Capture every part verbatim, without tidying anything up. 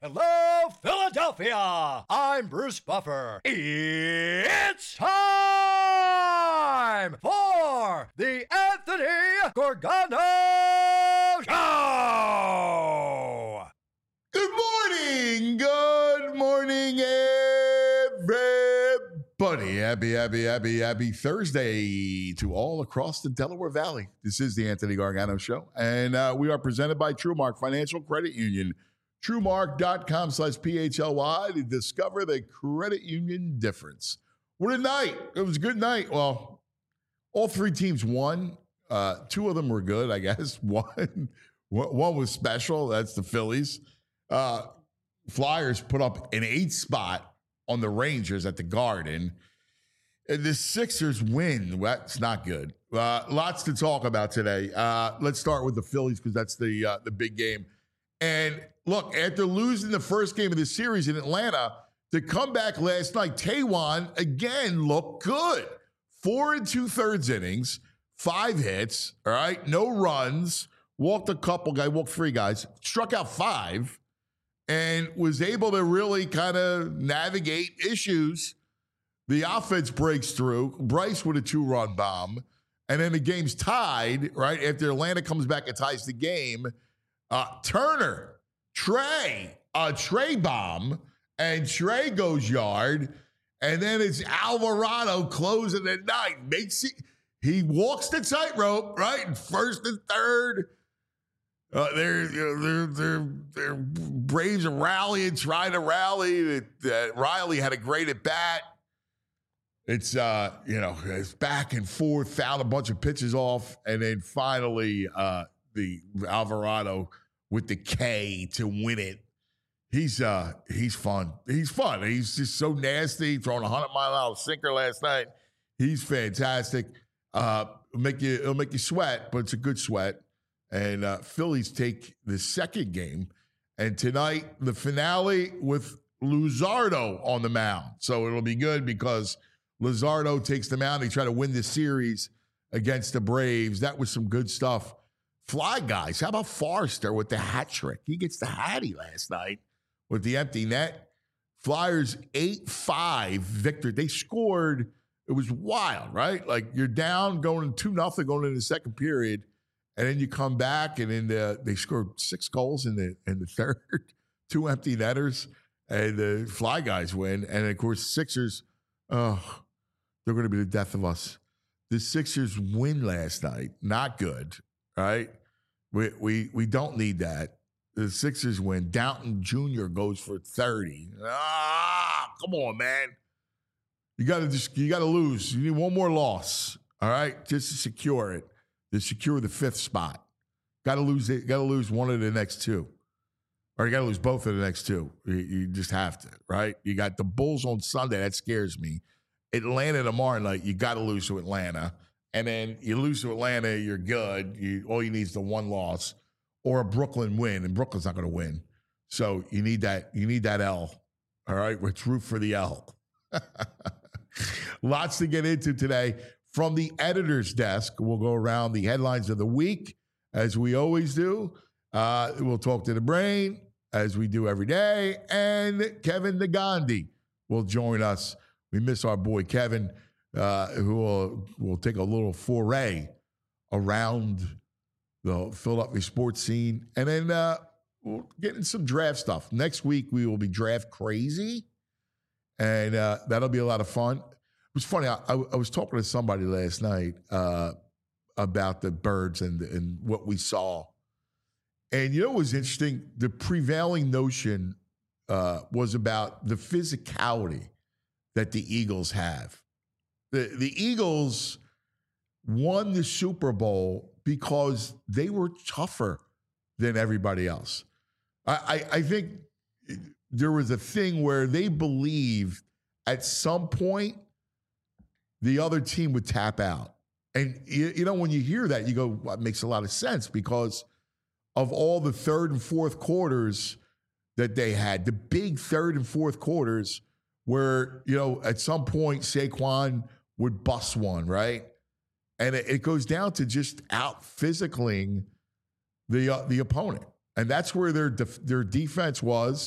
Hello, Philadelphia! I'm Bruce Buffer. It's time for the Anthony Gorgano Show! Good morning! Good morning, everybody. Happy, happy, happy, happy Thursday to all across the Delaware Valley. This is the Anthony Gargano Show, and uh, we are presented by TrueMark Financial Credit Union. TrueMark.com slash P H L Y to discover the credit union difference. What a night. It was a good night. Well, all three teams won. Uh, two of them were good, I guess. One, one was special. That's the Phillies. Uh, Flyers put up an eight spot on the Rangers at the Garden. And the Sixers win. That's not good. Uh, lots to talk about today. Uh, let's start with the Phillies because that's the uh, the big game. And look, after losing the first game of the series in Atlanta, the comeback last night, Taijuan again looked good. Four and two thirds innings, five hits, all right, no runs, walked a couple guys, walked three guys, struck out five, and was able to really kind of navigate issues. The offense breaks through. Bryce with a two-run bomb, and then the game's tied, right, after Atlanta comes back and ties the game. Uh, Turner, Trey, a Trey bomb, and Trey goes yard, and then it's Alvarado closing the night. Makes it, he walks the tightrope, right? And first and third, uh, they're, you know, they're, they're, they're Braves are rallying, trying to rally. Uh, Riley had a great at bat. It's, uh, you know, it's back and forth, fouled a bunch of pitches off, and then finally, uh, the Alvarado with the K to win it. He's uh he's fun. He's fun. He's just so nasty. Throwing a hundred mile an hour sinker last night. He's fantastic. Uh, it'll make you it'll make you sweat, but it's a good sweat. And uh, Phillies take the second game, and tonight the finale with Luzardo on the mound. So it'll be good because Luzardo takes the mound. He tried to win the series against the Braves. That was some good stuff. Fly guys, how about Forrester with the hat trick? He gets the hattie last night with the empty net. Flyers eight five victory. They scored. It was wild, right? Like you're down going two nothing going into the second period, and then you come back, and then the, they scored six goals in the in the third, two empty netters, and the Fly guys win. And of course, Sixers, oh, they're going to be the death of us. The Sixers win last night. Not good. Right, we we we don't need that. The Sixers win. Downton Junior goes for thirty. Ah, come on, man. You got to just you got to lose. You need one more loss. All right, just to secure it, to secure the fifth spot. Got to lose it. Got to lose one of the next two, or you got to lose both of the next two. You, you just have to. Right. You got the Bulls on Sunday. That scares me. Atlanta tomorrow night. You got to lose to Atlanta. And then you lose to Atlanta, you're good. You, all you need is the one loss or a Brooklyn win, and Brooklyn's not going to win. So you need that. You need that L. All right, let's root for the L. Lots to get into today from the editor's desk. We'll go around the headlines of the week as we always do. Uh, we'll talk to the brain as we do every day, and Kevin Negandhi will join us. We miss our boy Kevin. Uh, who will, will take a little foray around the Philadelphia sports scene. And then uh, we'll get in some draft stuff. Next week, we will be draft crazy, and uh, that'll be a lot of fun. It was funny. I, I, I was talking to somebody last night uh, about the birds and, and what we saw. And you know what was interesting? The prevailing notion uh, was about the physicality that the Eagles have. The, the Eagles won the Super Bowl because they were tougher than everybody else. I, I, I think there was a thing where they believed at some point the other team would tap out. And, you, you know, when you hear that, you go, well, it makes a lot of sense because of all the third and fourth quarters that they had, the big third and fourth quarters where, you know, at some point Saquon would bust one, right? And it, it goes down to just out physicaling the uh, the opponent. And that's where their def- their defense was.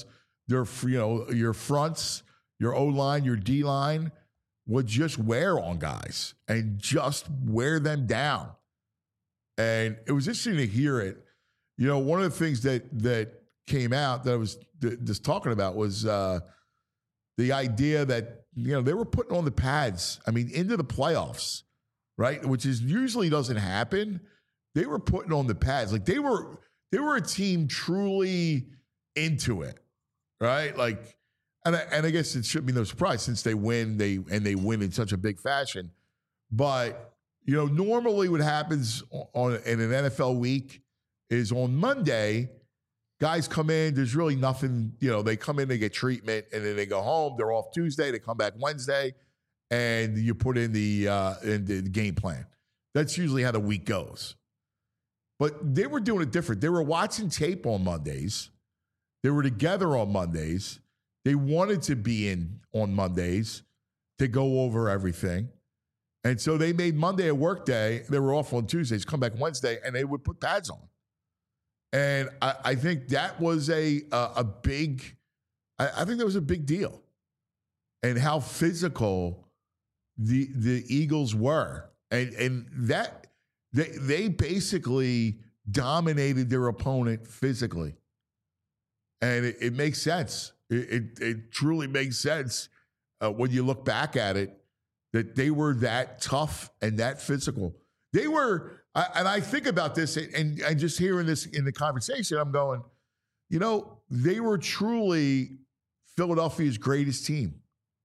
their, you know, your fronts, your O-line, your D-line would just wear on guys and just wear them down. And it was interesting to hear it. You know, one of the things that that came out that I was th- just talking about was uh, the idea that, you know, they were putting on the pads, I mean, into the playoffs, right? Which is usually doesn't happen. They were putting on the pads. Like they were, they were a team truly into it, right? Like, and I, and I guess it shouldn't be no surprise since they win, they and they win in such a big fashion. But, you know, normally what happens on in an N F L week is on Monday, guys come in, there's really nothing, you know, they come in, they get treatment, and then they go home. They're off Tuesday, they come back Wednesday, and you put in the uh, in the game plan. That's usually how the week goes. But they were doing it different. They were watching tape on Mondays. They were together on Mondays. They wanted to be in on Mondays to go over everything. And so they made Monday a work day. They were off on Tuesdays, come back Wednesday, and they would put pads on. And I, I think that was a a, a big, I, I think that was a big deal. And how physical the the Eagles were. And and that they they basically dominated their opponent physically. And it, it makes sense. It, it, it truly makes sense uh, when you look back at it, that they were that tough and that physical. They were, I, and I think about this, and, and just hearing this in the conversation, I'm going, you know, they were truly Philadelphia's greatest team.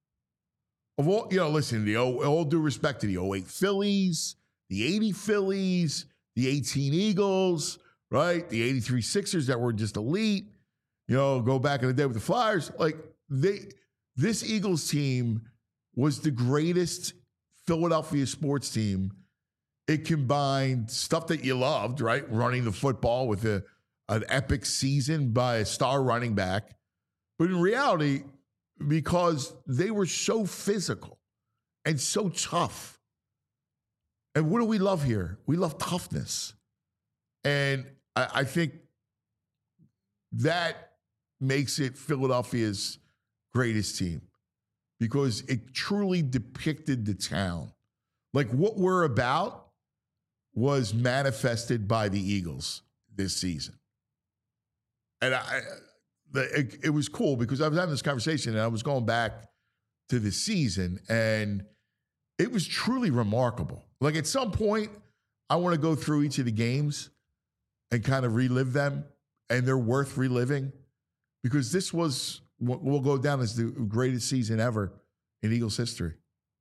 Of all, you know, listen, the all due respect to the oh eight Phillies, the eighty Phillies, the eighteen Eagles, right? The eighty-three Sixers that were just elite. You know, go back in the day with the Flyers. Like they, this Eagles team was the greatest Philadelphia sports team. It combined stuff that you loved, right? Running the football with a, an epic season by a star running back. But in reality, because they were so physical and so tough. And what do we love here? We love toughness. And I, I think that makes it Philadelphia's greatest team because it truly depicted the town. Like what we're about was manifested by the Eagles this season. And I, it, it was cool because I was having this conversation and I was going back to the season and it was truly remarkable. Like at some point, I want to go through each of the games and kind of relive them, and they're worth reliving because this was what will go down as the greatest season ever in Eagles history.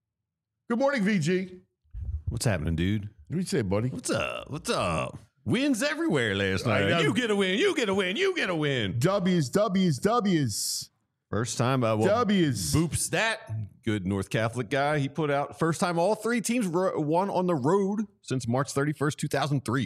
Good morning, V G. What's happening, dude? What do you say, buddy? What's up? What's up? Wins everywhere last night. You get a win. You get a win. You get a win. W's, W's, W's. First time. Uh, well, W's. Boop Stat, good North Catholic guy. He put out first time all three teams ro- won on the road since March thirty-first, two thousand three.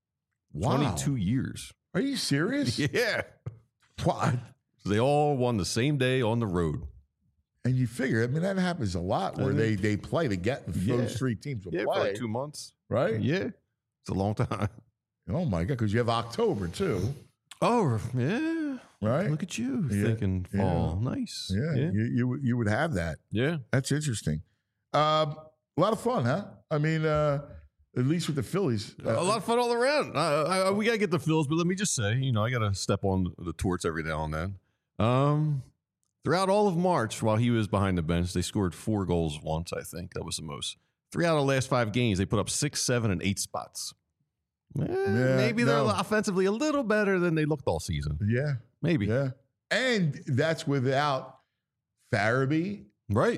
Wow. twenty-two years. Are you serious? Yeah. What? So they all won the same day on the road. And you figure, I mean, that happens a lot where they they play to get those Yeah. three teams will Yeah, play. for like two months. Right? Yeah. It's a long time. Oh, my God, because you have October, too. Oh, yeah. Right? Look at you Yeah. thinking fall. Nice. Yeah, Yeah. You, you you would have that. Yeah. That's interesting. Um, a lot of fun, huh? I mean, uh, at least with the Phillies. Uh, A lot of fun all around. Uh, I, I, we got to get the Phils, but let me just say, you know, I got to step on the torch every now and then. Um, throughout all of March, while he was behind the bench, they scored four goals once, I think. That was the most. Three out of the last five games, they put up six, seven, and eight spots. Eh, Yeah, maybe they're no. offensively a little better than they looked all season. Yeah. Maybe. Yeah. And that's without Farabee, Right.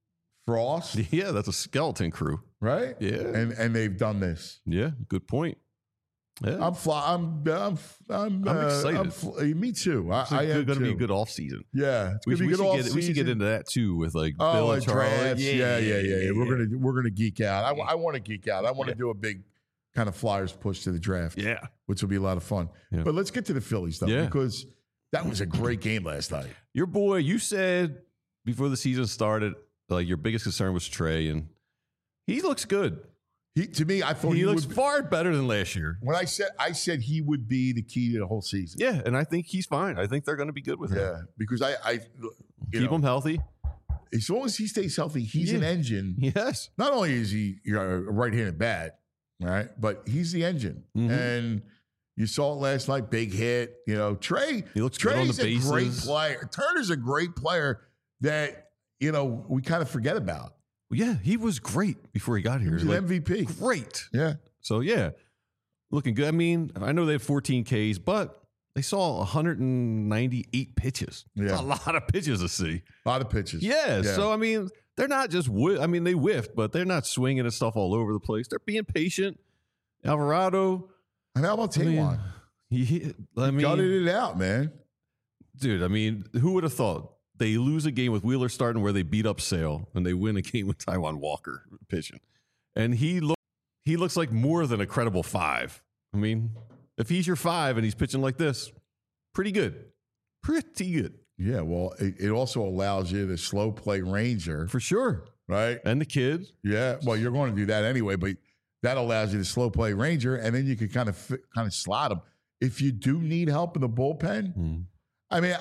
Frost, Yeah, that's a skeleton crew. right? Yeah. And and they've done this. Yeah, good point. Yeah. I'm fly. I'm. I'm. I'm, I'm uh, excited. I'm fl- me too. I, It's I am going to be a too. good off season. Yeah, it's We, gonna we, be good should off get, we should get season. into that too with like Oh, Bill and and Charlie. drafts. Yeah, yeah, yeah, yeah. We're gonna we're gonna geek out. I, I want to geek out. I want to Yeah. do a big kind of Flyers push to the draft, Yeah. which will be a lot of fun. Yeah. But let's get to the Phillies though, Yeah. because that was a great game last night. Your boy, you said before the season started, like your biggest concern was Trey, and he looks good. He to me, I thought he, he, looks would, far better than last year. when I said I said he would be the key to the whole season. Yeah, and I think he's fine. I think they're going to be good with him. Yeah, because I, I you Keep know, him healthy. as long as he stays healthy, he's Yeah. an engine. Yes. Not only is he you know, a right-handed bat, right, but he's the engine. Mhm. And you saw it last night, big hit. You know, Trey. He looks good on the Trey's a great bases. player. Turner's a great player that you know we kind of forget about. Yeah, he was great before he got He here. was an Like, M V P. great. Yeah. So, yeah, looking good. I mean, I know they have fourteen Ks, but they saw one hundred ninety-eight pitches. Yeah. That's a lot of pitches to see. A lot of pitches. Yeah, Yeah. so, I mean, they're not just, whi- I mean, they whiffed, but they're not swinging at stuff all over the place. They're being patient. Alvarado, And how about I mean, Taiwan? he, I mean, Gutted it out, man. dude, I mean, who would have thought they lose a game with Wheeler starting where they beat up Sale and they win a game with Taiwan Walker pitching? And he look, he looks like more than a credible five. I mean, if he's your five and he's pitching like this, pretty good. Pretty good. Yeah, well, it, it also allows you to slow play Ranger, For sure. right? And the kid. Yeah, well, you're going to do that anyway, but that allows you to slow play Ranger, and then you can kind of fit, kind of slot him. If you do need help in the bullpen, Hmm. I mean,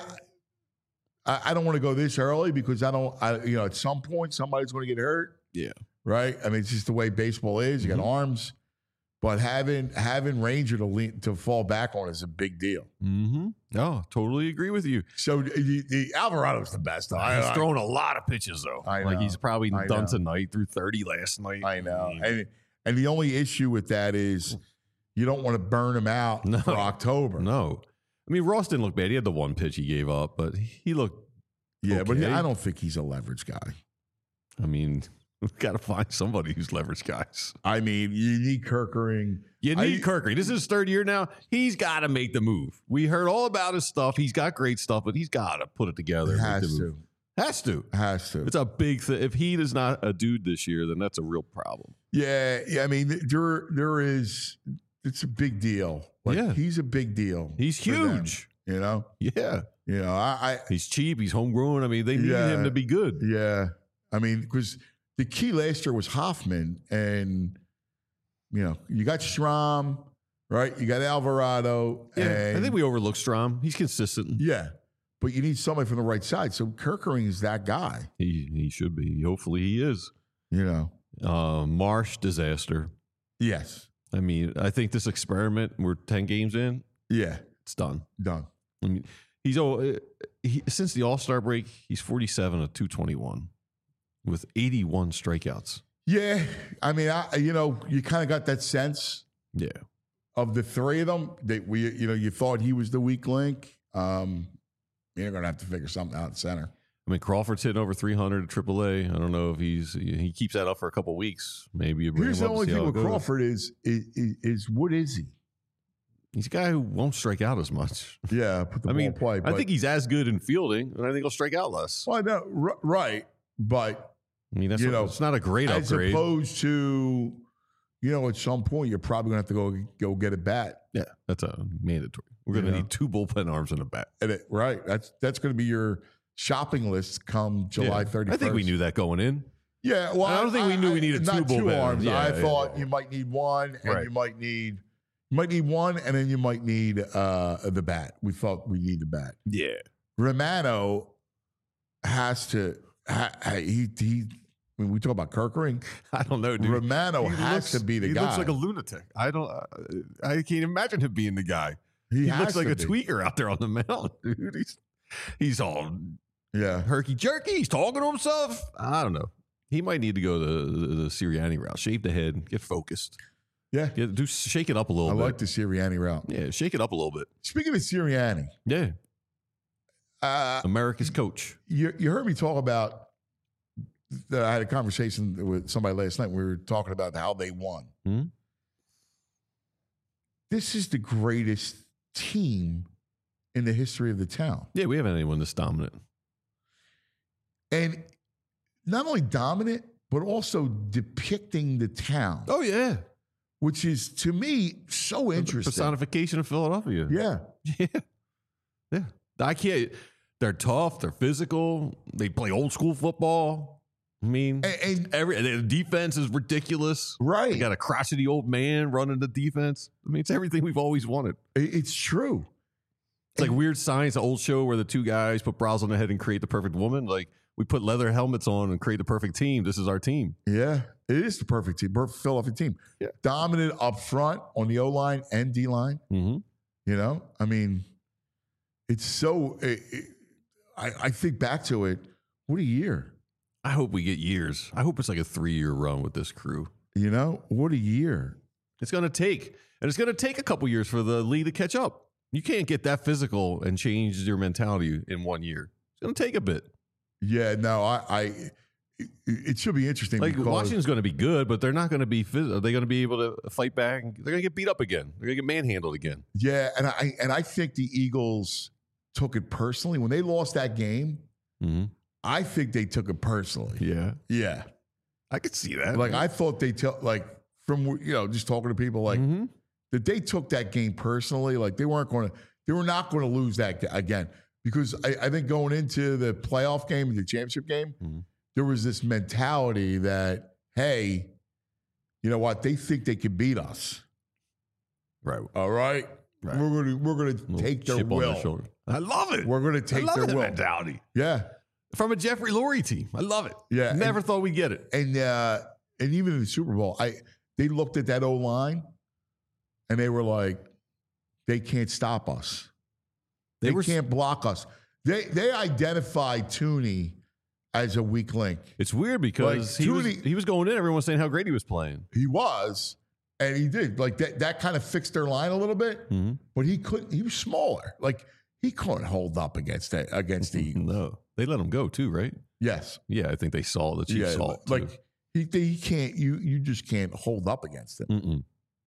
I, I don't want to go this early because I don't, I, you know, at some point somebody's going to get hurt, Yeah. right? I mean, it's just the way baseball is. You got Mhm. arms, but having having Ranger to lean, to fall back on is a big deal. Mm-hmm. No, totally agree with you. So the, the Alvarado's the best. I, He's I- throwing a lot of pitches, though. I Like know. he's probably I done know. tonight through thirty last night. I know. mean, And and the only issue with that is you don't want to burn him out No. for October. No. I mean, Ross didn't look bad. He had the one pitch he gave up, but he looked, Yeah, but Okay. I don't think he's a leverage guy. I mean, we've got to find somebody who's leverage guys. I mean, you need Kirkering. You I- need Kirkery. This is his third year now. He's got to make the move. We heard all about his stuff. He's got great stuff, but he's got to put it together. He and make has the move. to. Has to. Has to. It's a big thing. If he is not a dude this year, then that's a real problem. Yeah, yeah. I mean, there there is. It's a big deal. Like, Yeah. he's a big deal. He's for them, huge. you know. Yeah. You know. I. He's cheap. He's homegrown. I mean, they need Yeah. him to be good. I yeah. I mean, because the key last year was Hoffman, and you know, you got Schramm, right? You got Alvarado. Yeah. and, I think we overlook Strom. He's consistent. Yeah, but you need somebody from the right side. So Kirkering is that guy. He he should be. Hopefully he is. You know. Uh, Marsh disaster. Yes. I mean, I think this experiment, we're ten games in, Yeah. it's done. Done. I mean, he's oh, he, since the All Star break, he's forty-seven of two twenty-one with eighty-one strikeouts. Yeah. I mean, I you know, you kind of got that sense Yeah. of the three of them that we, you know, you thought he was the weak link. Um, you're gonna have to figure something out in center. I mean, Crawford's hitting over three hundred at triple A. I don't know if he's he keeps that up for a couple weeks. Maybe you bring Here's him the up only to see thing how it with goes. Crawford is, is is is what is he? He's a guy who won't strike out as much. Yeah, put the I ball mean, in play. I but- think he's as good in fielding, and I think he'll strike out less. well, no, r- right, but I mean, that's You not, know, it's not a great as upgrade. opposed to, you know, at some point you're probably gonna have to go go get a bat. Yeah, that's a mandatory. We're going to Yeah. need two bullpen arms and a bat. And it, right, that's that's gonna be your shopping list come July Yeah. thirty-first. I think we knew that going in. Yeah, well, I don't think we knew we needed not two two bullpen. arms. Yeah, I yeah, thought yeah. you might need one, and Right. you might need you might need one, and then you might need uh, the bat. We thought we need the bat. Yeah. Romano has to. Ha, ha- he he. When we talk about Kirkering, I don't know, dude. Romano He has looks- to be the he guy. looks like a lunatic. I don't. Uh, I can't imagine him being the guy. he He, has looks like to a be. tweaker out there on the mound, dude. He's he's all Yeah, herky jerky. He's talking to himself. I don't know. He might need to go the the, the Sirianni route. Shave the head. Get focused. yeah. Get, do shake it up a little I bit. like the Sirianni route. Yeah, shake it up a little bit. Speaking of Sirianni, Yeah, uh, America's coach. you you heard me talk about. I had a conversation with somebody last night. We were talking about how they won. Hmm? This is the greatest team in the history of the town. Yeah, we haven't had anyone this dominant. And not only dominant, but also depicting the town, Oh yeah, which is to me so interesting. personification of Philadelphia. Yeah. Yeah. Yeah. I can't. They're tough. They're physical. They play old school football. I mean, And, and every the defense is ridiculous. right, You got a crotchety old man running the defense. I mean, it's everything we've always wanted. It- it's true. It's like Weird Science, the old show where the two guys put brows on the head and create the perfect woman. Like we put leather helmets on and create the perfect team. This is our team. Yeah, it is the perfect team, perfect Philadelphia team. Yeah. Dominant up front on the O line and D line. Mm-hmm. You know, I mean, it's so. It, it, I I think back to it. What a year! I hope we get years. I hope it's like a three-year run with this crew. You know, what a year! It's going to take, and it's going to take a couple years for the league to catch up. You can't get that physical and change your mentality in one year. It's going to take a bit. Yeah, no, I. I it, it should be interesting. Like because, Washington's going to be good, but they're not going to be. Phys- are they going to be able to fight back? They're going to get beat up again. They're going to get manhandled again. Yeah, and I and I think the Eagles took it personally when they lost that game. Mm-hmm. I think they took it personally. Yeah, Yeah, I could see that. like I thought they took like from you know just talking to people like Mhm. that they took that game personally. Like they weren't going to, they were not going to lose that ga- again because I, I think going into the playoff game, the championship game, Mhm. there was this mentality that hey, you know what? They think they can beat us. right. All right, Right. we're going to we're going to Little take their chip on will. shoulder. I love it. We're going to I take love their that will. mentality Yeah, from a Jeffrey Lurie team. I love it. Yeah, never thought we'd get it. and uh, and even in the Super Bowl, I they looked at that O line, and they were like, they can't stop us. They, They were- can't block us. They they identified Tooney as a weak link. It's weird because Like, he was Tooney- he was going in. Everyone was saying how great he was playing. He was, and he did. Like that that kind of fixed their line a little bit. Mm-hmm. But he couldn't. He was smaller. Like he couldn't hold up against that against the Eagles. No, they let him go too, right? Yes. Yeah, I think they saw the Chiefs Yeah. saw it too. Like he he can't. You you just can't hold up against him. Mm-mm.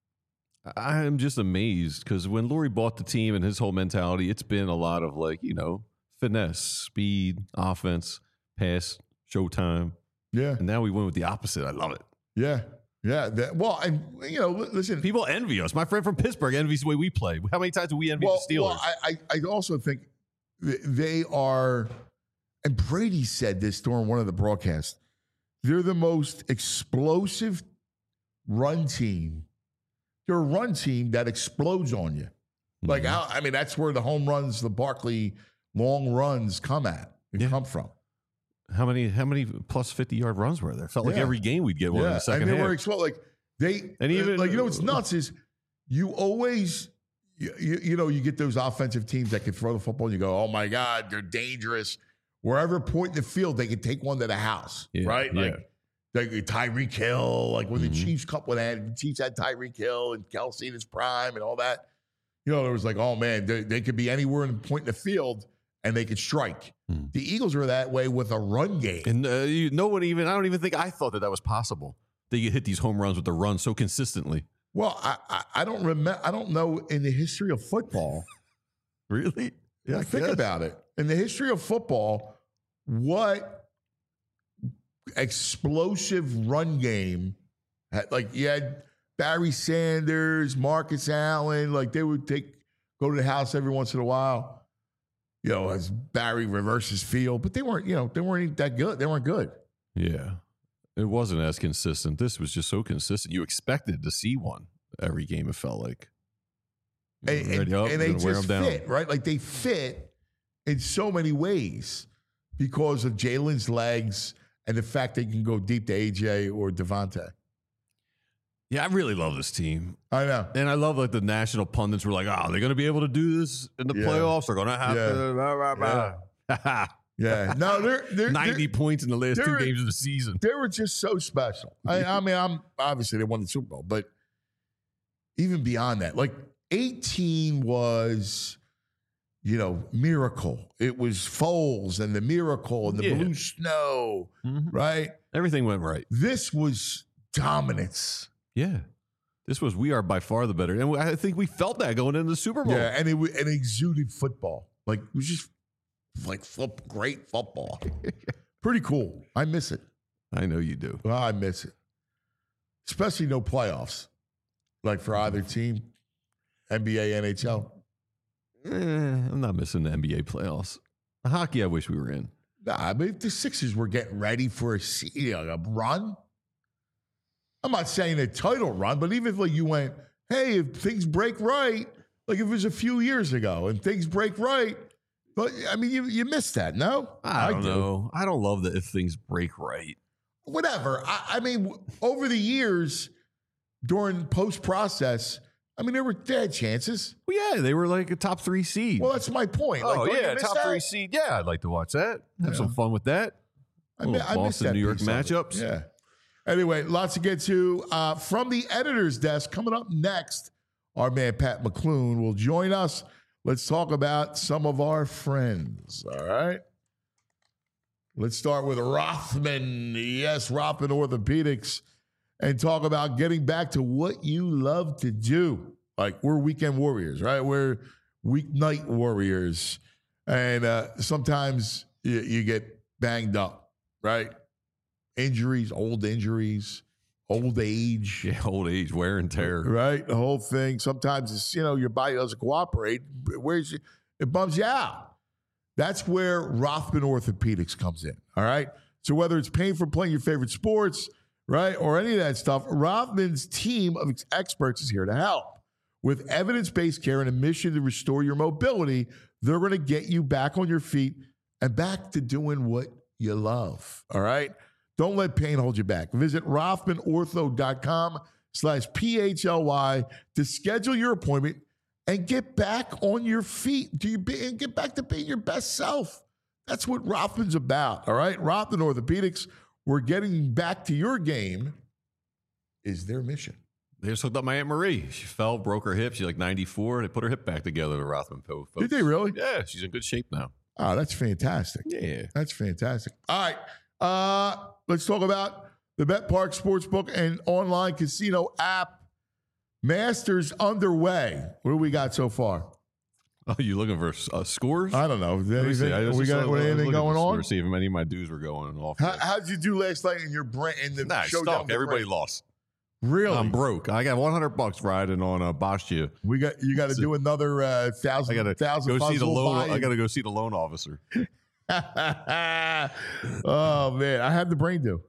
I am just amazed because when Lurie bought the team and his whole mentality, it's been a lot of like, you know, finesse, speed, offense, pass, showtime. Yeah. And now we went with the opposite. I love it. Yeah. Yeah. That, well, and you know, li- listen. People envy us. My friend from Pittsburgh envies the way we play. How many times do we envy Well, the Steelers? well I, I I also think th- they are, and Brady said this during one of the broadcasts. They're the most explosive run team. They're a run team that explodes on you. Like, Mhm. how, I mean, that's where the home runs, the Barkley long runs come at, they Yeah. come from. How many how many plus fifty yard runs were there? Felt like Yeah. every game we'd get one in the second and they half. were explode. Like they, And even- like you know, what's nuts is you always, you, you, you know, you get those offensive teams that can throw the football. And you go, oh my god, they're dangerous. Wherever point in the field, they can take one to the house, Yeah, right? yeah. Like, like Tyreek Hill, like when Mhm. the Chiefs cup when that the Chiefs had Tyreek Hill and Kelsey in his prime and all that. You know, there was like, oh man, they, they could be anywhere in the point in the field and they could strike. Mhm. The Eagles are that way with a run game. And uh, you, no one even, I don't even think I thought that that was possible. They could hit these home runs with the run so consistently. Well, I, I, I don't remember. I don't know in the history of football. Really? Yeah, think guess. about it. In the history of football, what explosive run game? had- Like you had Barry Sanders, Marcus Allen. Like they would take go to the house every once in a while. You know, as Barry reverses field, but they weren't. You know, they weren't that good. They weren't good. Yeah. It wasn't as consistent. This was just so consistent. You expected to see one every game, it felt like. And, and, Ready up, and they gonna wear just them down. fit, right? Like they fit in so many ways because of Jalen's legs and the fact they can go deep to A J or Devontae. Yeah, I really love this team. I know. And I love like the national pundits were like, oh, they're going to be able to do this in the Yeah. playoffs. They're going to have Yeah. to. Blah, blah, blah. Yeah. No, they're, they're ninety they're, points in the last two they're- games of the season. they were just so special. I, I mean, I'm obviously they won the Super Bowl, but even beyond that, like eighteen was, you know, miracle. It was Foles and the miracle and the Yeah. blue snow, Mhm. right? Everything went right. This was dominance. Yeah. This was, we are by far the better. And I think we felt that going into the Super Bowl. Yeah, and it, wa- and it exuded football. Like it was just like flip, great football. Pretty cool. I miss it. I know you do. Well, I miss it. Especially no playoffs. Like for either team, N B A, N H L. Eh, I'm not missing the N B A playoffs. The hockey, I wish we were in. Nah, I mean, if the Sixers were getting ready for a, you know, a run, I'm not saying a title run, but even if like you went, hey, if things break right, like if it was a few years ago and things break right, but I mean, you you missed that, no? I don't do. know. I don't love that if things break right. Whatever. I, I mean, over the years, during post-process, I mean, there were they had chances. Well, yeah, they were like a top three seed. Well, that's my point. oh, Like, don't yeah, you miss top that? three seed. Yeah, I'd like to watch that. Have Yeah. some fun with that. I, mi- Little I missed Boston, that New York piece of it. matchups. Yeah. Anyway, lots to get to. Uh, from the editor's desk, coming up next, our man Pat McClune will join us. Let's talk about some of our friends. All right. Let's start with Rothman. Yes, Rothman Orthopedics, and talk about getting back to what you love to do. Like, we're weekend warriors, right? We're weeknight warriors. And uh, sometimes you, you get banged up, right? Injuries, old injuries, old age. Yeah, old age, wear and tear. Right? The whole thing. Sometimes it's, you know, your body doesn't cooperate. Where's you, it bums you out. That's where Rothman Orthopedics comes in. All right. So whether it's pain from playing your favorite sports, right, or any of that stuff, Rothman's team of experts is here to help. With evidence-based care and a mission to restore your mobility, they're going to get you back on your feet and back to doing what you love. All right. Don't let pain hold you back. Visit rothmanortho.com slash P-H-L-Y to schedule your appointment and get back on your feet. Do you be, and get back to being your best self. That's what Rothman's about. All right. Rothman Orthopedics, we're getting back to your game is their mission. They just hooked up my Aunt Marie. She fell, broke her hip. She's like ninety-four. They put her hip back together, the Rothman folks. Did they really? Yeah, she's in good shape now. Oh, that's fantastic. Yeah. That's fantastic. All right. Uh, let's talk about the BetParx Sportsbook and online casino app. Masters underway. What do we got so far? Oh, you looking for uh, scores? I don't know. Is Let me see. anything, I just we got saw- I what, was anything looking going for on? scores, see if any of my dues were going off. How, how'd you do last night in your brain? In the Nah, showdown stuck. with Everybody Brent? lost. Really? I'm broke. I got one hundred bucks riding on a Boscia. We got you. Got to do another uh, thousand. I got to thousand go see the puzzle loan. buy-in. I got to go see the loan officer. Oh man, I had the brain do.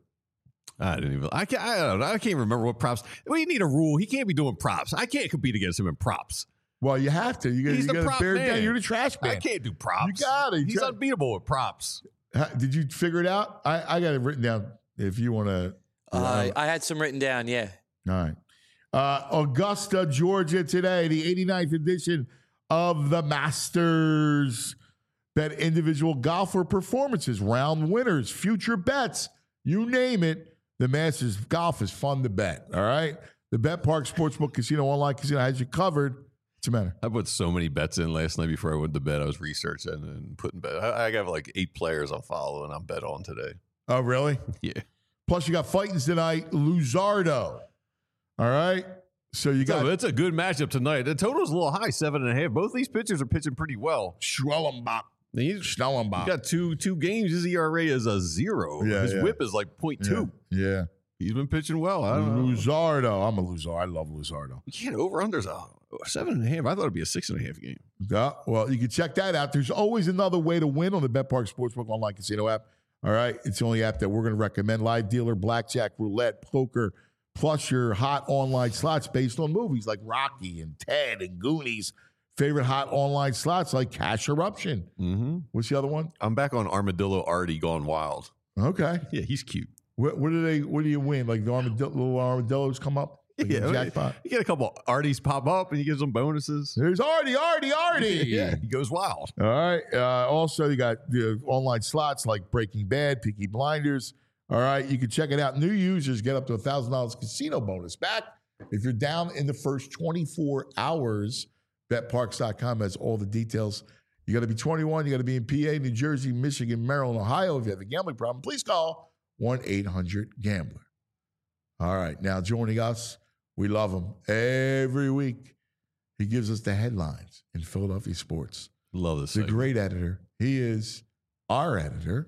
I didn't even. I can't. I don't know. I can't remember what props. We need a rule. He can't be doing props. I can't compete against him in props. Well, you have to. You got He's you the got to prop bear man. down. You're the trash man. I can't do props. You got it. You He's got- unbeatable with props. How- Did you figure it out? I, I got it written down. If you want to. Uh, I had some written down, yeah. All right. Uh, Augusta, Georgia today, the eighty-ninth edition of the Masters. Bet individual golfer performances, round winners, future bets, you name it. The Masters golf is fun to bet. All right. The BetParx Sportsbook Casino Online Casino has you covered. What's the matter? I put so many bets in last night before I went to bed. I was researching and putting bet. I, I got like eight players I'll follow and I'm bet on today. Oh, really? Yeah. Plus, you got fightings tonight. Luzardo. All right. So you got So it's a good matchup tonight. The total's a little high, seven and a half. Both these pitchers are pitching pretty well. Schwellenbach. He's Schnellenbach. got two two games. His E R A is a zero. Yeah, His yeah. whip is like point two. Yeah. yeah. He's been pitching well. I don't know. Luzardo. I'm a Luzardo. I love Luzardo. You can't over unders a seven and a half. I thought it'd be a six and a half game. Yeah, well, you can check that out. There's always another way to win on the BetParx Sportsbook Online Casino app. All right. It's the only app that we're going to recommend. Live dealer, blackjack, roulette, poker, plus your hot online slots based on movies like Rocky and Ted and Goonies. Favorite hot online slots like Cash Eruption. Mm-hmm. What's the other one? I'm back on Armadillo Artie Gone Wild. Okay. Yeah, he's cute. What, what do they? What do you win? Like the armadillo, little armadillos come up? Like Yeah, a jackpot. You get a couple Arties pop up and you give them bonuses. There's Artie, Artie, Artie. Yeah, he goes wild. All right. Uh, also, you got the online slots like Breaking Bad, Peaky Blinders. All right. You can check it out. New users get up to one thousand dollars casino bonus back if you're down in the first twenty-four hours. Bet Parx dot com has all the details. You got to be twenty-one. You got to be in P A, New Jersey, Michigan, Maryland, Ohio. If you have a gambling problem, please call one eight hundred gambler. All right. Now, joining us, we love him every week. He gives us the headlines in Philadelphia sports. Love this. The segment. great editor. He is our editor,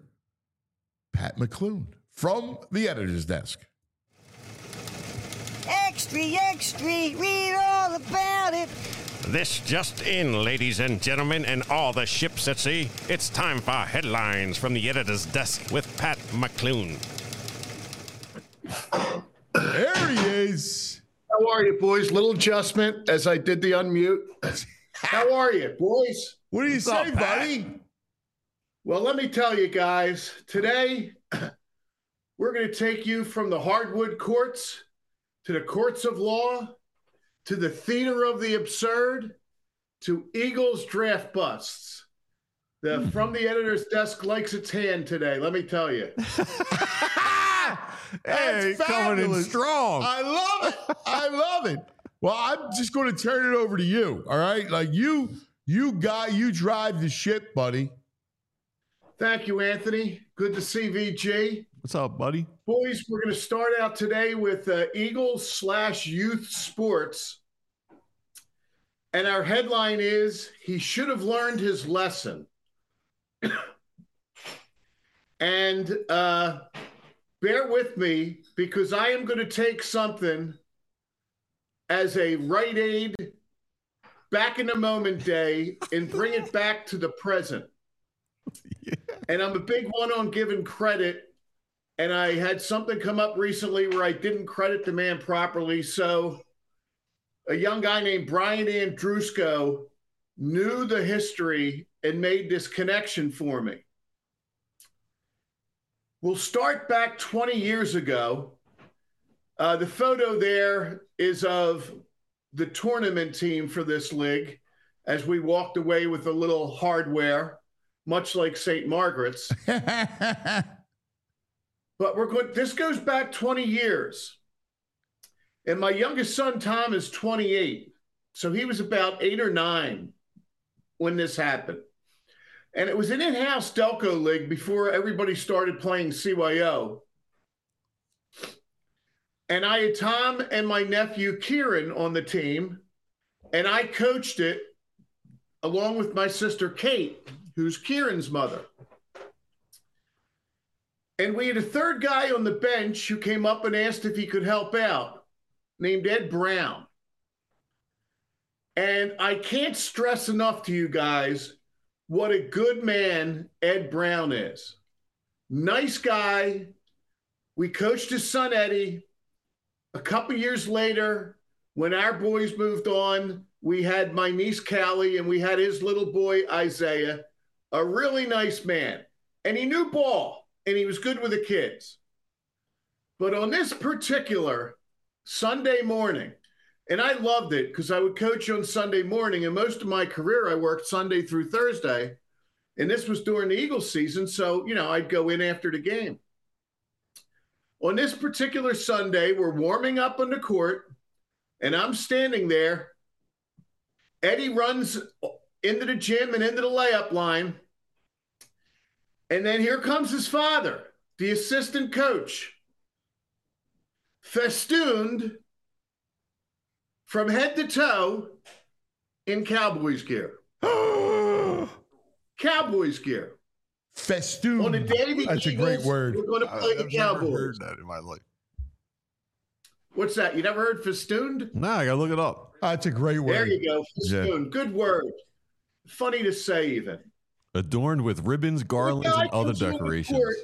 Pat McClune, from the editor's desk. Extra, extra, read all about it. This just in, ladies and gentlemen, and all the ships at sea. It's time for headlines from the editor's desk with Pat McClune. There he is. How are you, boys? Little adjustment as I did the unmute. How are you, boys? What do you What's say, up, Pat? buddy? Well, let me tell you guys, today we're going to take you from the hardwood courts to the courts of law to the theater of the absurd to Eagles draft busts. The Hmm. From the Editor's Desk likes its hand today, let me tell you. Hey, That's coming in fabulous. strong. I love it. I love it. Well, I'm just going to turn it over to you. All right, like you, you got you drive the ship, buddy. Thank you, Anthony. Good to see V G. What's up, buddy? Boys, we're going to start out today with uh, Eagles slash youth sports. And our headline is, he should have learned his lesson. And uh, bear with me, because I am going to take something as a Rite Aid back in the moment day and bring it back to the present. Yeah. And I'm a big one on giving credit. And I had something come up recently where I didn't credit the man properly. So a young guy named Brian Andrusko knew the history and made this connection for me. We'll start back twenty years ago. Uh, the photo there is of the tournament team for this league as we walked away with a little hardware, much like Saint Margaret's. But we're going, this goes back twenty years. And my youngest son, Tom, is twenty-eight. So he was about eight or nine when this happened. And it was an in-house Delco league before everybody started playing C Y O. And I had Tom and my nephew, Kieran, on the team. And I coached it along with my sister, Kate, who's Kieran's mother. And we had a third guy on the bench who came up and asked if he could help out, named Ed Brown. And I can't stress enough to you guys what a good man Ed Brown is. Nice guy. We coached his son, Eddie. A couple years later, when our boys moved on, we had my niece, Callie, and we had his little boy, Isaiah, a really nice man. And he knew ball, and he was good with the kids. But on this particular Sunday morning, and I loved it because I would coach on Sunday morning, and most of my career I worked Sunday through Thursday, and this was during the Eagles season, so, you know, I'd go in after the game. On this particular Sunday, we're warming up on the court, and I'm standing there. Eddie runs into the gym and into the layup line, and then here comes his father, the assistant coach, festooned from head to toe in Cowboys gear. Cowboys gear. Festoon. On the day the That's Eagles a great word. were going to play the I've never Cowboys. heard that in my life. What's that? You never heard festooned? Nah, I gotta look it up. That's a great word. There you go. Yeah. Festooned. Good word. Funny to say, even. Adorned with ribbons, garlands, The guy and other comes on the decorations. court,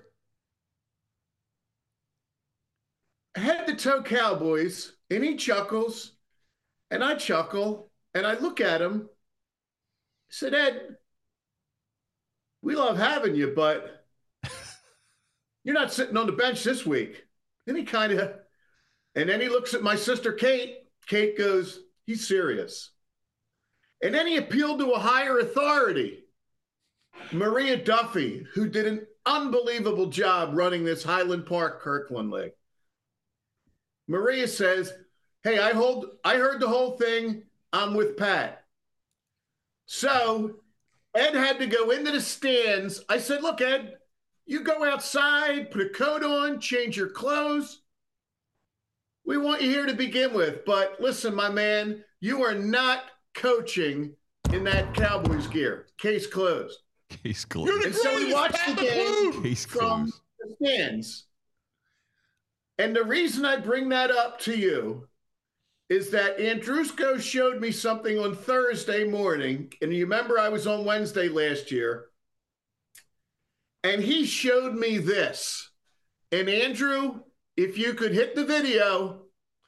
head to toe Cowboys, and he chuckles, and I chuckle, and I look at him. I said, Ed, we love having you, but you're not sitting on the bench this week. And he kind of, and then he looks at my sister, Kate. Kate goes, he's serious. And then he appealed to a higher authority, Maria Duffy, who did an unbelievable job running this Highland Park Kirkland League. Maria says, hey, I hold, I heard the whole thing. I'm with Pat. So Ed had to go into the stands. I said, look, Ed, you go outside, put a coat on, change your clothes. We want you here to begin with. But listen, my man, you are not coaching in that Cowboys gear. Case closed. Case closed. You're the And so we greatest, watched Pat the game McClune. Case from closed. the stands. And the reason I bring that up to you is that Andrusko showed me something on Thursday morning. And you remember I was on Wednesday last year. And he showed me this. And Andrew, if you could hit the video.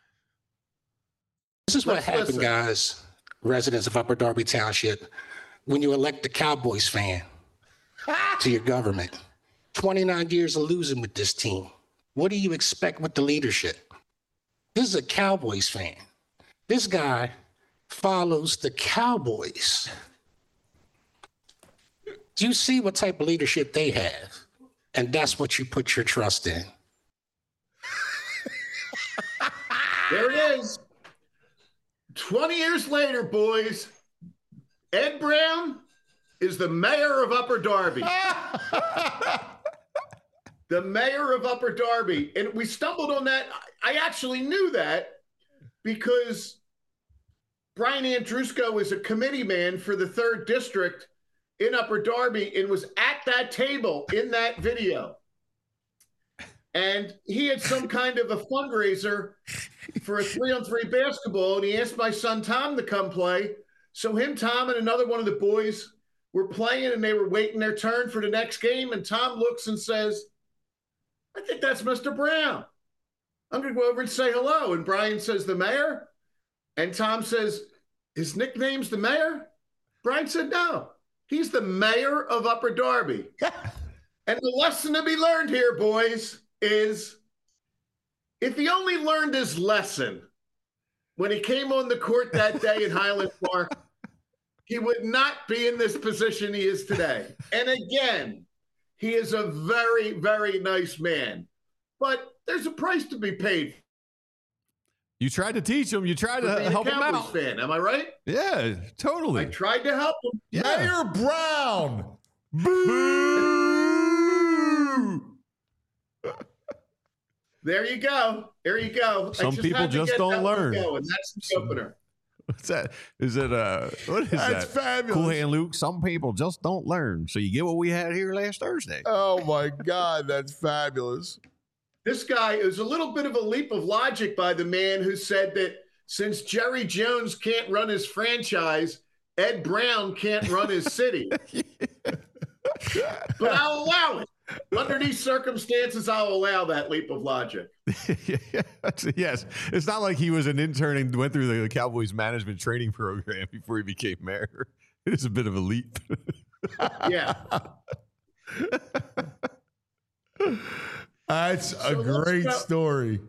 This is what Let's happened, listen. guys, residents of Upper Darby Township, when you elect the Cowboys fan to your government. twenty-nine years of losing with this team. What do you expect with the leadership? This is a Cowboys fan. This guy follows the Cowboys. Do you see what type of leadership they have? And that's what you put your trust in. There it is. twenty years later, boys, Ed Brown is the mayor of Upper Darby. The mayor of Upper Darby. And we stumbled on that. I actually knew that because Brian Andrusko is a committee man for the third district in Upper Darby and was at that table in that video. And he had some kind of a fundraiser for a three-on-three basketball, and he asked my son Tom to come play. So him, Tom, and another one of the boys were playing, and they were waiting their turn for the next game, and Tom looks and says, I think that's Mister Brown. I'm going to go over and say hello. And Brian says, the mayor? And Tom says, his nickname's the mayor? Brian said, no. He's the mayor of Upper Darby. And the lesson to be learned here, boys, is if he only learned his lesson when he came on the court that day in Highland Park, he would not be in this position he is today. And again, he is a very, very nice man. But there's a price to be paid. You tried to teach him. You tried to help him Cowboys out. fan, am I right? Yeah, totally. I tried to help him. Yeah. Mayor Brown. Boo! There you go. There you go. Some I just people had to just get don't that one learn. going. That's the opener. What's that? Is it uh what is That's that? fabulous. Cool Hand Luke. Some people just don't learn. So you get what we had here last Thursday. Oh my God, that's fabulous. This guy is a little bit of a leap of logic by the man who said that since Jerry Jones can't run his franchise, Ed Brown can't run his city. But I'll allow it. Under these circumstances, I'll allow that leap of logic. Yes. It's not like he was an intern and went through the Cowboys management training program before he became mayor. It is a bit of a leap. Yeah. That's a So let's great go- story.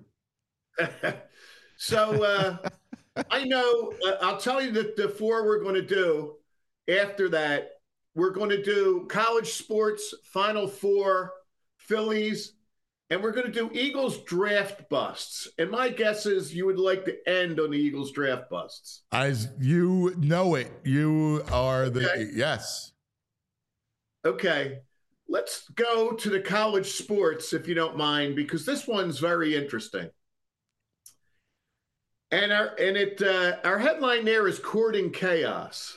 So uh, I know, uh, I'll tell you that the four we're going to do after that, we're going to do college sports, Final Four, Phillies, and we're going to do Eagles draft busts. And my guess is you would like to end on the Eagles draft busts. As you know it, you are the Okay. yes. Okay, let's go to the college sports, if you don't mind, because this one's very interesting. And our and it uh, our headline there is Courting Chaos.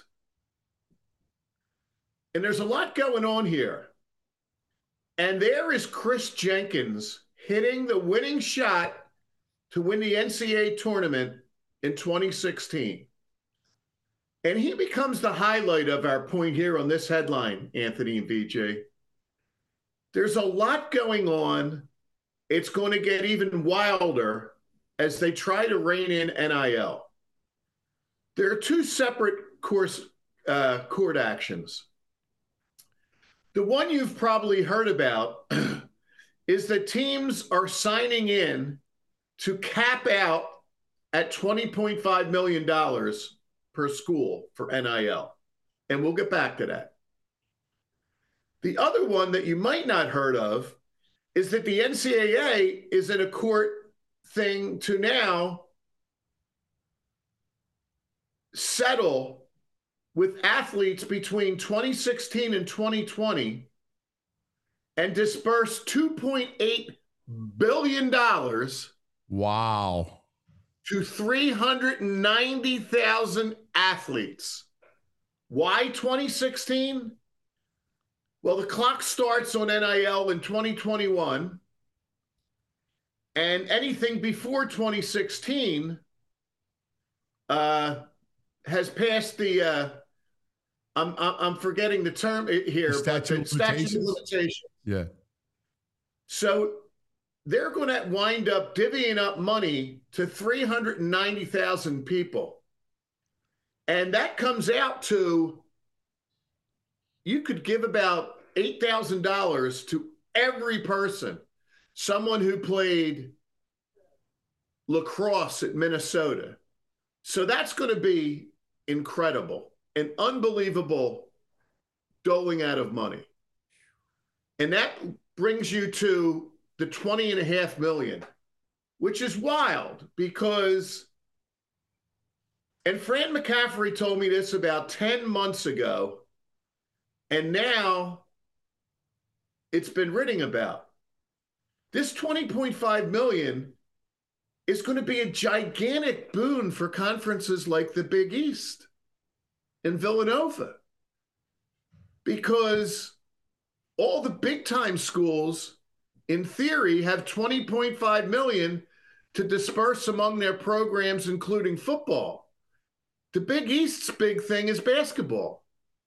And there's a lot going on here. And there is Chris Jenkins hitting the winning shot to win the N C A A tournament in twenty sixteen. And he becomes the highlight of our point here on this headline, Anthony and V J. There's a lot going on. It's going to get even wilder as they try to rein in N I L. There are two separate course, uh, court actions. The one you've probably heard about is that teams are signing in to cap out at twenty point five million dollars per school for N I L. And we'll get back to that. The other one that you might not heard of is that the N C A A is in a court thing to now settle with athletes between twenty sixteen and twenty twenty and disperse two point eight billion dollars Wow. to three hundred ninety thousand athletes. Why twenty sixteen? Well, the clock starts on N I L in twenty twenty-one, and anything before twenty sixteen uh, has passed the. Uh, I'm I'm forgetting the term here, The but statute the of statute of limitations? limitations. Yeah. So they're going to wind up divvying up money to three hundred ninety thousand people. And that comes out to, you could give about eight thousand dollars to every person, someone who played lacrosse at Minnesota. So that's going to be incredible, an unbelievable doling out of money. And that brings you to the twenty and a half million, which is wild because, and Fran McCaffrey told me this about ten months ago, and now it's been written about. This twenty point five million is going to be a gigantic boon for conferences like the Big East and Villanova, because all the big time schools in theory have twenty point five million to disperse among their programs, including football. The Big East's big thing is basketball.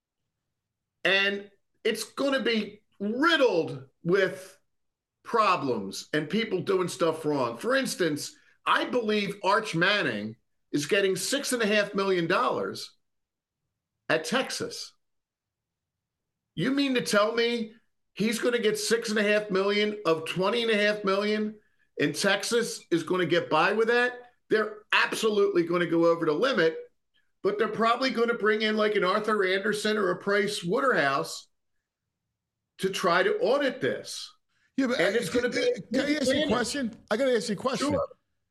And it's going to be riddled with problems and people doing stuff wrong. For instance, I believe Arch Manning is getting six and a half million dollars at Texas. You mean to tell me he's going to get six and a half million of twenty and a half million, and Texas is going to get by with that? They're absolutely going to go over the limit, but they're probably going to bring in like an Arthur Anderson or a Price Waterhouse to try to audit this. Yeah, but and it's going to be. Can I ask you a question? I got to ask you a question. Sure.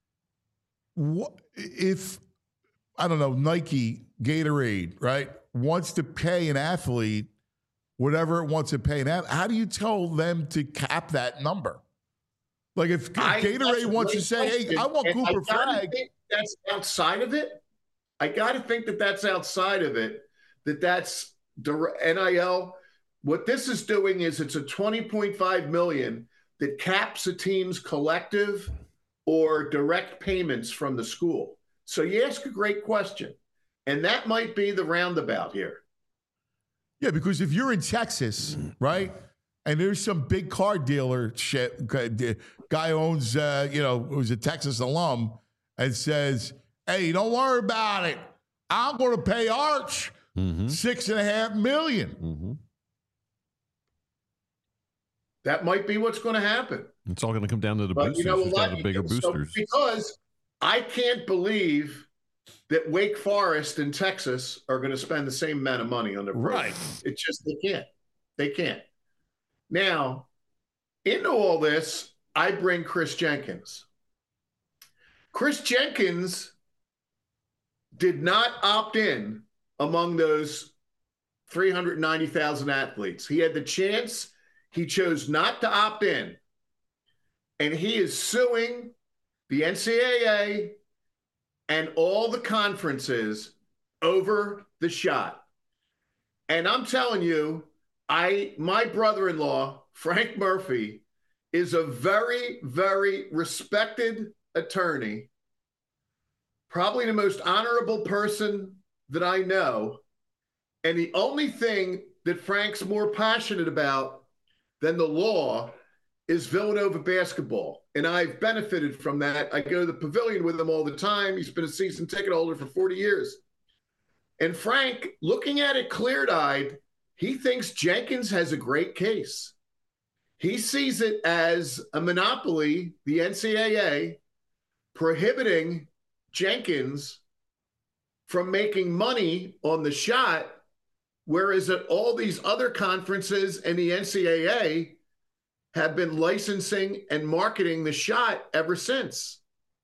What if, I don't know, Nike, Gatorade, right, wants to pay an athlete whatever it wants to pay an athlete? How do you tell them to cap that number? Like if, if I, Gatorade wants to say, question. hey, I want and Cooper I Flagg. Think that's outside of it. I got to think that that's outside of it, that that's the N I L. What this is doing is it's a twenty point five million that caps a team's collective or direct payments from the school. So you ask a great question, and that might be the roundabout here. Yeah, because if you're in Texas, right, and there's some big car dealer shit, guy owns, uh, you know, who's a Texas alum, and says, hey, don't worry about it. I'm going to pay Arch Mm-hmm. six and a half million. Mm-hmm. That might be what's going to happen. It's all going to come down to the But boosters. you know Who's what? got the bigger So boosters. because I can't believe that Wake Forest and Texas are going to spend the same amount of money on their program. Right. It's just they can't. They can't. Now, into all this, I bring Chris Jenkins. Chris Jenkins did not opt in among those three hundred ninety thousand athletes. He had the chance. He chose not to opt in. And he is suing the N C double A and all the conferences over the shot. And I'm telling you, I my brother-in-law, Frank Murphy, is a very, very respected attorney, probably the most honorable person that I know. And the only thing that Frank's more passionate about than the law is Villanova basketball. And I've benefited from that. I go to the pavilion with him all the time. He's been a season ticket holder for forty years. And Frank, looking at it clear-eyed, he thinks Jenkins has a great case. He sees it as a monopoly, the N C double A, prohibiting Jenkins from making money on the shot, whereas at all these other conferences and the N C double A have been licensing and marketing the shot ever since.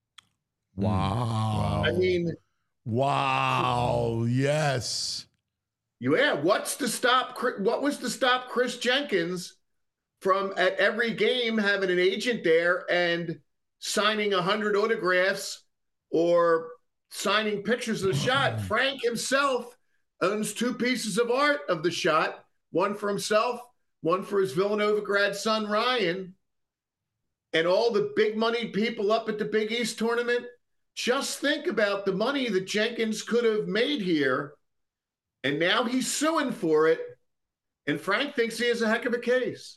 Wow. I mean, wow. Yes. yeah, what's to stop, what was to stop Chris Jenkins from at every game having an agent there and signing a hundred autographs or signing pictures of the shot? Frank himself owns two pieces of art of the shot, one for himself, one for his Villanova grad son, Ryan. And all the big money people up at the Big East tournament, just think about the money that Jenkins could have made here, and now he's suing for it, and Frank thinks he has a heck of a case.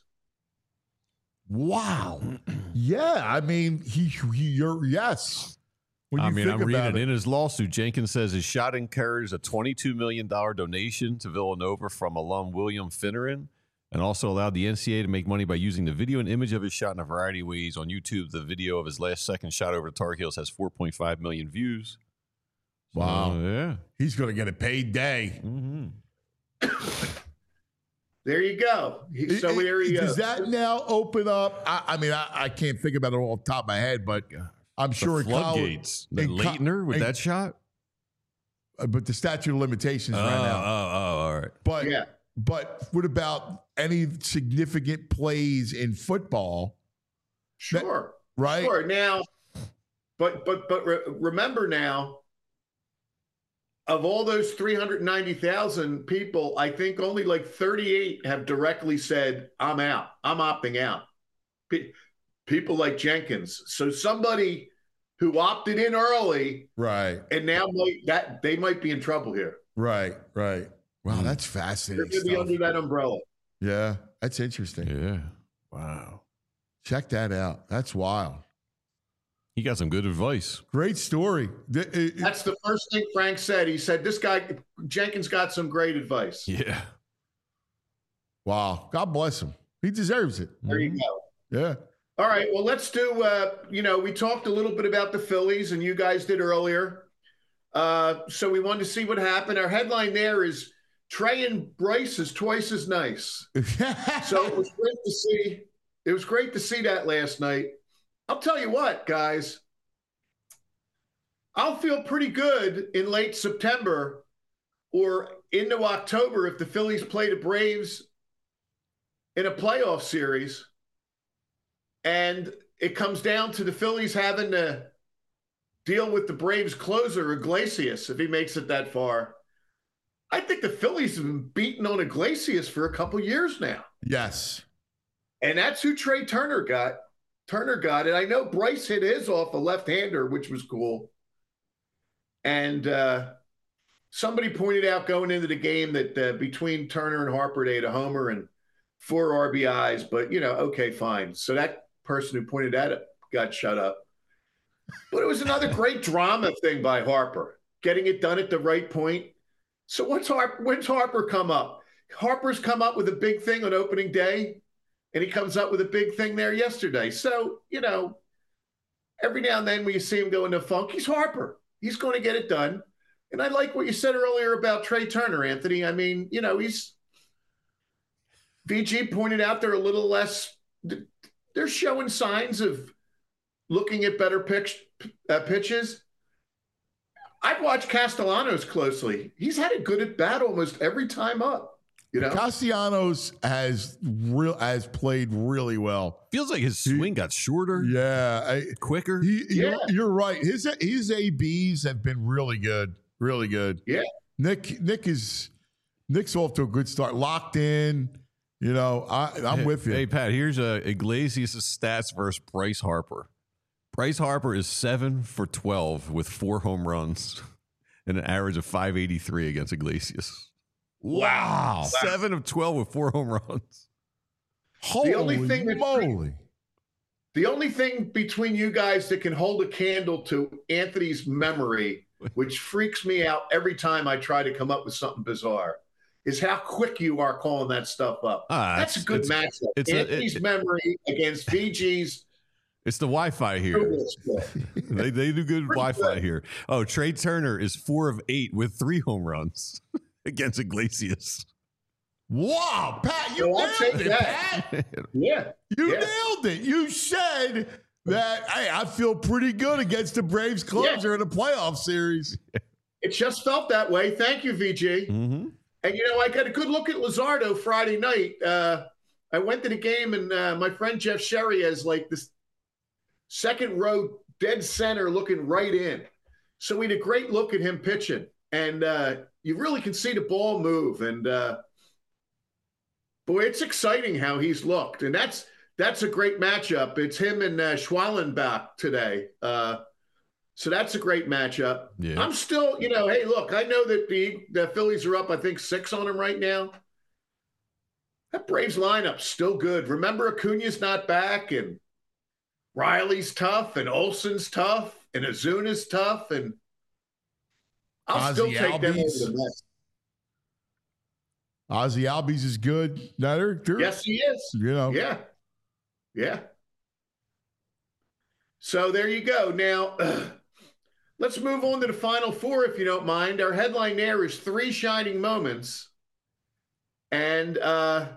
Wow. Yeah, I mean, he, he you're yes. When you I mean, think I'm reading about it. it. In his lawsuit, Jenkins says his shot encouraged a twenty-two million dollars donation to Villanova from alum William Finneran, and also allowed the N C double A to make money by using the video and image of his shot in a variety of ways. On YouTube, the video of his last second shot over the Tar Heels has four point five million views. Wow. So, yeah. He's going to get a paid day. Mm-hmm. There you go. He, so It- there it- you go. Does that now open up? I, I mean, I, I can't think about it all off the top of my head, but I'm sure The in college- floodgates. The in co- Leitner with in- that shot? uh, but the statute of limitations Oh, ran oh, out. oh, all right. But Yeah. but what about any significant plays in football? Sure. Right? Sure. Now, but but but re- remember now, of all those three hundred ninety thousand people, I think only like thirty-eight have directly said, I'm out. I'm opting out. Pe- people like Jenkins. So somebody who opted in early Right. and now might that they might be in trouble here. Right. Right. Wow, that's They're fascinating going to be stuff. under that umbrella. Yeah, that's interesting. Yeah. Wow. Check that out. That's wild. He got some good advice. Great story. Th- it- it- That's the first thing Frank said. He said, this guy, Jenkins, got some great advice. Yeah. wow. God bless him. He deserves it. There you go. Yeah. All right. Well, let's do, uh, you know, we talked a little bit about the Phillies, and you guys did earlier. Uh, so we wanted to see what happened. Our headline there is Trey and Bryce is twice as nice. So it was great to see. It was great to see that last night. I'll tell you what, guys. I'll feel pretty good in late September or into October if the Phillies play the Braves in a playoff series. And it comes down to the Phillies having to deal with the Braves closer, Iglesias, if he makes it that far. I think the Phillies have been beating on Iglesias for a couple years now. Yes. And that's who Trey Turner got. Turner got it. I know Bryce hit his off a left-hander, which was cool. And uh, somebody pointed out going into the game that uh, between Turner and Harper, they had a homer and four R B Is. But, you know, okay, fine. So that person who pointed that out got shut up. But it was another great drama thing by Harper, getting it done at the right point. So what's Harper, when's Harper come up? Harper's come up with a big thing on opening day, and he comes up with a big thing there yesterday. So, you know, every now and then when you see him go into funk, he's Harper. He's going to get it done. And I like what you said earlier about Trey Turner, Anthony. I mean, you know, he's V G pointed out they're a little less, they're showing signs of looking at better pitch, uh, pitches. I've watched Castellanos closely. He's had a good at bat almost every time up. You know, Castellanos has real has played really well. Feels like his swing got shorter, Yeah, I, quicker. he, Yeah. You're, you're right. His his A Bs have been really good, really good. Yeah. Nick Nick is Nick's off to a good start. Locked in. You know, I, I'm hey, with you. Hey, Pat, here's uh, Iglesias' stats versus Bryce Harper. Bryce Harper is seven for twelve with four home runs and an average of five eighty-three against Iglesias. Wow. Seven of twelve with four home runs. Holy only thing that- moly! the only thing between you guys that can hold a candle to Anthony's memory, which freaks me out every time I try to come up with something bizarre, is how quick you are calling that stuff up. Ah, That's a it's- good it's- matchup. it's a- Anthony's it- memory against V G's. It's the Wi-Fi here. they they do good Pretty Wi-Fi good. here. Oh, Trey Turner is four of eight with three home runs against Iglesias. Wow, Pat, you Well, I'll nailed take it, that. Pat. Yeah. You Yeah. nailed it. You said that, hey, I feel pretty good against the Braves closer in a playoff series. It just felt that way. Thank you, V G. Mm-hmm. And, you know, I got a good look at Luzardo Friday night. Uh, I went to the game, and uh, my friend Jeff Sherry has, like, this second row dead center looking right in. So we had a great look at him pitching. And uh, you really can see the ball move. And, uh, boy, it's exciting how he's looked. And that's that's a great matchup. It's him and uh, Schwallenbach today. Uh, So that's a great matchup. Yeah. I'm still, you know, hey, look, I know that the, the Phillies are up, I think, six on them right now. That Braves lineup's still good. Remember, Acuna's not back, and Riley's tough, and Olsen's tough, and Azuna's tough, and I'll Ozzy still take them over Albies. the Mets. Ozzy Albies is good. No, they're, they're, Yes, he is. You know. Yeah. Yeah. So there you go. Now, uh, let's move on to the Final Four, if you don't mind. Our headline there is Three Shining Moments. And uh,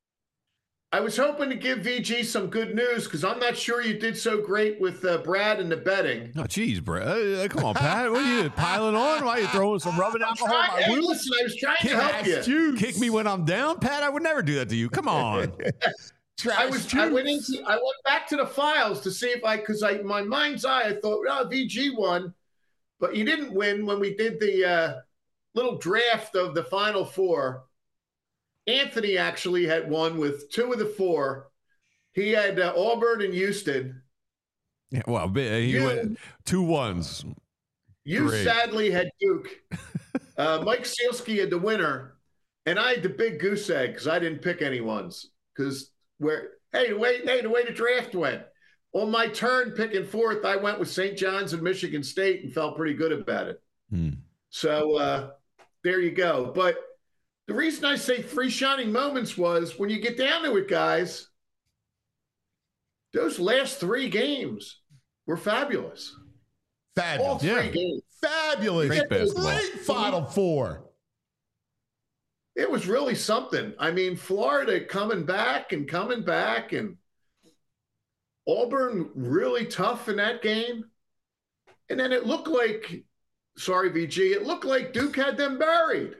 I was hoping to give V G some good news because I'm not sure you did so great with uh, Brad and the betting. Oh, geez, Brad. Uh, come on, Pat. What are you piling on? Why are you throwing some rubbing alcohol on my Hey, wound? listen, I was trying Kick, to help you. Kick me when I'm down, Pat. I would never do that to you. Come on. I was. I went into. I went back to the files to see if I, because I, my mind's eye, I thought, oh, V G won, but you didn't win when we did the uh, little draft of the Final Four. Anthony actually had won with two of the four. He had uh, Auburn and Houston. Yeah, well, he You- went two ones. You Great. sadly had Duke. Uh, Mike Sealski had the winner, and I had the big goose egg because I didn't pick any ones. Because where, hey, the way, hey, the way the draft went. On my turn picking fourth, I went with Saint John's and Michigan State and felt pretty good about it. Hmm. So uh, there you go. But the reason I say three shining moments was when you get down to it, guys, those last three games were fabulous. All Fabulous. three Yeah. games. Fabulous. Great basketball. Great Final Four. It was really something. I mean, Florida coming back and coming back, and Auburn really tough in that game. And then it looked like, sorry, V G, it looked like Duke had them buried.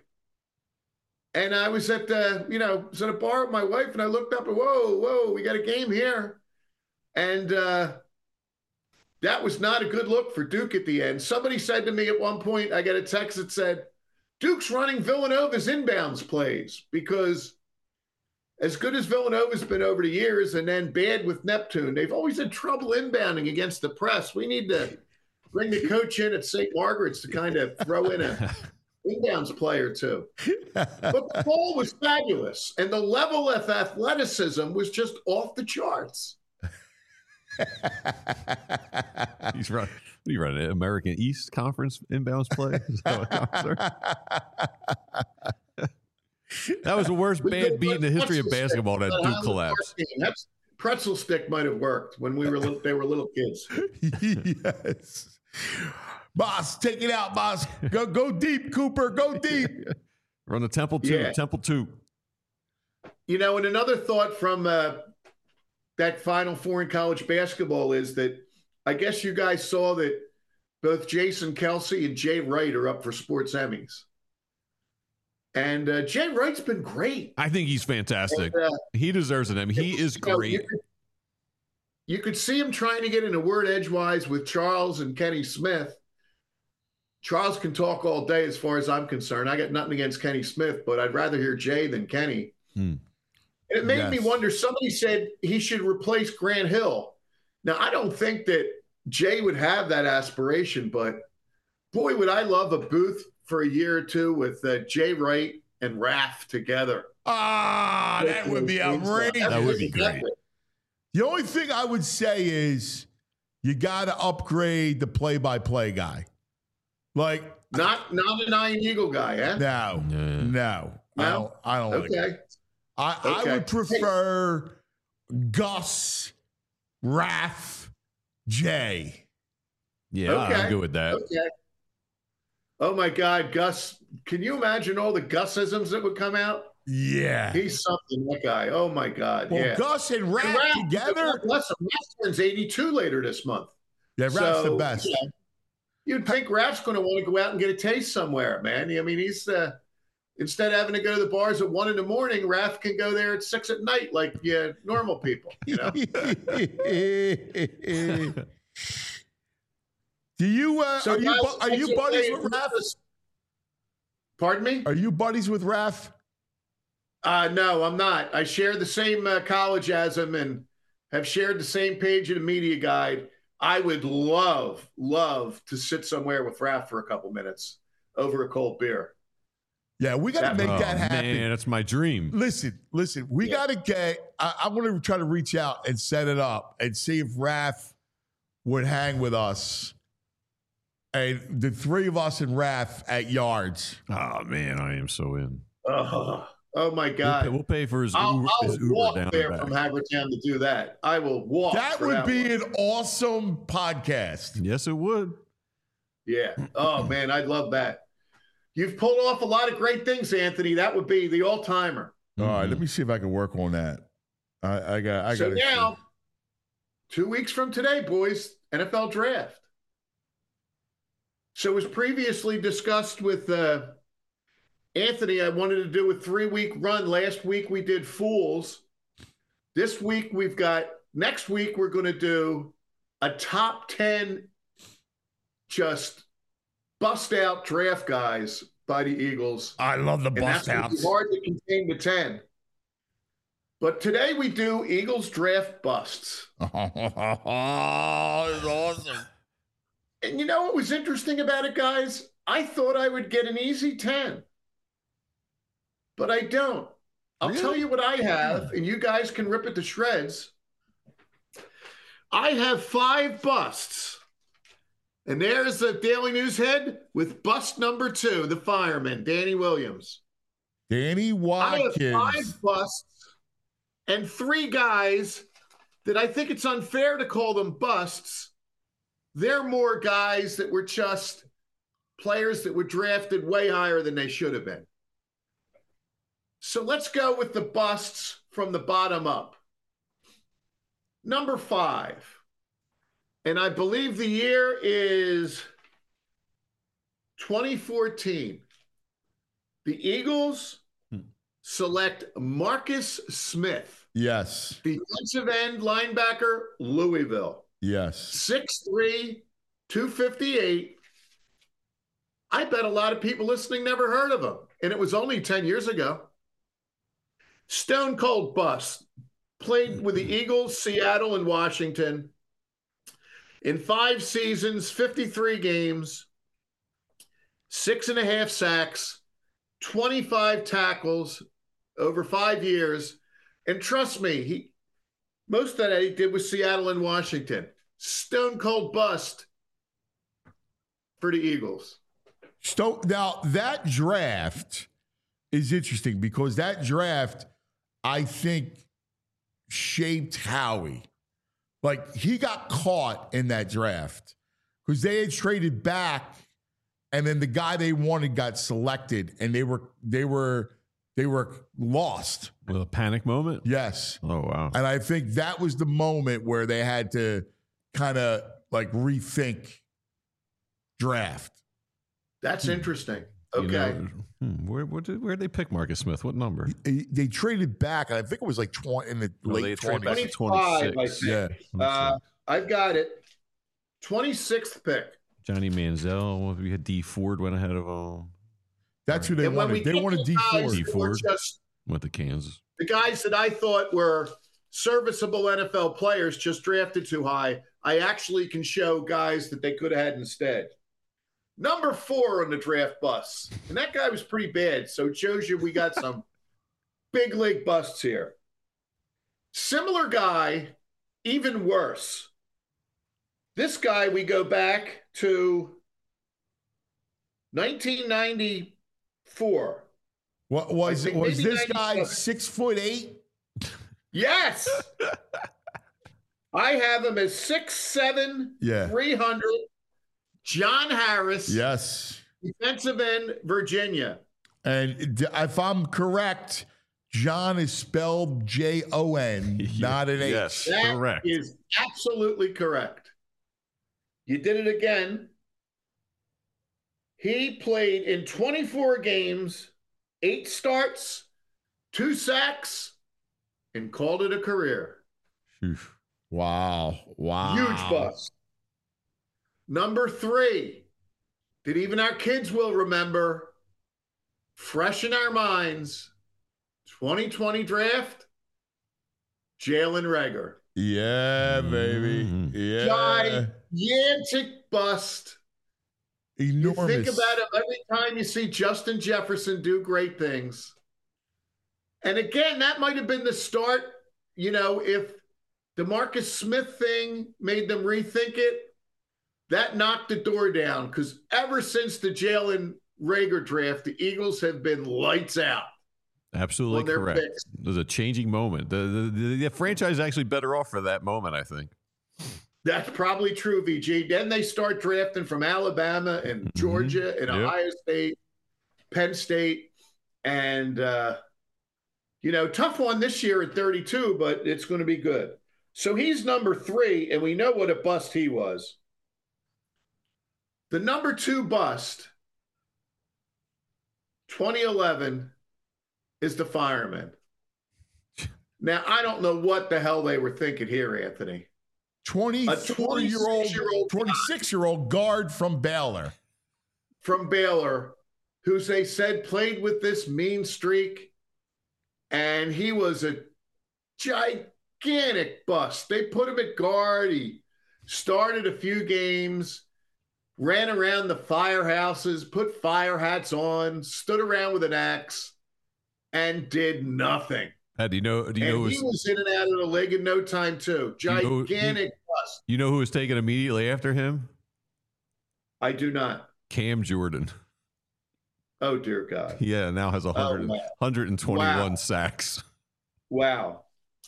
And I was at the, you know, was at a bar with my wife, and I looked up and whoa, whoa, we got a game here. And uh, that was not a good look for Duke at the end. Somebody said to me at one point, I got a text that said, Duke's running Villanova's inbounds plays because as good as Villanova's been over the years and then bad with Neptune, they've always had trouble inbounding against the press. We need to bring the coach in at Saint Margaret's to kind of throw in a inbounds play or two. But the ball was fabulous, and the level of athleticism was just off the charts. He's running. What are you running? American East Conference inbounds play? Is that what counts there? That was the worst We bad could beat in the put history of pretzel basketball. stick That on Duke the collapse. first game. That's pretzel stick might have worked when we were little, they were little kids. Yes. Boss, take it out, boss. Go go deep, Cooper. Go deep. Run the Temple two. Yeah. Temple two. You know, and another thought from uh, that Final Four in college basketball is that I guess you guys saw that both Jason Kelsey and Jay Wright are up for sports Emmys. And uh, Jay Wright's been great. I think he's fantastic. And, uh, He deserves an Emmy. He is you know, great. You could, you could see him trying to get in a word edgewise with Charles and Kenny Smith. Charles can talk all day as far as I'm concerned. I got nothing against Kenny Smith, but I'd rather hear Jay than Kenny. Hmm. And it made Yes. me wonder, somebody said he should replace Grant Hill. Now, I don't think that Jay would have that aspiration, but boy, would I love a booth for a year or two with uh, Jay Wright and Raph together. Ah, that would be outrageous. That would be great. The only thing I would say is you got to upgrade the play-by-play guy. Like, Not not an Iron Eagle guy, eh? no, Yeah. no, I No? don't. I don't like it. Okay. I, I Okay. would prefer Gus, Raph, Jay. Yeah, Okay. I'm good with that. Okay. Oh my God, Gus! Can you imagine all the Gusisms that would come out? Yeah. He's something, that guy. Oh my God, Well, yeah. Gus and And Raph Raph, together. Bless him, Raph turns eighty-two later this month. Yeah, Raph's the So, best. you know, you'd think Raph's going to want to go out and get a taste somewhere, man. I mean, he's uh, instead of having to go to the bars at one in the morning, Raph can go there at six at night, like yeah, normal people. You know. Do you uh, So are you guys, bu- are let's you just buddies say- with Raph? Pardon me? Are you buddies with Raph? Uh, no, I'm not. I share the same uh, college as him and have shared the same page in the media guide. I would love, love to sit somewhere with Raph for a couple minutes over a cold beer. Yeah, we got to make oh, that happen. Man, that's my dream. Listen, listen, we Yeah. got to get, I, I want to try to reach out and set it up and see if Raph would hang with us. And the three of us and Raph at Yards. Oh, man, I am so in. Oh, oh my We'll God. pay, we'll pay for his I'll, Uber, I'll his Uber walk down there and from back. Hagertown to do that. I will walk. That for would be one. an awesome podcast. Yes, it would. Yeah. Oh, man, I'd love that. You've pulled off a lot of great things, Anthony. That would be the all-timer. All right, Mhm. let me see if I can work on that. I, I got, I so got now, two weeks from today, boys, N F L draft. So as previously discussed with uh, Anthony, I wanted to do a three-week run. Last week we did Fools. This week we've got, next week we're going to do a top ten just bust-out draft guys by the Eagles. I love the And that's bust gonna be outs. hard to contain the ten. But today we do Eagles draft busts. Oh, it's awesome. And you know what was interesting about it, guys? I thought I would get an easy ten, but I don't. I'll Really? tell you what I have, and you guys can rip it to shreds. I have five busts. And there's the Daily News head with bust number two, the fireman, Danny Williams. Danny I have Watkins. five busts and three guys that I think it's unfair to call them busts. They're more guys that were just players that were drafted way higher than they should have been. So let's go with the busts from the bottom up. Number five. And I believe the year is twenty fourteen. The Eagles select Marcus Smith, Yes. defensive end linebacker, Louisville. Yes. six three, two fifty-eight. I bet a lot of people listening never heard of him, and it was only ten years ago. Stone cold bust. Played with the Eagles, Seattle, and Washington. In five seasons, fifty-three games, six and a half sacks, twenty-five tackles over five years. And trust me, he most of that he did with Seattle and Washington. Stone cold bust for the Eagles. So now that draft is interesting because that draft, I think, shaped Howie. Like he got caught in that draft because they had traded back, and then the guy they wanted got selected, and they were they were they were lost. With a panic moment? Yes. Oh, wow. And I think that was the moment where they had to kind of like rethink draft. That's interesting. You Okay. know, hmm, where where did where did they pick Marcus Smith? What number? They, they traded back, and I think it was like twenty in the Oh, they late traded back twenties. to twenty-five, I twenty-six. think. Yeah. Uh, I've got it. twenty-sixth pick. Johnny Manziel. We had D Ford went ahead of him. That's who they And when we wanted. They get wanted to D guys Ford. D that were Ford. just Went to Kansas. the guys that I thought were serviceable N F L players just drafted too high, I actually can show guys that they could have had instead. Number four on the draft bus. And that guy was pretty bad. So it shows you we got some big league busts here. Similar guy, even worse. This guy, we go back to nineteen ninety-four. What was I think was maybe this guy ninety-seven. six foot eight? Yes. I have him as six seven, Yeah. three hundred. John Harris, Yes. defensive end, Virginia. And d- if I'm correct, John is spelled J O N, not an H. Yes, That correct. is absolutely correct. You did it again. He played in twenty-four games, eight starts, two sacks, and called it a career. Phew. Wow. Wow. Huge bust. Number three, that even our kids will remember, fresh in our minds, twenty twenty draft, Jalen Reagor. Yeah, baby. Mhm. Yeah. Gigantic bust. Enormous. You think about it every time you see Justin Jefferson do great things. And again, that might have been the start. You know, if the Marcus Smith thing made them rethink it, that knocked the door down. Because ever since the Jalen Reagor draft, the Eagles have been lights out. Absolutely correct. Picks. There's a changing moment. The, the, the franchise is actually better off for that moment, I think. That's probably true, V G. Then they start drafting from Alabama and Georgia mm-hmm. and yep. Ohio State, Penn State, and, uh, you know, tough one this year at thirty-two, but it's going to be good. So he's number three, and we know what a bust he was. The number two bust, twenty eleven, is the fireman. Now, I don't know what the hell they were thinking here, Anthony. twenty-four-year-old, twenty-six-year-old guard from Baylor. From Baylor, who they said played with this mean streak, and he was a gigantic bust. They put him at guard. He started a few games, ran around the firehouses, put fire hats on, stood around with an axe, and did nothing. Uh, do you know? Do you and know? He was, was in and out of the league in no time too. Gigantic you know, bust. You know who was taken immediately after him? I do not. Cam Jordan. Oh dear God. Yeah, now has one hundred, oh, one hundred twenty-one wow. sacks. Wow.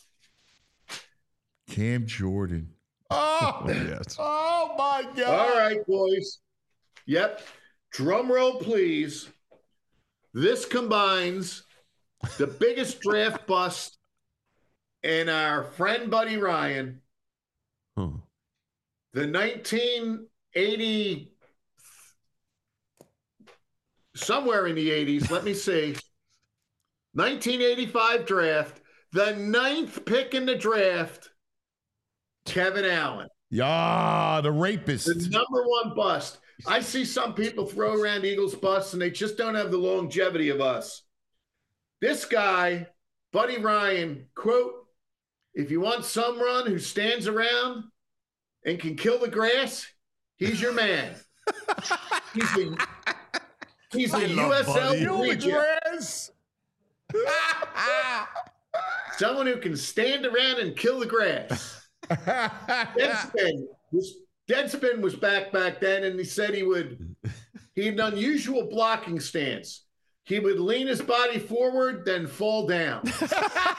Cam Jordan. Oh, yes. Oh my God. All right, boys. Yep. Drum roll, please. This combines the biggest draft bust in our friend Buddy Ryan, huh. the nineteen eighty, somewhere in the eighties, let me see, nineteen eighty-five draft, the ninth pick in the draft, Kevin Allen. Yeah, the rapist. The number one bust. I see some people throw around Eagles busts, and they just don't have the longevity of us. This guy, Buddy Ryan, quote, if you want someone who stands around and can kill the grass, he's your man. He's a, he's a U S L reject. Someone who can stand around and kill the grass. Deadspin was, Deadspin was back back then, and he said he would, he had an unusual blocking stance. He would lean his body forward, then fall down. But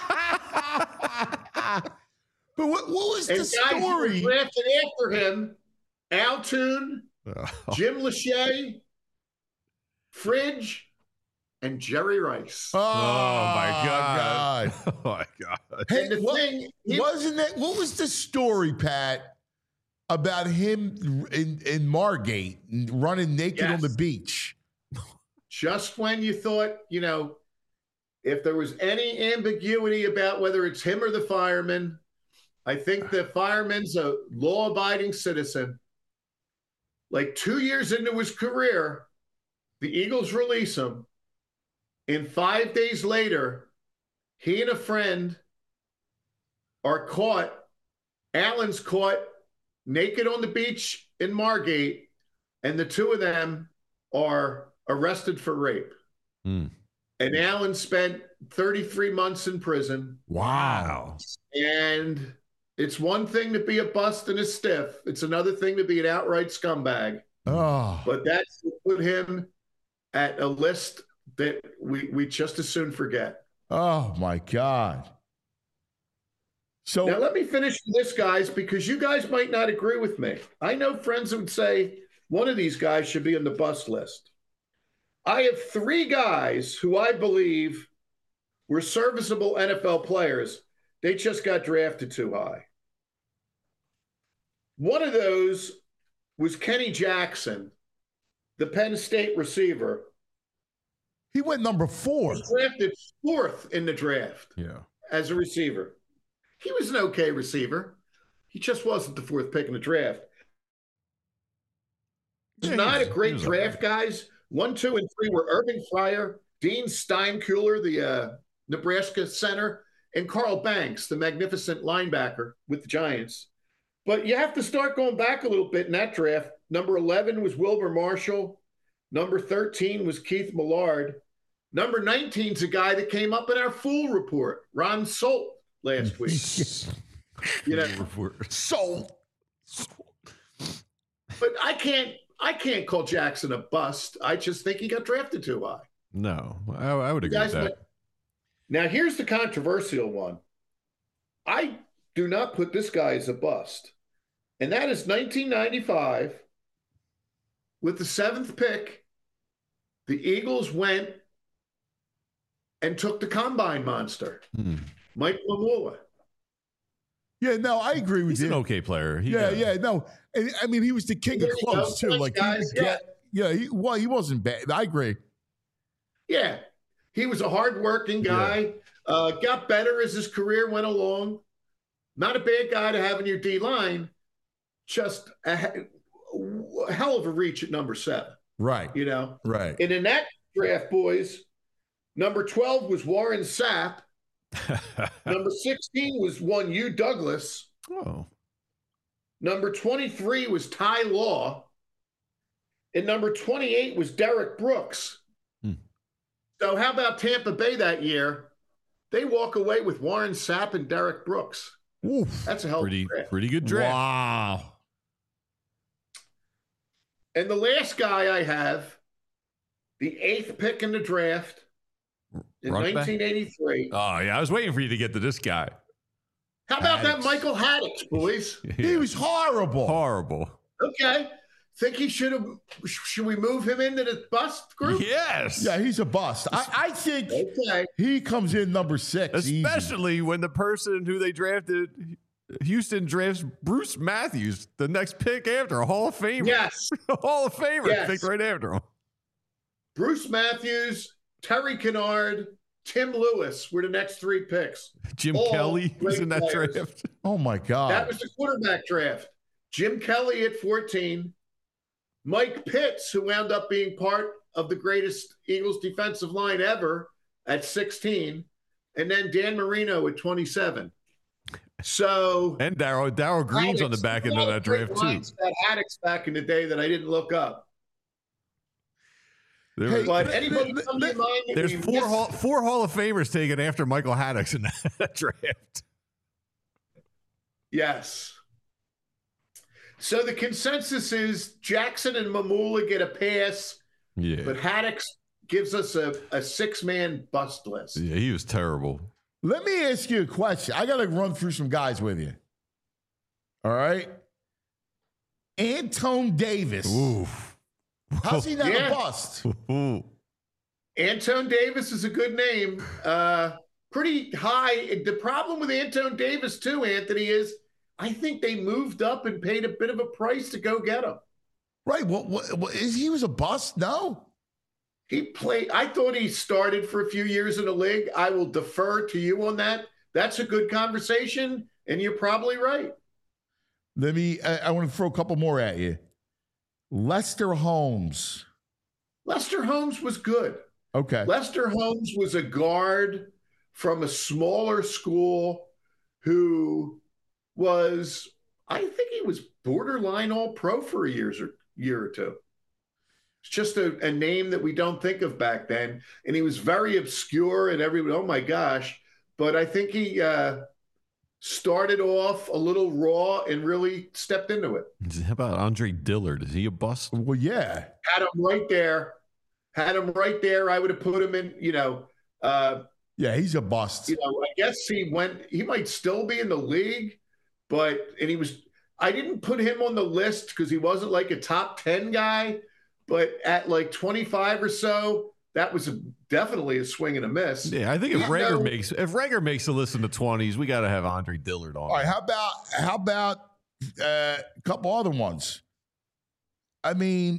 what, what was and the story? Guys who were drafted after him, Al Toon, oh. Jim Lachey, Fridge, and Jerry Rice. Oh, oh my God. God. Oh my God. Hey, the what, thing, he, wasn't that, what was the story, Pat, about him in, in Margate running naked yes. on the beach? Just when you thought, you know, if there was any ambiguity about whether it's him or the fireman, I think the fireman's a law-abiding citizen. Like two years into his career, the Eagles release him. And five days later, he and a friend are caught. Allen's caught naked on the beach in Margate, and the two of them are arrested for rape. Mm. And Allen spent thirty-three months in prison. Wow. And it's one thing to be a bust and a stiff. It's another thing to be an outright scumbag. Oh. But that's put him at a list that we, we just as soon forget. Oh, my God. So now let me finish this, guys, because you guys might not agree with me. I know friends who would say one of these guys should be on the bust list. I have three guys who I believe were serviceable N F L players. They just got drafted too high. One of those was Kenny Jackson, the Penn State receiver. He went number four. He was drafted fourth in the draft Yeah. as a receiver. He was an okay receiver. He just wasn't the fourth pick in the draft. He's Yeah, not he was, a great he was draft, okay. guys. One, two, and three were Irving Fryer, Dean Steinkuhler, the uh, Nebraska center, and Carl Banks, the magnificent linebacker with the Giants. But you have to start going back a little bit in that draft. Number eleven was Wilbur Marshall. Number thirteen was Keith Millard. Number nineteen is a guy that came up in our Fool Report, Ron Solt, last week. You know, Solt. But I can't, I can't call Jackson a bust. I just think he got drafted too high. No, I, I would agree with that. Might, now, here's the controversial one. I do not put this guy as a bust. And that is nineteen ninety-five, with the seventh pick, the Eagles went and took the combine monster, hmm. Mike Mamula. Yeah, no, I agree with He's you. He's an okay player. He yeah, got... yeah, no. And, I mean, he was the king there of close, too. Thanks, like, guys. he get, yeah, yeah he, well, he wasn't bad. I agree. Yeah, he was a hardworking guy. Yeah. Uh, got better as his career went along. Not a bad guy to have in your D line. Just a, a hell of a reach at number seven. Right. You know. Right. And in that draft, boys, number twelve was Warren Sapp. Number sixteen was one Hugh Douglas. Oh. Number twenty-three was Ty Law. And number twenty-eight was Derek Brooks. Hmm. So how about Tampa Bay that year? They walk away with Warren Sapp and Derek Brooks. Oof. That's a hell pretty, of a draft. Pretty good draft. Wow. And the last guy I have, the eighth pick in the draft in Rock nineteen eighty-three. Back? Oh, yeah. I was waiting for you to get to this guy. How about Haddix. that Michael Haddix, boys? Yeah. He was horrible. Horrible. Okay. Think he should have, should we move him into the bust group? Yes. Yeah, he's a bust. I, I think okay. he comes in number six. Especially easy. when the person who they drafted, Houston drafts Bruce Matthews, the next pick after, a Hall of Famer. Yes. A Hall of Famer yes. picked right after him. Bruce Matthews, Terry Kennard, Tim Lewis were the next three picks. Jim All Kelly was in that players. draft. Oh, my God. That was the quarterback draft. Jim Kelly at fourteen. Mike Pitts, who wound up being part of the greatest Eagles defensive line ever at sixteen. And then Dan Marino at twenty-seven. So and Darryl Darryl Green's on the back end of that draft, too. That Haddix back in the day that I didn't look up. There Hey, was, but anybody come to mind? there's four hall, four Hall of Famers taken after Michael Haddix in that draft. Yes. So the consensus is Jackson and Mamula get a pass, Yeah. but Haddix gives us a, a six-man bust list. Yeah, he was terrible. Let me ask you a question. I got to run through some guys with you. All right. Antone Davis. Oof. How's he not Yeah. a bust? Ooh. Antone Davis is a good name. Uh, pretty high. The problem with Antone Davis, too, Anthony, is I think they moved up and paid a bit of a price to go get him. Right. What, what, what is he was a bust? No. He played. I thought he started for a few years in the league. I will defer to you on that. That's a good conversation, and you're probably right. Let me, I, I want to throw a couple more at you. Lester Holmes. Lester Holmes was good. Okay. Lester Holmes was a guard from a smaller school who was, I think he was borderline all pro for a years or year or two. It's just a, a name that we don't think of back then. And he was very obscure and everyone, oh my gosh. But I think he uh, started off a little raw and really stepped into it. How about Andre Dillard? Is he a bust? Well, yeah. Had him right there. Had him right there. I would have put him in, you know, uh, Yeah, he's a bust. you know, I guess he went, he might still be in the league, but, and he was, I didn't put him on the list because he wasn't like a top ten guy, but at like twenty-five or so, that was a, definitely a swing and a miss. Yeah, I think if Yeah, Rager no. makes if Rager makes a list in the twenties, we got to have Andre Dillard on. All right, how about how about uh, a couple other ones? I mean,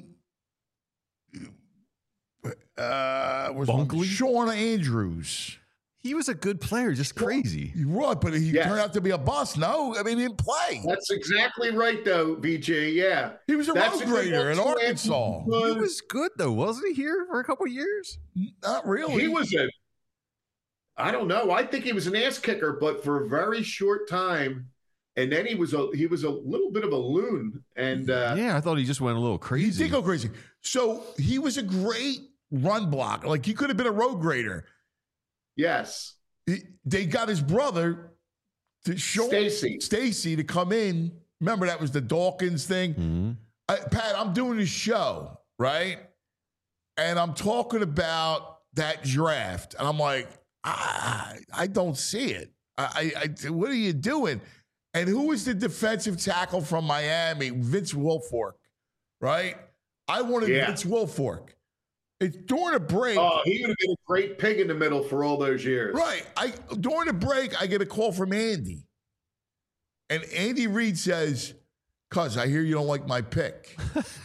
uh, was Bunkley? Sean Andrews. He was a good player, just crazy. You're right, but he Yes. turned out to be a bust. No, I mean, he didn't play. That's exactly right, though, V J. Yeah. He was a That's road a good grader in one, too, Arkansas. Anthony. He was good though, wasn't he? Here for a couple years. Not really. He was a I don't know. I think he was an ass kicker, but for a very short time. And then he was a he was a little bit of a loon. And uh, yeah, I thought he just went a little crazy. He did go crazy. So he was a great run blocker. Like he could have been a road grader. yes, He, they got his brother to show Stacy. Stacy to come in. Remember that was the Dawkins thing. Mm-hmm. I, Pat, I'm doing this show, right? And I'm talking about that draft, and I'm like, I, I don't see it. I, I, what are you doing? And who was the defensive tackle from Miami? Vince Wilfork, right? I wanted Yeah. Vince Wilfork. It's during a break. Oh, he would have been a great pig in the middle for all those years. Right. I during the break, I get a call from Andy. And Andy Reid says, "Cuz, I hear you don't like my pick."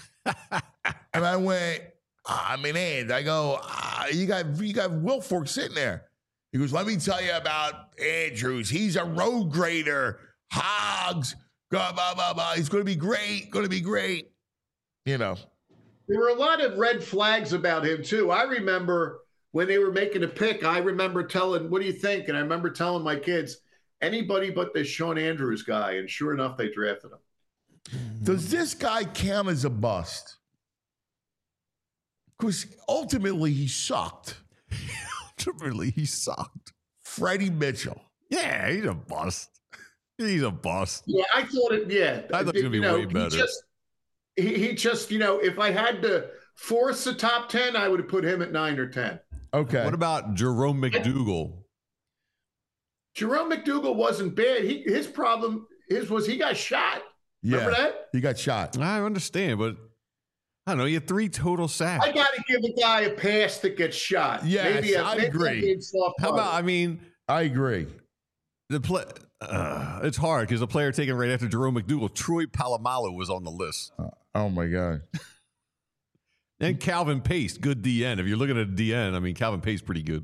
And I went, I mean, Andy, I go, ah, you got you got Wilfork sitting there. He goes, let me tell you about Andrews. He's a road grader. Hogs, blah, blah, blah, blah. He's going to be great, going to be great. You know. There were a lot of red flags about him, too. I remember when they were making a pick, I remember telling, what do you think? And I remember telling my kids, anybody but this Sean Andrews guy. And sure enough, they drafted him. Does this guy count as a bust? Because ultimately he sucked. Ultimately, he sucked. Freddie Mitchell. Yeah, he's a bust. He's a bust. Yeah, I thought it, yeah. I thought it was gonna be You know, way better. He just, he, he just, you know, if I had to force the top ten, I would have put him at nine or ten. Okay. What about Jerome McDougal? Jerome McDougal wasn't bad. He His problem his was he got shot. Remember Yeah, that? he got shot. I understand, but I don't know. You had three total sacks. I got to give a guy a pass that gets shot. Yes, maybe a, I maybe agree. a big soft How target. about, I mean, I agree. the play. Uh, it's hard because the player taken right after Jerome McDougal, Troy Polamalu, was on the list. Oh, my God. And Calvin Pace, good D N. If you're looking at a D N, I mean, Calvin Pace, pretty good.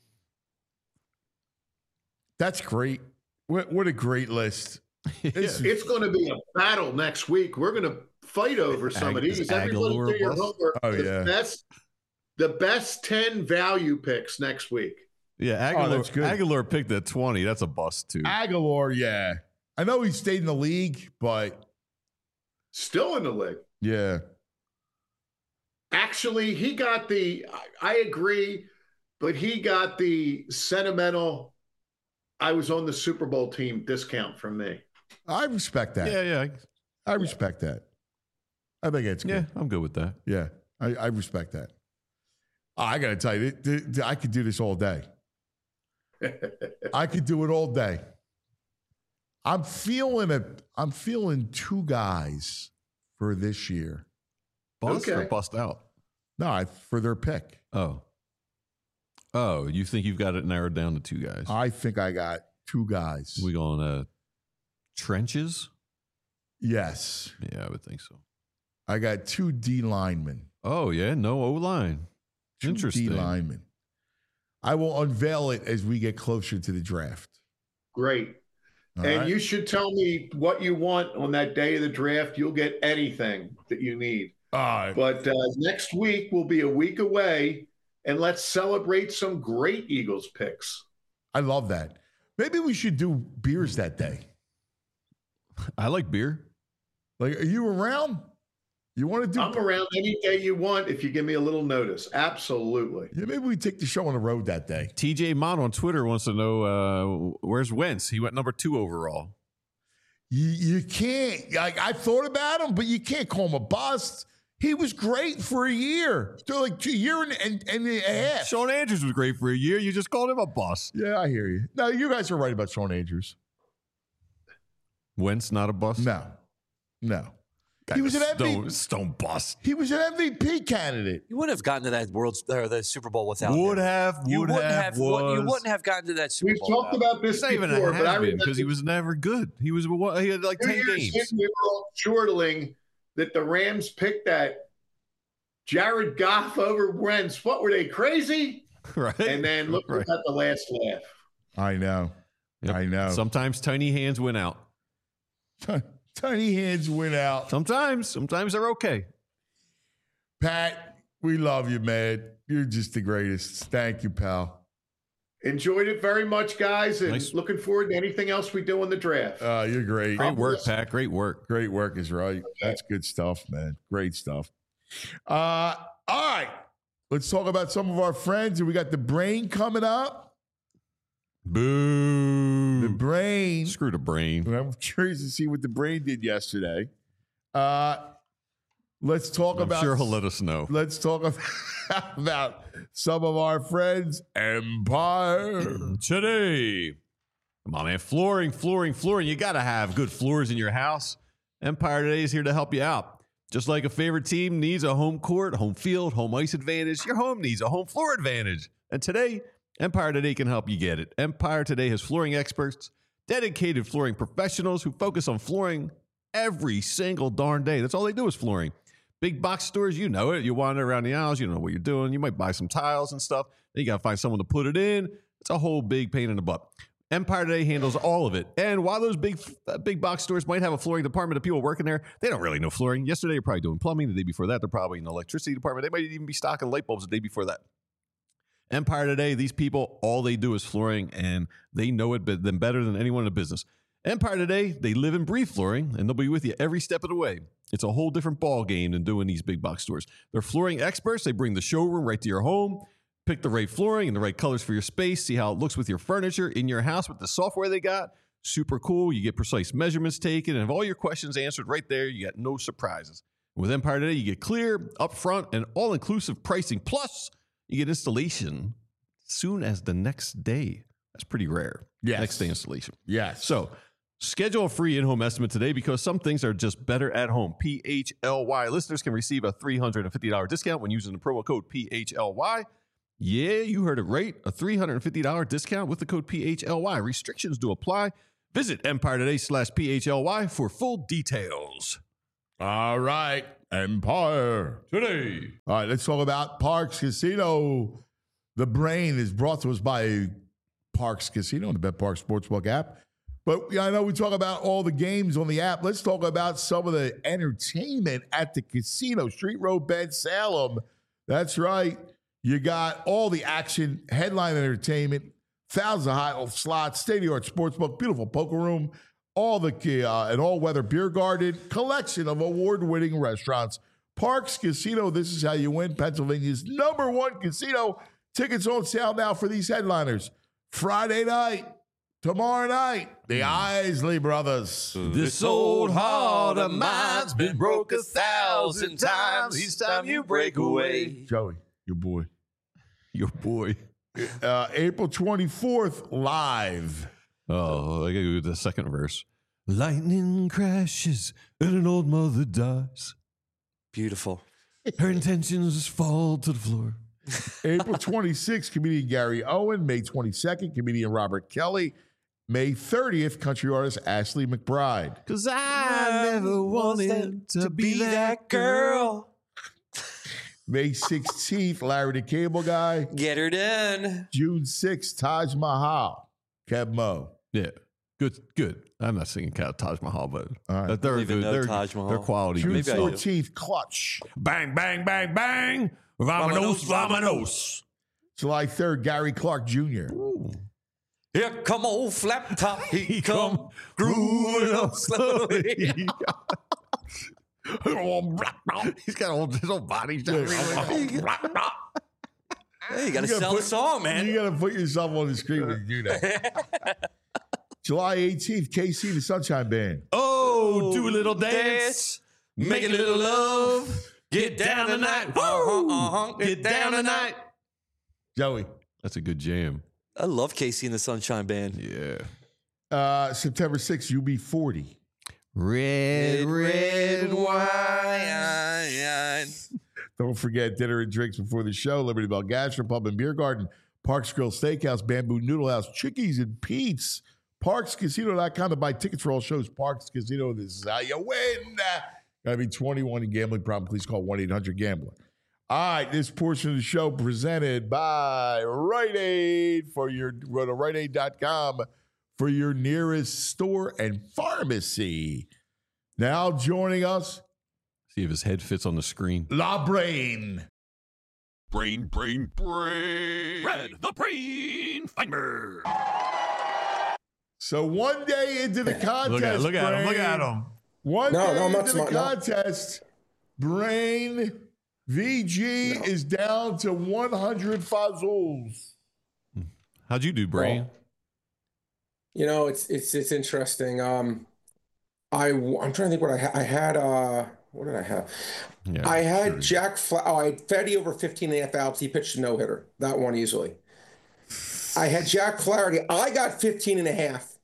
That's great. What, what a great list. It's- It's going to be a battle next week. We're going to fight over some Ag- of these. is Everybody Aguilar do your bust? homework. Oh, The yeah. Best, the best ten value picks next week. Yeah, Aguilar, that's good. Aguilar picked at twenty. That's a bust, too. Aguilar, yeah. I know he stayed in the league, but Still in the league. yeah. Actually, he got the, I, I agree, but he got the sentimental, I was on the Super Bowl team discount from me. I respect that. Yeah, yeah. I respect that. I think it's Yeah, good. I'm good with that. Yeah, I, I respect that. Oh, I got to tell you, th- th- th- I could do this all day. I could do it all day. I'm feeling a. I'm feeling two guys for this year. Bust or Okay. bust out? No, I, for their pick. Oh. Oh, you think you've got it narrowed down to two guys? I think I got two guys. we going uh, trenches? yes, Yeah, I would think so. I got two D linemen. Oh, yeah, no O-line. Two Interesting. D linemen. I will unveil it as we get closer to the draft. Great. All and right? you should tell me what you want on that day of the draft. You'll get anything that you need. All right. But uh, next week will be a week away, and let's celebrate some great Eagles picks. I love that. Maybe we should do beers that day. I like beer. Like, are you around? You want to do? I'm around any day you want if you give me a little notice. Absolutely. Yeah, maybe we take the show on the road that day. T J Mott on Twitter wants to know uh, where's Wentz? He went number two overall. You, you can't. Like, I thought about him, but you can't call him a bust. He was great for a year, so like two year and, and, and a half. Sean Andrews was great for a year. You just called him a bust. Yeah, I hear you. No, you guys are right about Sean Andrews. Wentz not a bust. No, no. He was an M V P. stone, stone bust. He was an M V P candidate. You wouldn't have gotten to that World or the Super Bowl without Would him. have. Would You wouldn't have. have. was. You wouldn't have gotten to that Super We've Bowl. talked without him. about this It's not even before, a but I has been remember because he was never good. He was he had like two ten years games. in, we were all chortling that the Rams picked that Jared Goff over Wentz. What were they, crazy? Right. And then look Right. at the last laugh. I know. Yep. I know. Sometimes tiny hands win out. Tiny hands win out. Sometimes, sometimes they're okay. Pat, we love you, man. You're just the greatest. Thank you, pal. Enjoyed it very much, guys, and Nice. looking forward to anything else we do in the draft. Uh, you're great. Great work, Pat. Great work. Great work is right. That's good stuff, man. Great stuff. Uh, all right. Let's talk about some of our friends. We got the brain coming up. Boo. The brain. Screw the brain. I'm curious to see what the brain did yesterday. Uh, let's talk I'm about. sure he'll let us know. Let's talk about, about some of our friends. Empire. Today. Come on, man. Flooring, flooring, flooring. You got to have good floors in your house. Empire Today is here to help you out. Just like a favorite team needs a home court, home field, home ice advantage, your home needs a home floor advantage. And today, Empire Today can help you get it. Empire Today has flooring experts, dedicated flooring professionals who focus on flooring every single darn day. That's all they do is flooring. Big box stores, you know it. You wander around the aisles, you don't know what you're doing. You might buy some tiles and stuff. Then you got to find someone to put it in. It's a whole big pain in the butt. Empire Today handles all of it. And while those big uh, big box stores might have a flooring department of people working there, they don't really know flooring. Yesterday, you're probably doing plumbing. The day before that, they're probably in the electricity department. They might even be stocking light bulbs the day before that. Empire Today, these people, all they do is flooring, and they know it be- them better than anyone in the business. Empire Today, they live and breathe flooring, and they'll be with you every step of the way. It's a whole different ball game than doing these big box stores. They're flooring experts. They bring the showroom right to your home. Pick the right flooring and the right colors for your space. See how it looks with your furniture in your house with the software they got. Super cool. You get precise measurements taken and have all your questions answered right there. You got no surprises. With Empire Today, you get clear, upfront, and all-inclusive pricing. Plus, you get installation soon as the next day. That's pretty rare. Yes. Next day installation. Yes. So schedule a free in-home estimate today because some things are just better at home. P H L Y. Listeners can receive a three hundred fifty dollars discount when using the promo code P H L Y. Yeah, you heard it right. A three hundred fifty dollars discount with the code P H L Y. Restrictions do apply. Visit Empire Today slash P H L Y for full details. All right. Empire Today. All right, let's talk about Parks Casino. The brain is brought to us by Parks Casino and the Bet Park Sportsbook app. But yeah, I know we talk about all the games on the app. Let's talk about some of the entertainment at the casino. Street Road Bend Salem. That's right. You got all the action, headline entertainment, thousands of high slots, state-of-the-art sportsbook, beautiful poker room, all the uh, an all-weather beer garden, collection of award-winning restaurants. Parks Casino, this is how you win. Pennsylvania's number one casino. Tickets on sale now for these headliners. Friday night, tomorrow night, the Isley Brothers. This old heart of mine's been broke a thousand times. Each time you break away. Joey, your boy. Your boy. Uh, April twenty-fourth, live. Oh, I gotta go to the second verse. Lightning crashes and an old mother dies. Beautiful. Her intentions fall to the floor. April twenty-sixth, comedian Gary Owen. May twenty-second, comedian Robert Kelly. May thirtieth, country artist Ashley McBride. Cause I never wanted to be that girl. May sixteenth, Larry the Cable Guy. Get her done. June sixth, Taj Mahal. Kev Mo. Yeah. Good, good. I'm not singing Cat Taj Mahal, but All right. but they're Don't even good. know They're, Taj Mahal. they're quality. June Maybe I do. fourteenth, Clutch. Bang, bang, bang, bang. Vamonos, vamonos. July third, Gary Clark Junior Here come old flap top. He come grooving up slowly. He's got old, his old body. Hey, you gotta You gotta sell put- the song, man. You got to put yourself on the screen when you do that. July eighteenth, K C the Sunshine Band. Oh, do a little dance. Make a little love. Get down tonight. Uh-huh, uh-huh. Get down tonight. Joey. That's a good jam. I love Casey and the Sunshine Band. Yeah. Uh, September sixth, U B forty. Red, red wine. Don't forget dinner and drinks before the show. Liberty Bell Gastro Pub and Beer Garden. Parks Grill Steakhouse, Bamboo Noodle House, Chickies and Pete's. Parks Casino dot com to buy tickets for all shows. Parks Casino, this is how you win. Gotta be twenty-one and gambling problem. Please call one eight hundred gambler. All right, this portion of the show presented by Rite Aid. For your go to rite aid dot com for your nearest store and pharmacy. Now joining us, See if his head fits on the screen. La Brain. Brain, brain, brain. Red, the brain finder. So one day into the contest, Look at, look at him. Look Brain, at him. One No, day no, I'm not into the smart, no. contest, Brain V G No. is down to one hundred fuzzles. How'd you do, Brain? Well, you know, it's it's it's interesting. Um, I I'm trying to think what I had. I had uh, what did I have? Yeah, I had sure. Jack. Fla- oh, I had Fetty over fifteen and a half outs. He pitched a no hitter. That one easily. I had Jack Flaherty. I got fifteen and a half.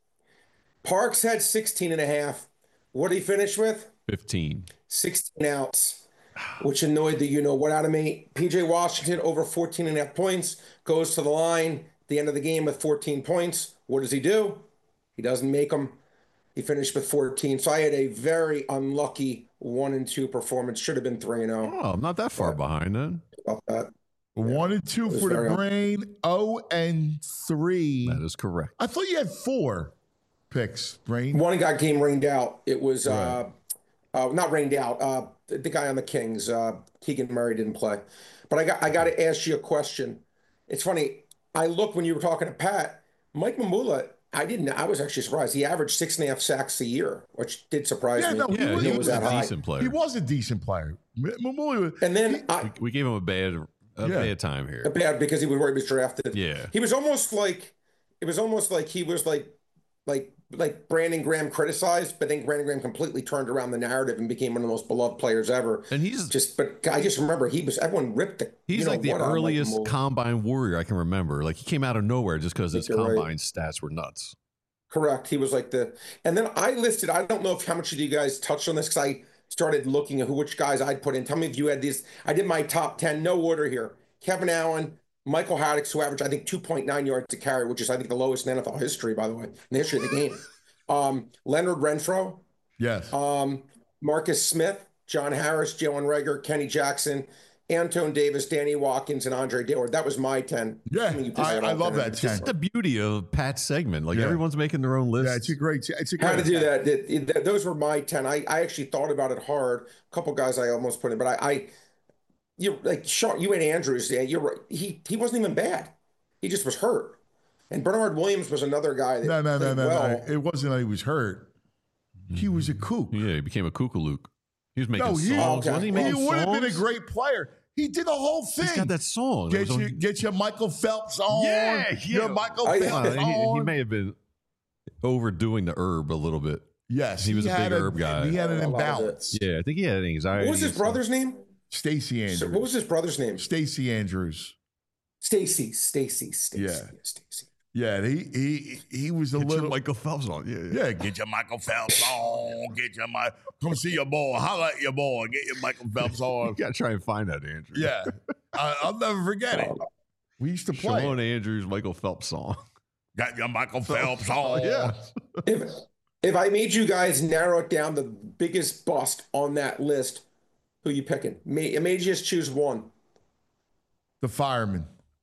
Parks had sixteen and a half. What did he finish with? fifteen. sixteen outs, which annoyed the you know what out of me. P J Washington over fourteen and a half points, goes to the line, the end of the game with fourteen points. What does he do? He doesn't make them. He finished with fourteen. So I had a very unlucky one and two performance. Should have been three and oh. Oh, I'm not that far behind then. About that. One and two It was for the very- Brain. Oh and three. That is correct. I thought you had four picks, Brain. One got game rained out. It was uh, uh, not rained out. Uh, the, the guy on the Kings, uh, Keegan Murray, didn't play. But I got I got to ask you a question. It's funny. I looked when you were talking to Pat. Mike Mamula. I didn't. I was actually surprised. He averaged six and a half sacks a year, which did surprise Yeah, me. no, he Yeah, was- he he was was a that high. decent player. He was a decent player. M- Mamuli was- And then I We gave him a bad, a Yeah. bad time here. bad because he was where he was drafted. Yeah. He was almost like it was almost like he was like like like Brandon Graham criticized, but then Brandon Graham completely turned around the narrative and became one of the most beloved players ever. And he's Just but I just remember he was everyone ripped the he's you know like the what on, earliest Mamula. combine warrior I can remember. Like he came out of nowhere just because I his think you're right. combine stats were nuts. Correct. He was like the, and then I listed. I don't know if how much of you guys touched on this because I started looking at who which guys I'd put in. Tell me if you had these. I did my top ten, no order here. Kevin Allen, Michael Haddix, who averaged I think two point nine yards to carry, which is I think the lowest in N F L history, by the way, in the history of the game. Um, Leonard Renfro, yes. um, Marcus Smith, John Harris, Jalen Reagor, Kenny Jackson, Antone Davis, Danny Watkins, and Andre Dillard. That was my ten. Yeah, mean, you put I, that I all love there. that It's ten. just- The beauty of Pat's segment, like Yeah. everyone's making their own list. Yeah, it's a great. It's a great. How to do that. It- it- those were my ten. I, I actually thought about it hard. A couple guys I almost put in, but I, I you like Sean, you and Andrews. Yeah, you're right. He he wasn't even bad. He just was hurt. And Bernard Williams was another guy that No, no, no, played no, well. no. It wasn't that he was hurt. He was a kook. Yeah, he became a kookalook. He was making No, he, songs. Okay. Wasn't he he making would have been a songs? great player. He did the whole thing. He's got that song. It Get was on- you, get your Michael Phelps on. Yeah, Your yeah. Michael I- Phelps Uh, he, he on. may have been overdoing the herb a little bit. yes, he was a had big herb guy. He had an A lot of it. imbalance. Yeah, I think he had anxiety. What was his and stuff. brother's name? Stacy So Andrews. what was his brother's name? Stacy Andrews? Stacy. Stacy. Stacy. Yeah. Stacy. Yeah, he he he was a Get your little. Michael Phelps on. Yeah, yeah. Yeah, get your Michael Phelps on. Get your Mike. Come see your boy. Holla at your boy. Get your Michael Phelps You on. gotta try and find that, Andrew. Yeah, I, I'll never forget it. We used to play. Sean Andrews, Michael Phelps song. Got your Michael Phelps on. yeah. If if I made you guys narrow it down the biggest bust on that list, who you picking? Me, I made you just choose one. The fireman.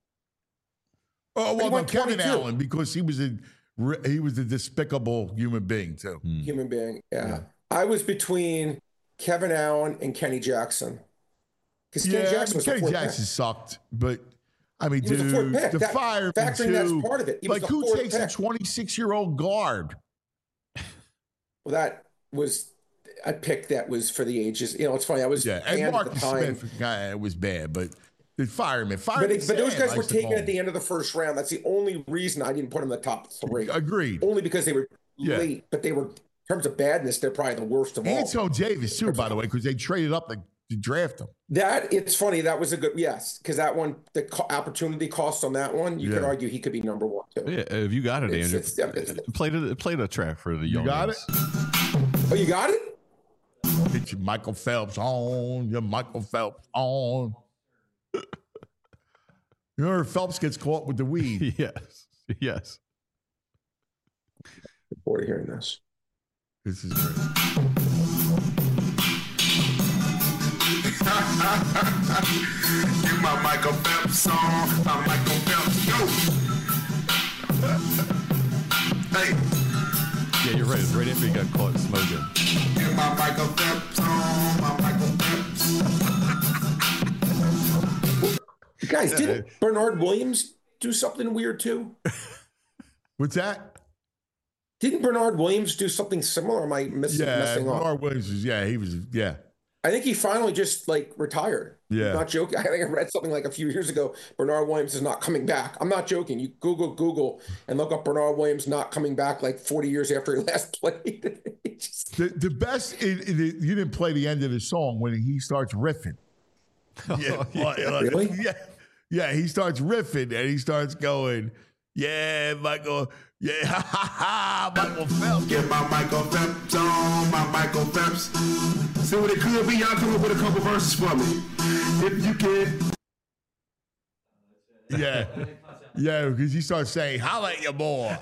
Oh He well, no, went Kevin twenty-two. Allen because he was a he was a despicable human being too. Hmm. Human being. Yeah. Yeah. I was between Kevin Allen and Kenny Jackson. Because Kenny Yeah, Jackson was Kenny the fourth Jackson pick. sucked, but I mean, He was the dude, fourth pick. the That- fireman factoring too. that's part of it. He was Like the who fourth takes a pick. twenty-six-year-old guard? Well, that was a pick that was for the ages. You know, it's funny. I was Yeah, and and at the Marcus time. Smith, guy, it was bad, but the fireman, But, fireman. it- but those Sam, guys I were used to taken call at the him. end of the first round. That's the only reason I didn't put them in the top three. Agreed. Only because they were Yeah. late, but they were, in terms of badness, they're probably the worst of all. Antone Davis too, by the way, because they traded up to, to draft him. That it's funny. That was a good yes, because that one, the co- opportunity cost on that one, you could Yeah. argue he could be number one too. Yeah, if you got it, It's- Andrew. it's- it's- play the play the track for the young. got it? Oh, you got it? Get your Michael Phelps on. Your Michael Phelps on. You know, Phelps gets caught with the weed. Yes, yes. Look forward to hearing this. This is great. Get my Michael Phelps on, my Michael Phelps, yo. Hey, Yeah, you're right. It's right after he got caught smoking. get my Michael Phelps on, my Michael Phelps. Guys, didn't Bernard Williams do something weird too? What's that? Didn't Bernard Williams do something similar? Or am I missing, Yeah, messing up? Bernard Williams was, yeah, he was, yeah. I think he finally just like retired. Yeah. I'm not joking. I think I read something like a few years ago. Bernard Williams is not coming back. I'm not joking. You Google Google and look up Bernard Williams not coming back like forty years after he last played. Just... The, the best, it, it, you didn't play the end of the song when he starts riffing. Yeah, like, Really? yeah, yeah. He starts riffing and he starts going, yeah, Michael, yeah, ha ha ha, Michael Phelps. Get my Michael Phelps on, my Michael Phelps. See what it could be. Y'all come up with a couple verses for me, if you can. Yeah, yeah, because he starts saying, "Holla at your boy."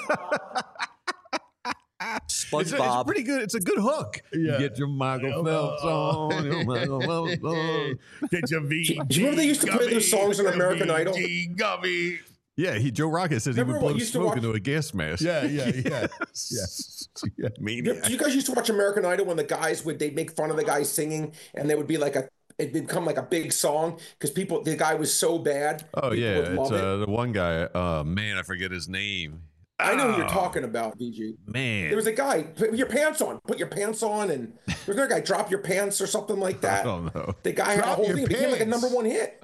It's, a, it's SpongeBob. pretty good. It's a good hook. Yeah. You get your Michael Phelps on. Your Michael Phelps on. Get your V. Do you remember they used to play those songs on American Idol? Gummy. Yeah, he Joe Rocket says Remember he would what blow used to smoke watch- into a gas mask. Yeah, yeah, yeah, yeah. yeah. Maniac. Do you guys used to watch American Idol when the guys would they'd make fun of the guy singing and they would be like a it'd become like a big song because people the guy was so bad. Oh people yeah, would it's love it. uh, the one guy. Uh, man, I forget his name. I know who you're Oh, talking about, V G. Man, There was a guy, put your pants on, put your pants on, and there's another guy, drop your pants or something like I that. don't know. The guy had a Drop whole your thing. It became like a pants. number one hit.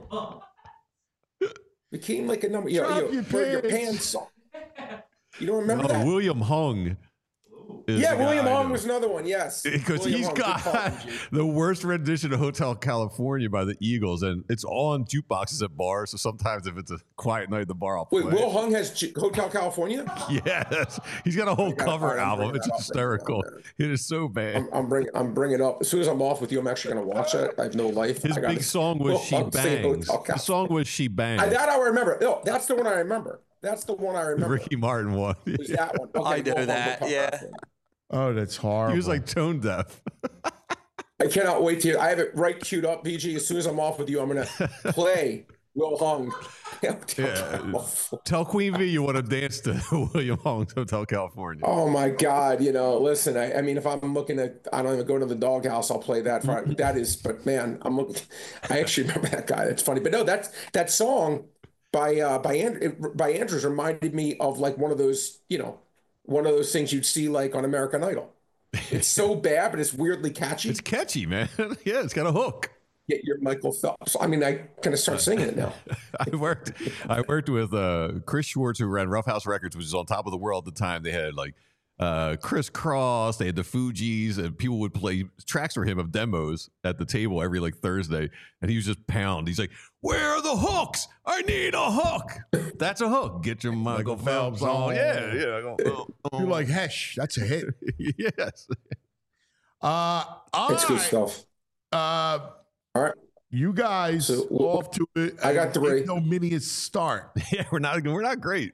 Became like a number. You know, Drop you know, your put your pants. pants on. You don't remember Oh, that? William Hung. is Yeah, the William guy Hung that- was another one. Yes, Because William he's Hung. Good got call, V G. the worst rendition of Hotel California by the Eagles, and it's on jukeboxes at bars. So sometimes if it's a quiet night at the bar, I'll play. Wait, Will Hung has J- Hotel California? Yes, he's got a whole gotta- cover I'm album. bringing It's that up. hysterical. It is so bad. I'm, I'm bringing. I'm bringing it up as soon as I'm off with you. I'm actually going to watch it. I have no life. His I gotta- big song was Will "She Hung saying Bangs." Hotel The song was "She Bangs." I, that I remember. No, that's the one I remember. That's the one I remember. Ricky Martin one. It was that one. Okay, I know Will Hung, that, Hotel yeah. California. Oh, that's horrible. He was like tone deaf. I cannot wait to hear. I have it right queued up, V G. As soon as I'm off with you, I'm going to play Will Hung. Yeah. Tell Queen V you want to dance to William Hung's Hotel California. Oh my God! You know, listen. I, I mean, if I'm looking at, I don't even go to the doghouse. I'll play that. For, that is, but man, I'm looking. I actually remember that guy. That's funny. But no, that's that song by uh, by And, by Andrews reminded me of like one of those, you know, one of those things you'd see like on American Idol. It's so bad, but it's weirdly catchy. It's catchy, man. Yeah, it's got a hook. Get your Michael Phelps. I mean, I kind of start singing it now. I worked I worked with uh, Chris Schwartz, who ran Rough House Records, which was on top of the world at the time. They had like uh, Chris Cross, they had the Fugees, and people would play tracks for him of demos at the table every like Thursday. And he was just pound. He's like, "Where are the hooks? I need a hook." That's a hook. Get your Michael, Michael Phelps, Phelps on. on. Yeah, yeah. I go, oh, You're like, Hesh, that's a hit. yes. Uh, all It's good right. stuff. Uh, All right. you guys So, off to it. I got three. ignominious start. Yeah, we're not we're not great.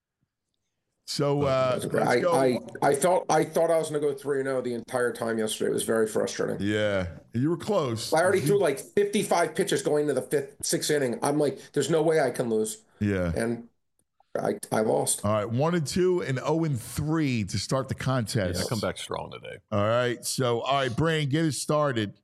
So uh, let's I, go. I, I thought I thought I was going to go three and zero the entire time yesterday. It was very frustrating. yeah, you were close. I already threw like fifty-five pitches going to the fifth, sixth inning. I'm like, there's no way I can lose, Yeah. and I I lost. All right, one and two and zero and three to start the Yeah, contest. I come back strong today. All right, so all right, Brain, get us started.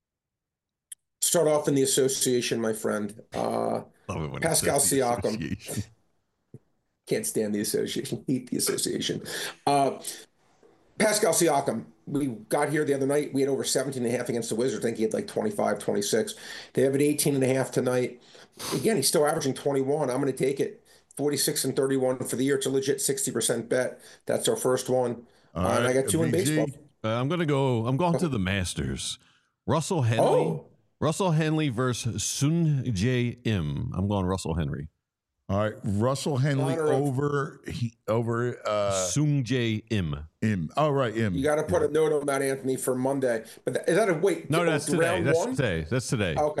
Start off in the association, my friend. Uh, Love it when he Pascal says the Siakam. association. Can't stand the association. Hate the association. Uh, Pascal Siakam. We got here the other night. We had over seventeen and a half against the Wizards. I think he had like twenty-five, twenty-six. They have it eighteen and a half tonight. Again, he's still averaging twenty-one. I'm going to take it. forty-six and thirty-one for the year. It's a legit sixty percent bet. That's our first one. All Uh, and I right, got two in V G. baseball. Uh, I'm gonna go. I'm going to the Masters. Russell Henley. Oh. Russell Henley versus Sun Jae Im. I'm going Russell Henry. All right, Russell Henley Honor of- over he, over uh, Sung Jae Im. him. All right, him. You got to put a note on that, Anthony, for Monday. But th- is that a wait? No, oh, that's today. round That's one? today. That's today. Okay.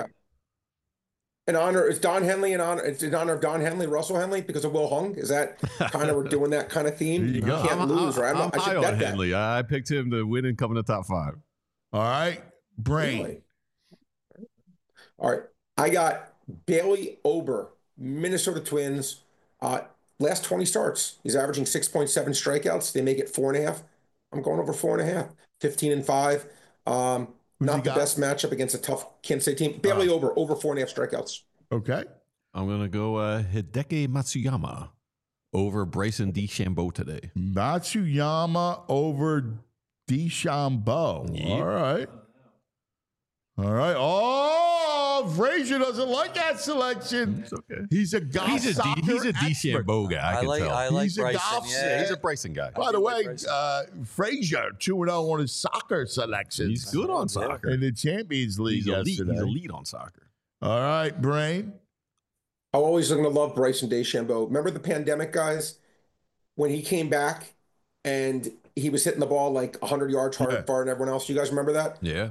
In honor, is Don Henley in honor? It's in honor of Don Henley, Russell Henley, because of Will Hung. Is that kind of we're doing that kind of theme? There you go. Can't I'm, lose, I'm, right? I'm I'm not, I high should on bet that. Henley. I I picked him to win and come in the top five. All right, Brain. Really? All right. I got Bailey Ober, Minnesota Twins. Uh, last twenty starts, he's averaging six point seven strikeouts. They make it four and a half. I'm going over four and a half. fifteen and five. Um, Who's he not the got? best matchup against a tough Kansas City team. Bailey Ober, over four and a half strikeouts. Okay. I'm going to go uh, Hideki Matsuyama over Bryson DeChambeau today. Matsuyama over DeChambeau. Yep. All right. All right. Oh, Frazier doesn't like that selection. It's okay. He's a golf He's a, soccer D, he's a expert. DeChambeau guy. I, I can like tell. I like He's a Bryson. golf- Yeah, yeah, he's a Bryson guy. By the do like way, Bryson. uh, Frazier two and oh on his soccer selections. He's good on soccer. in the Champions League He's elite. yesterday. He's elite on soccer. All right, Brain. I'm always going to love Bryson DeChambeau. Remember the pandemic, guys, when he came back and he was hitting the ball like one hundred yards hard Yeah. far than everyone else. You guys remember that? Yeah.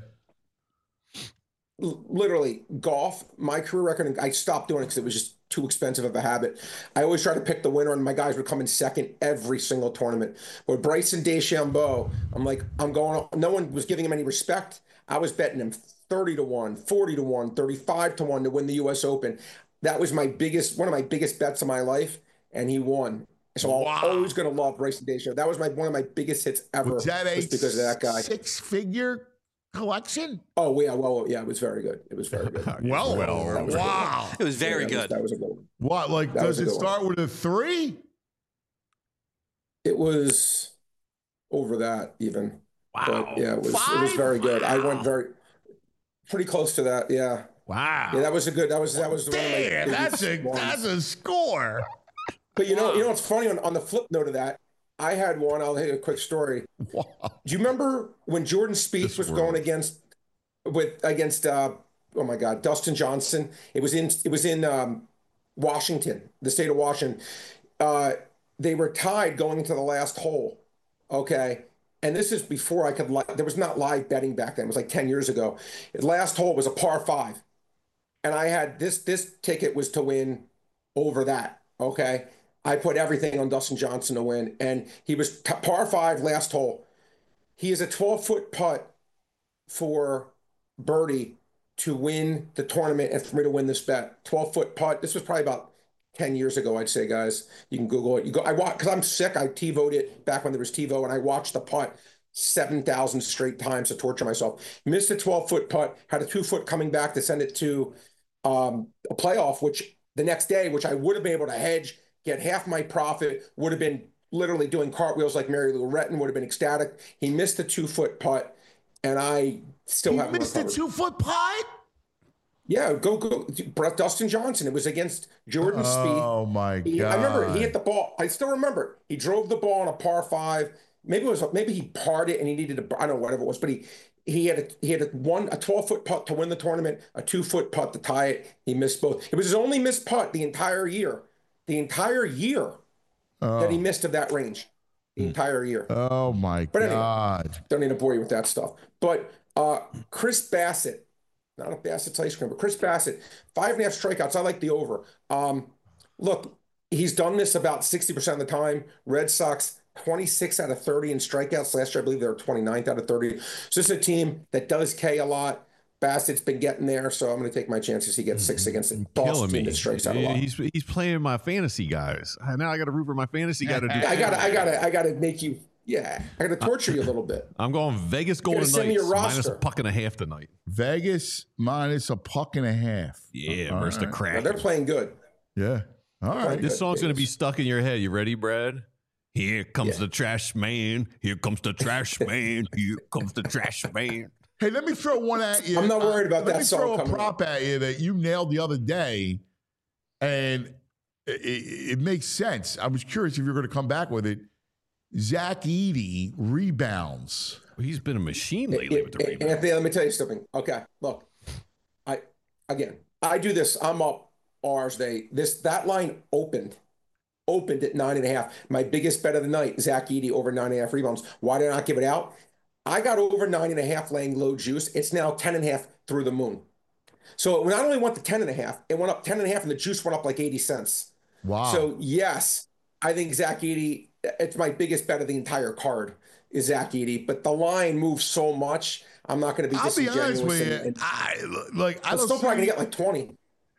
L- Literally, golf, my career record, I stopped doing it because it was just too expensive of a habit. I always try to pick the winner, and my guys would come in second every single tournament. But Bryson DeChambeau, I'm like, I'm going, no one was giving him any respect. I was betting him thirty to one, forty to one, thirty-five to one to win the U S Open. That was my biggest, one of my biggest bets of my life, and he won. So Wow. I'm always going to love Bryson DeChambeau. That was my one of my biggest hits ever. Was that a just because of that guy. six-figure collection? Oh yeah, well, yeah, it was very good. It was very good. Well, Well, that was good. wow. It was very Yeah, good. that was- That was a good one. What, like, That was does a it good start with a three? It was over that even. Wow. But yeah, it was it was Five? very good. I went Wow. very pretty close to that. Yeah. Wow. Yeah, that was a good that was that was one of my Damn, that's a biggest ones. that's a score. But you know, you know what's funny on, on the flip note of that, I had one, I'll tell you a quick story. Wow. Do you remember when Jordan Spieth This was world. going against with against uh oh my god, Dustin Johnson? It was in it was in um Washington, the state of Washington. Uh they were tied going into the last hole. Okay. And this is before I could li- there was not live betting back then. It was like ten years ago. The last hole was a par five. And I had this this ticket was to win over that. Okay. I put everything on Dustin Johnson to win, and he was t- par five last hole. He is a twelve foot putt for birdie to win the tournament and for me to win this bet. twelve foot putt. This was probably about ten years ago, I'd say, guys. You can Google it. You go. I watch because I'm sick. I TiVoed it back when there was TiVo, and I watched the putt seven thousand straight times to torture myself. Missed a twelve foot putt. Had a two foot coming back to send it to um, a playoff, which the next day, which I would have been able to hedge, get half my profit, would have been literally doing cartwheels like Mary Lou Retton, would have been ecstatic. He missed a two foot putt, and I still He haven't missed a recovered. two-foot putt? Yeah, go go, Brett Dustin Johnson. It was against Jordan Spieth. Oh, my He- God. I remember he hit the ball. I still remember it. He drove the ball on a par five. Maybe it was maybe he parred it and he needed a I don't know whatever it was, but he he had a he had a one a twelve foot putt to win the tournament, a two foot putt to tie it. He missed both. It was his only missed putt the entire year. The entire year that he missed of that range. The entire year. Oh, my But anyway. God. Don't need to bore you with that stuff. But uh, Chris Bassett, not a Bassett's ice cream, but Chris Bassett, five and a half strikeouts. I like the over. Um, look, he's done this about sixty percent of the time. Red Sox, twenty-six out of thirty in strikeouts. Last year, I believe they were twenty-ninth out of thirty. So this is a team that does K a lot. Bassett's been getting there, so I'm going to take my chances. He gets six against the Boston Killing team me. that strikes out a lot. He's he's playing my fantasy guys. Now I got to root for my fantasy guy to do. I gotta, I gotta, I gotta make you. Yeah, I gotta torture you a little bit. I'm going Vegas Golden send me Knights your minus a roster. puck and a half tonight. Vegas minus a puck and a half. Yeah, All versus the right. Now, Kraken. they're playing good. Yeah. All right. This song's going to be stuck in your head. You ready, Brad? Here comes Yeah. the trash man. Here comes the trash man. Here comes the trash man. Hey, let me throw one at you. I'm not worried about Let that me song throw a coming prop at you that you nailed the other day, and it, it, it makes sense. I was curious if you're going to come back with it. Zach Edey rebounds. He's been a machine lately with the Hey, rebound. Anthony, let me tell you something. Okay, look, I again, I do this. I'm up R's Day. This that line opened, opened at nine and a half. My biggest bet of the night, Zach Edey over nine and a half rebounds. Why did I not give it out? I got over nine and a half laying low juice. It's now ten and a half through the moon. So it not only went to ten and a half, it went up ten and a half, and the juice went up like eighty cents. Wow. So yes, I think Zach Edey. It's my biggest bet of the entire card is Zach Edey, but the line moves so much. I'm not going to be I'll be disingenuous. honest with and- you. and- I like. I I'm don't still probably see- going to get like twenty.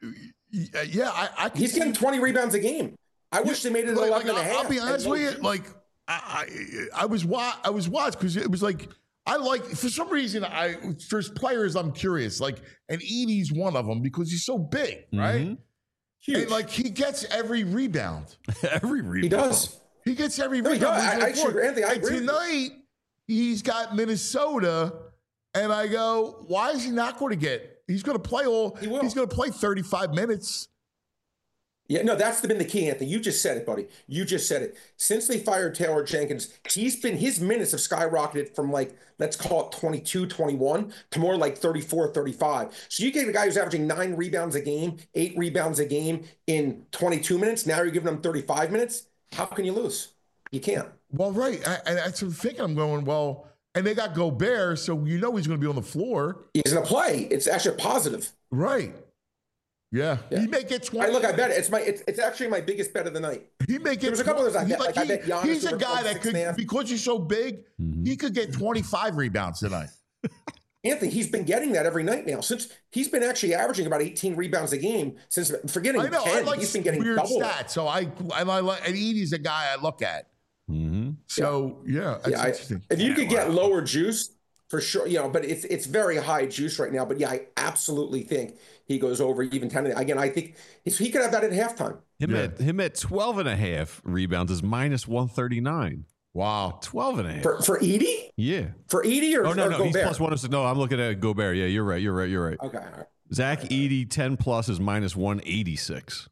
Yeah, I. I can He's see- getting twenty rebounds a game. I wish they made it like, eleven like, and a half. I'll be honest And with you. no- Like, I, I, I was wa- I was watched because it was like I like for some reason I there's players I'm curious like and Edie's one of them because he's so big, right? Huge. And like he gets every rebound. every rebound. He does. He gets every No, he rebound. does. He's I- on I the floor. agree, Anthony, I And agree with you. tonight, he's got Minnesota, and I go, why is he not going to get? He's going to play all. He will. He's going to play thirty-five minutes. Yeah, no, that's been the key, Anthony. You just said it, buddy. You just said it. Since they fired Taylor Jenkins, he's been his minutes have skyrocketed from like, let's call it twenty-two, twenty-one to more like thirty-four, thirty-five. So you gave a guy who's averaging nine rebounds a game, eight rebounds a game in twenty-two minutes. Now you're giving him thirty-five minutes. How can you lose? You can't. Well, right. I, and that's what I'm thinking. I'm going, well, and they got Gobert, so you know he's going to be on the floor. He's going to play. It's actually a positive. Right. Yeah. Yeah. He may get twenty. I look, I bet it. It's my. It's, it's actually my biggest bet of the night. He may get. There was a couple of those I he- bet. Like, I bet Giannis he's a over guy like that six could, and a half. because he's so big, he could get twenty-five rebounds tonight. Anthony, he's been getting that every night now. Since he's been actually averaging about eighteen rebounds a game since forgetting I know. ten. I like He's been getting weird double that. stats. So I, I, I like, and Edie's a guy I look at. Mm-hmm. So yeah, that's Yeah, I, interesting. if you could get lower juice, for sure, you know, but it's it's very high juice right now. But yeah, I absolutely think he goes over even ten. Again, I think if he could have that at halftime. Him Yeah. at him at twelve and a half rebounds is minus one thirty-nine. Wow. twelve and a half. For for Edie? Yeah. For Edie or, Oh, no, or no. He's Gobert? plus one oh six. No, I'm looking at Gobert. Yeah, you're right. You're right. You're right. Okay. All right. Zach Edey, ten plus is minus one eighty-six.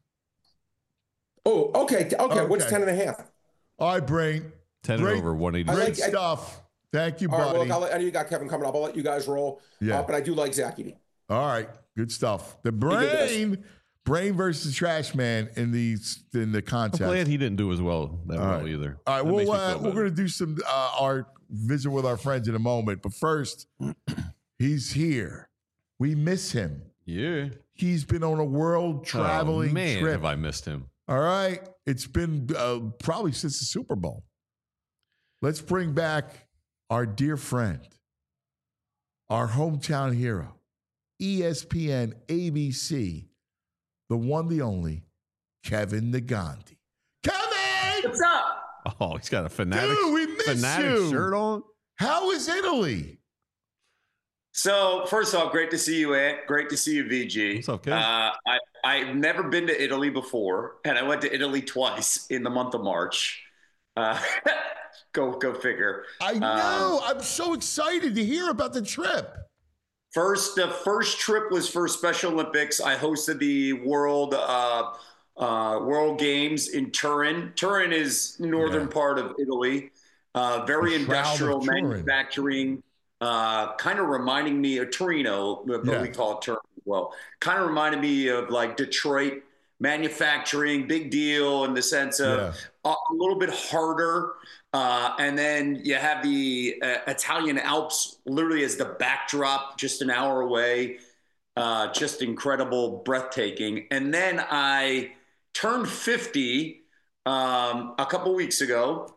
Oh, okay. Okay. What's Okay. ten and a half? All right, Brain. ten Great- and over one Great eighty-six. like- I- stuff. Thank you, All right. buddy. Well, look, I'll let, I know you got Kevin coming up. I'll let you guys roll. Yeah. Uh, but I do like Zach Edey. All right, good stuff. The did this. Brain, Brain versus Trash Man in the in the I'm contest. glad he didn't do as well that All well right. either. All right, That makes well, me uh, feel we're better. going to do some uh, our visit with our friends in a moment. But first, he's here. We miss him. Yeah. He's been on a world traveling oh, man, trip. have I missed him? All right, it's been uh, probably since the Super Bowl. Let's bring back our dear friend, our hometown hero, E S P N, A B C, the one, the only, Kevin Negandhi. Kevin! What's up? Oh, he's got a fanatic, Dude, we miss fanatic you. shirt on. How is Italy? So, first off, great to see you, Ant. Great to see you, V G. What's up, Kev? Uh, I, I've never been to Italy before, and I went to Italy twice in the month of March. Uh, go, go figure. I Um, know. I'm so excited to hear about the trip. First, the first trip was for Special Olympics. I hosted the World uh, uh, World Games in Turin. Turin is northern Yeah. part of Italy. Uh, very The Shroud of industrial Turin. manufacturing. Uh, kind of reminding me of Torino, but Yeah. we call it Turin as well. Kind of reminded me of like Detroit manufacturing, big deal in the sense of Yeah. a, a little bit harder. Uh, and then you have the uh, Italian Alps literally as the backdrop, just an hour away. Uh, just incredible, breathtaking. And then I turned fifty um, a couple weeks ago.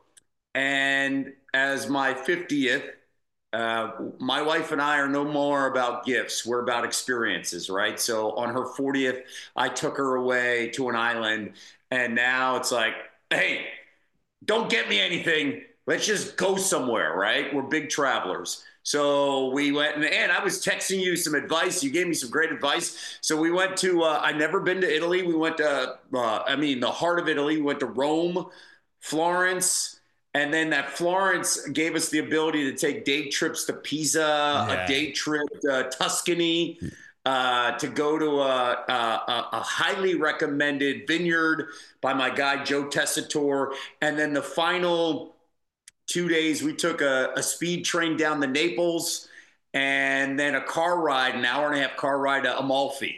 And as my fiftieth, uh, my wife and I are no more about gifts. We're about experiences, right? So on her fortieth, I took her away to an island. And now it's like, hey, don't get me anything. Let's just go somewhere, right? We're big travelers. So we went, and, and I was texting you some advice. You gave me some great advice. So we went to, uh, I've never been to Italy. We went to, uh, I mean, the heart of Italy. We went to Rome, Florence, and then that Florence gave us the ability to take day trips to Pisa, Yeah. a day trip to Tuscany. Uh, to go to a, a, a highly recommended vineyard by my guy, Joe Tessitore. And then the final two days, we took a, a speed train down to Naples and then a car ride, an hour and a half car ride to Amalfi.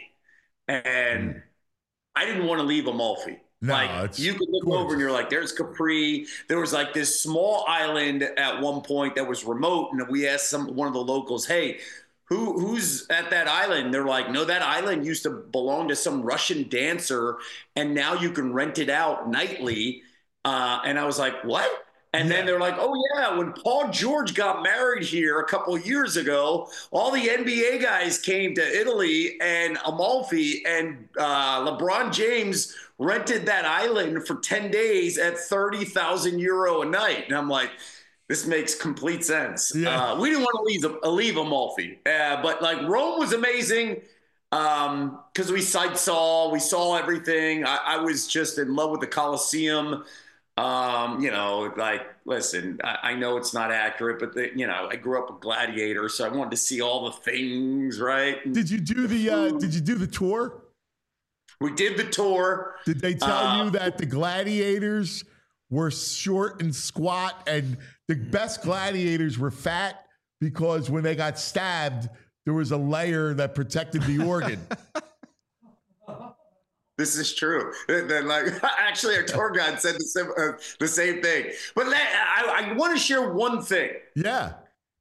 And I didn't want to leave Amalfi. No, like it's you could look gorgeous. over and you're like, there's Capri. There was like this small island at one point that was remote. And we asked some, one of the locals, hey, Who, who's at that island? They're like, no, that island used to belong to some Russian dancer, and now you can rent it out nightly. Uh, and I was like, what? And then they're like, oh, yeah, when Paul George got married here a couple of years ago, all the N B A guys came to Italy and Amalfi, and uh, LeBron James rented that island for ten days at thirty thousand euro a night. And I'm like, this makes complete sense. Yeah. Uh, we didn't want to leave, uh, leave Amalfi, uh, but like Rome was amazing. Um, because we sight saw, we saw everything. I, I was just in love with the Coliseum. Um, you know, like, listen, I, I know it's not accurate, but the, you know, I grew up a gladiator, so I wanted to see all the things, right? Did you do the uh, Did you do the tour? We did the tour. Did they tell uh, you that the gladiators were short and squat, and the best gladiators were fat because when they got stabbed, there was a layer that protected the organ? This is true. Then, like, actually, our tour guide said the same, uh, the same thing. But let, I, I want to share one thing. Yeah.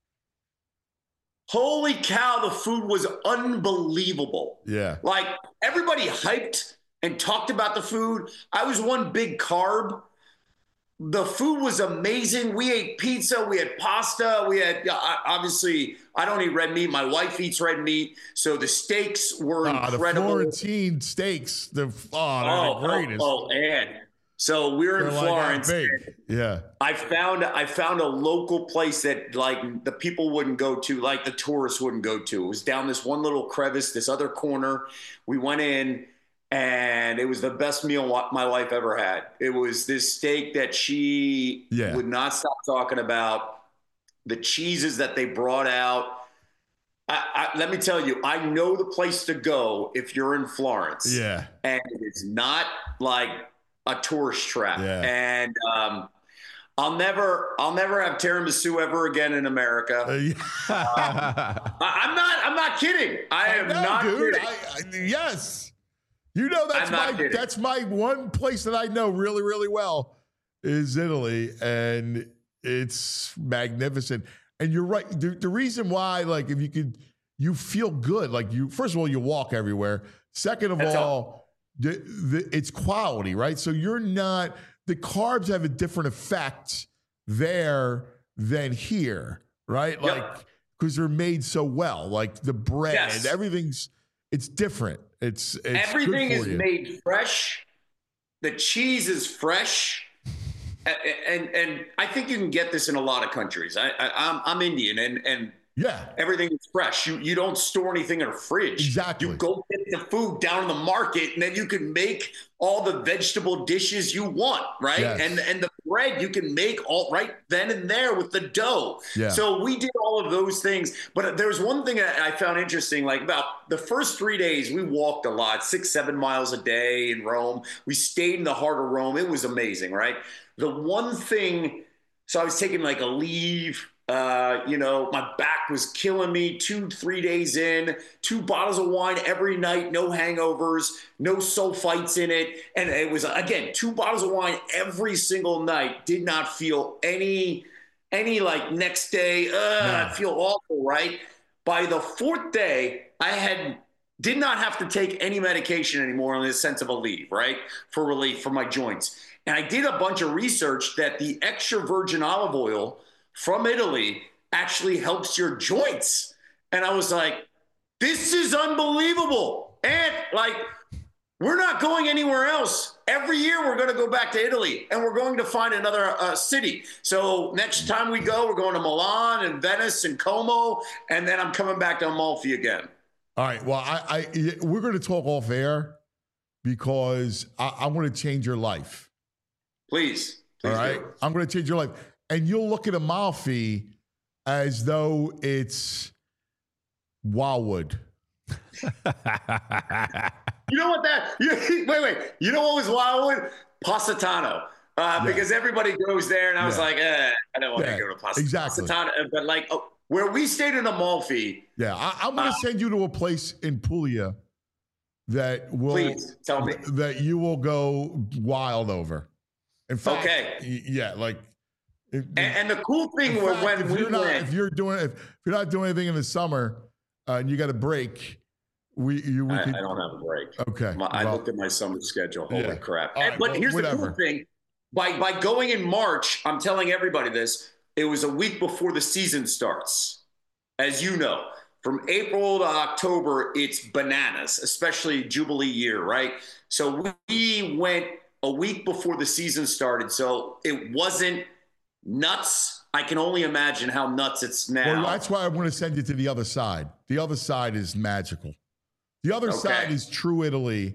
Holy cow, the food was unbelievable. Yeah. Like, everybody hyped and talked about the food. I was one big carb. The food was amazing. We ate pizza. We had pasta. We had, obviously, I don't eat red meat. My wife eats red meat. So the steaks were oh, incredible. The Florentine steaks. The, oh, they're oh, the greatest. Oh, oh, and so we were they're in like Florence. Yeah. I found I found a local place that, like, the people wouldn't go to, like the tourists wouldn't go to. It was down this one little crevice, this other corner. We went in, and it was the best meal my wife ever had. It was this steak that she yeah. would not stop talking about. The cheeses that they brought out. I, I, let me tell you, I know the place to go if you're in Florence. Yeah. And it's not like a tourist trap. Yeah. And um, I'll never, I'll never have tiramisu ever again in America. Uh, yeah. um, I, I'm not, I'm not kidding. I am I know, not dude. kidding. I, I, yes. You know, that's I'm my not kidding. that's my one place that I know really, really well is Italy, and it's magnificent. And you're right. The, the reason why, like, if you could, you feel good. Like, you, first of all, you walk everywhere. Second of That's all, all. the, the, it's quality, right? So you're not, the carbs have a different effect there than here, right? Yep. Like, because they're made so well. Like the bread, Yes. everything's, it's different. It's, it's Everything good for is you. made fresh. The cheese is fresh. And, and and I think you can get this in a lot of countries. I, I I'm I'm Indian, and and yeah, everything is fresh. You you don't store anything in a fridge. Exactly. You go get the food down in the market, and then you can make all the vegetable dishes you want, right? Yes. And and the bread you can make all right then and there with the dough. Yeah. So we did all of those things. But there's one thing that I found interesting. Like, about the first three days, we walked a lot, six seven miles a day in Rome. We stayed in the heart of Rome. It was amazing, right? The one thing, so I was taking like a leave, uh, you know, my back was killing me two, three days in, two bottles of wine every night, no hangovers, no sulfites in it. And it was, again, two bottles of wine every single night. Did not feel any, any like next day, uh, No. I feel awful, right? By the fourth day, I had did not have to take any medication anymore in the sense of a leave, right? For relief for my joints. And I did a bunch of research that the extra virgin olive oil from Italy actually helps your joints. And I was like, this is unbelievable. And like, we're not going anywhere else. Every year we're going to go back to Italy, and we're going to find another uh, city. So next time we go, we're going to Milan and Venice and Como, and then I'm coming back to Amalfi again. All right. Well, I, I we're going to talk off air because I, I want to change your life. Please. Please All right. do. I'm going to change your life. And you'll look at Amalfi as though it's Wildwood. You know what that, you, wait, wait. You know what was Wildwood? Positano. Uh, Yeah. Because everybody goes there, and I was Yeah. like, eh, I don't want Yeah, to go to Positano. exactly. Positano. But like, oh, where we stayed in Amalfi, Yeah. I, I'm going to Uh, send you to a place in Puglia that will please tell me. that you will go wild over. In fact, Okay. y- yeah, like. If, And, and the cool thing in was fact, when if we you're not, went, if you're doing, if, if you're not doing anything in the summer uh, and you got a break, we you we I, could. I don't have a break. Okay. My, I well, looked at my summer schedule. Holy Yeah. crap. All And- right, but well, here's the whatever. cool thing. By, by going in March, I'm telling everybody this, it was a week before the season starts. As you know, from April to October, it's bananas, especially Jubilee year, right? So we went a week before the season started. So it wasn't nuts. I can only imagine how nuts it's now. Well, that's why I want to send you to the other side. The other side is magical. The other Okay. side is true Italy,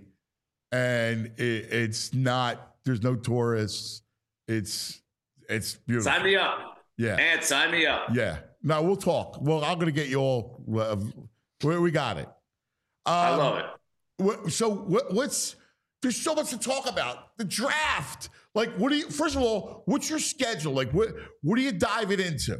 and it, it's not. There's no tourists. It's it's beautiful. Sign me up. Yeah. And sign me up. Yeah. No, we'll talk. Well, I'm going to get you all. Uh, we, we got it. Um, I love it. What, so what, what's there's so much to talk about. The draft. Like, what do you? First of all, what's your schedule? Like, what what are you diving into?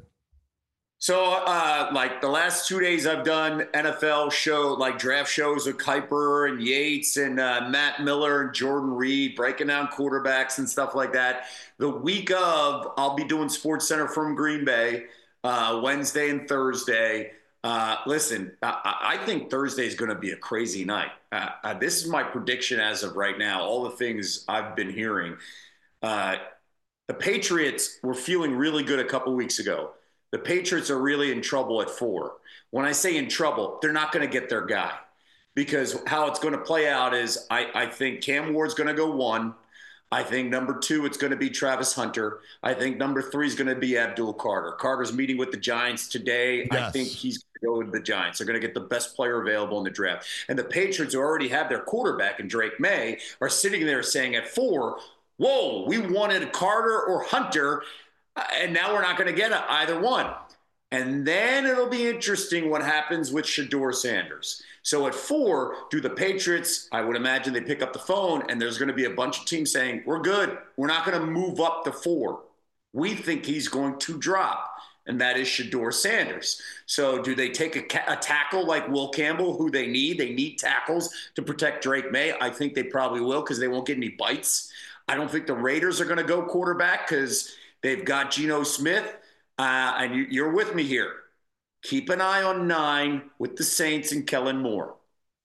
So, uh, like the last two days, I've done N F L show, like draft shows with Kuiper and Yates and uh, Matt Miller and Jordan Reed, breaking down quarterbacks and stuff like that. The week of, I'll be doing Sports Center from Green Bay uh, Wednesday and Thursday. Uh, listen, I, I think Thursday is going to be a crazy night. Uh, uh, this is my prediction as of right now. All the things I've been hearing. Uh, the Patriots were feeling really good a couple weeks ago. The Patriots are really in trouble at four. When I say in trouble, they're not going to get their guy, because how it's going to play out is I, I think Cam Ward's going to go one. I think number two, it's going to be Travis Hunter. I think number three is going to be Abdul Carter. Carter's meeting with the Giants today. Yes. I think he's going to go with the Giants. They're going to get the best player available in the draft. And the Patriots, who already have their quarterback in Drake May, are sitting there saying at four, whoa, we wanted Carter or Hunter, and now we're not going to get either one. And then it'll be interesting what happens with Shedeur Sanders. So at four, do the Patriots, I would imagine they pick up the phone, and there's going to be a bunch of teams saying, we're good. We're not going to move up to four. We think he's going to drop, and that is Shedeur Sanders. So do they take a, ca- a tackle like Will Campbell, who they need? They need tackles to protect Drake May. I think they probably will, because they won't get any bites. I don't think the Raiders are going to go quarterback because they've got Geno Smith. Uh, and you, you're with me here. Keep an eye on nine with the Saints and Kellen Moore.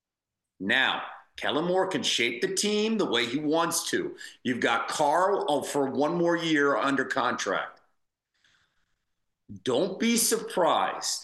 Now, Kellen Moore can shape the team the way he wants to. You've got Carl oh, for one more year under contract. Don't be surprised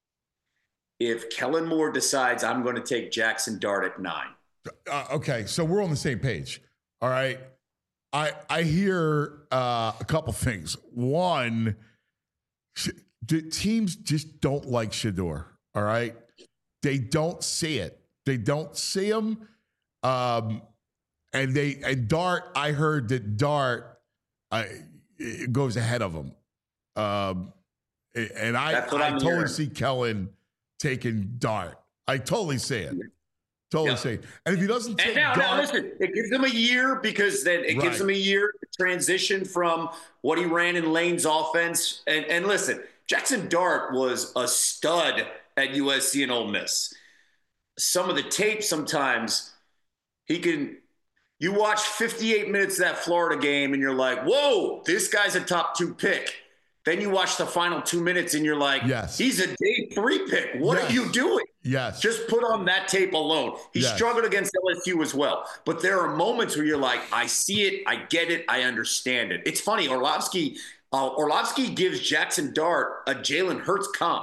if Kellen Moore decides I'm going to take Jackson Dart at nine. Uh, okay, so we're on the same page. All right. I I hear uh, a couple things. One, sh- the teams just don't like Shedeur. All right, they don't see it. They don't see him. Um, and they and Dart. I heard that Dart uh, it goes ahead of him. Um, and I I totally hearing. see Kellen taking Dart. I totally see it. Totally Yeah. safe. And if he doesn't take And now, Dart, now listen, it gives him a year, because then it Right. gives him a year to transition from what he ran in Lane's offense. And, and listen, Jackson Dart was a stud at U S C and Ole Miss. Some of the tape sometimes he can – you watch fifty-eight minutes of that Florida game and you're like, whoa, this guy's a top two pick. Then you watch the final two minutes and you're like, Yes. he's a day three pick. What Yes. are you doing? yes, Just put on that tape alone. He Yes. struggled against L S U as well. But there are moments where you're like, I see it, I get it, I understand it. It's funny, Orlovsky, uh, Orlovsky gives Jackson Dart a Jalen Hurts comp.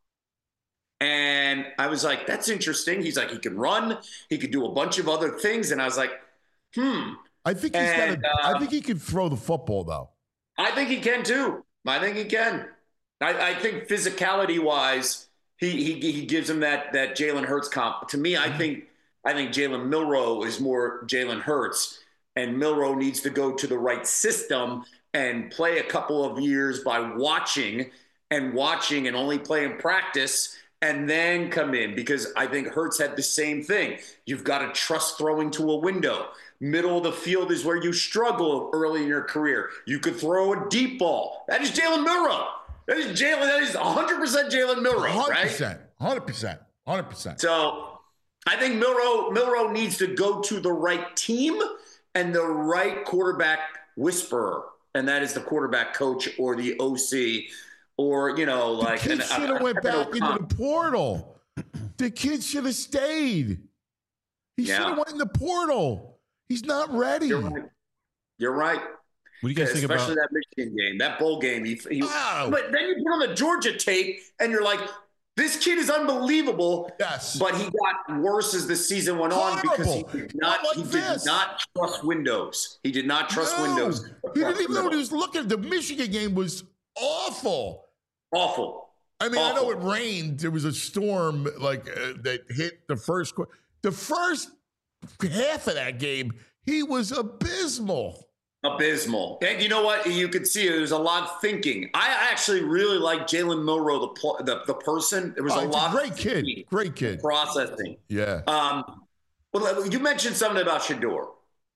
And I was like, that's interesting. He's like, he can run, he could do a bunch of other things. And I was like, hmm. I think he's And, got. A, uh, I think he can throw the football though. I think he can too. I think he can. I, I think physicality-wise, he he he gives him that that Jalen Hurts comp. To me, I think I think Jalen Milroe is more Jalen Hurts, and Milroe needs to go to the right system and play a couple of years by watching and watching and only play in practice, and then come in, because I think Hurts had the same thing. You've got to trust throwing to a window. Middle of the field is where you struggle early in your career. You could throw a deep ball. That is Jalen Milroe. That is Jalen. That is one hundred percent Jalen Milroe, one hundred right? percent, one hundred percent, one hundred percent. So I think Milroe, Milroe needs to go to the right team and the right quarterback whisperer, and that is the quarterback coach or the O C, or, you know, like. The kid an- should I- have I went don't know, back into the portal. The kid should have stayed. He Yeah. should have went in the portal. He's not ready. You're right. You're right. What do you guys think about? Especially that Michigan game, that bowl game. He, he, Wow. But then you put on the Georgia tape, and you're like, this kid is unbelievable. Yes. But he got worse as the season went on because he Horrible. did not, Like he this. did not trust Windows. He did not trust No. Windows. He didn't even know what he was looking at. The Michigan game was awful. Awful. I mean, I know Awful. it rained. There was a storm like uh, that hit the first quarter. The first half of that game, he was abysmal. Abysmal. And you know what? You could see there's a lot of thinking. I actually really like Jalen Milroe, the, pl- the the person. There was Oh, a it's a lot great of kid. thinking, Great kid. processing. Yeah. Um, well, you mentioned something about Shedeur.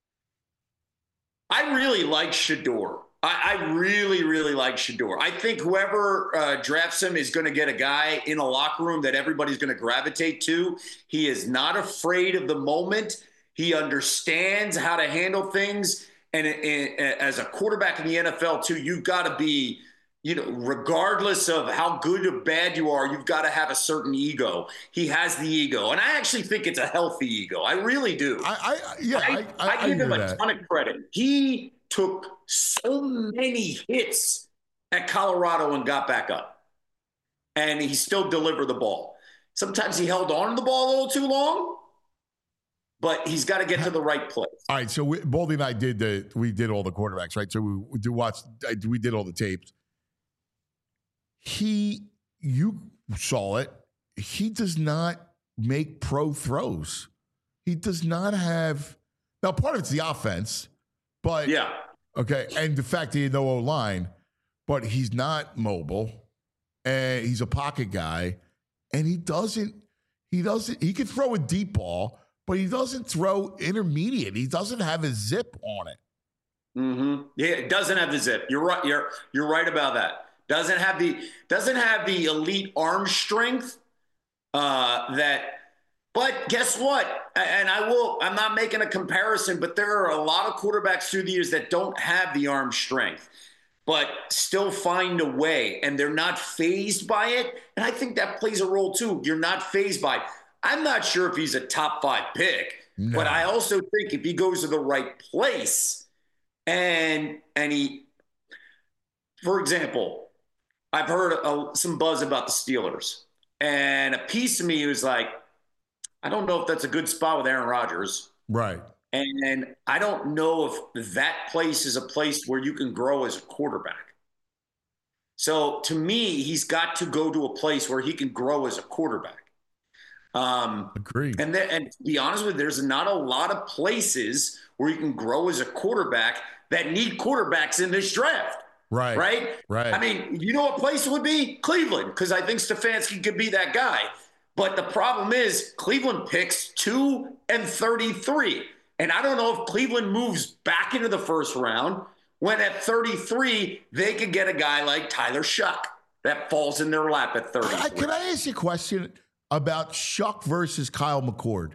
I really like Shedeur. I, I really, really like Shedeur. I think whoever uh, drafts him is going to get a guy in a locker room that everybody's going to gravitate to. He is not afraid of the moment. He understands how to handle things. And, and, and as a quarterback in the N F L, too, you've got to be, you know, regardless of how good or bad you are, you've got to have a certain ego. He has the ego. And I actually think it's a healthy ego. I really do. I, I yeah, I, I, I, I give him a that. ton of credit. He took so many hits at Colorado and got back up. And he still delivered the ball. Sometimes he held on to the ball a little too long, but he's got to get to the right place. All right, so we, Baldy and I did the we did all the quarterbacks, right? So we, we did watch, we did all the tapes. He, you saw it. He does not make pro throws. He does not have. Now, part of it's the offense, but yeah, okay, and the fact that he had no O line, but he's not mobile, and he's a pocket guy, and he doesn't. He doesn't. He can throw a deep ball. But he doesn't throw intermediate. He doesn't have a zip on it. Mm-hmm. Yeah, it doesn't have the zip. You're right. You're you're right about that. Doesn't have the doesn't have the elite arm strength. Uh, that. But guess what? And I will. I'm not making a comparison, but there are a lot of quarterbacks through the years that don't have the arm strength, but still find a way, and they're not fazed by it. And I think that plays a role too. You're not fazed by it. I'm not sure if he's a top five pick, no. But I also think if he goes to the right place and and he, for example, I've heard a, some buzz about the Steelers, and a piece of me was like, I don't know if that's a good spot with Aaron Rodgers. Right. And I don't know if that place is a place where you can grow as a quarterback. So to me, he's got to go to a place where he can grow as a quarterback. Um, Agreed. And then, and to be honest with you, there's not a lot of places where you can grow as a quarterback that need quarterbacks in this draft. Right. Right. Right. I mean, you know what place would be? Cleveland, because I think Stefanski could be that guy. But the problem is Cleveland picks two and thirty-three. And I don't know if Cleveland moves back into the first round when at thirty-three, they could get a guy like Tyler Shuck that falls in their lap at thirty-three. I, can I ask you a question about Shuck versus Kyle McCord?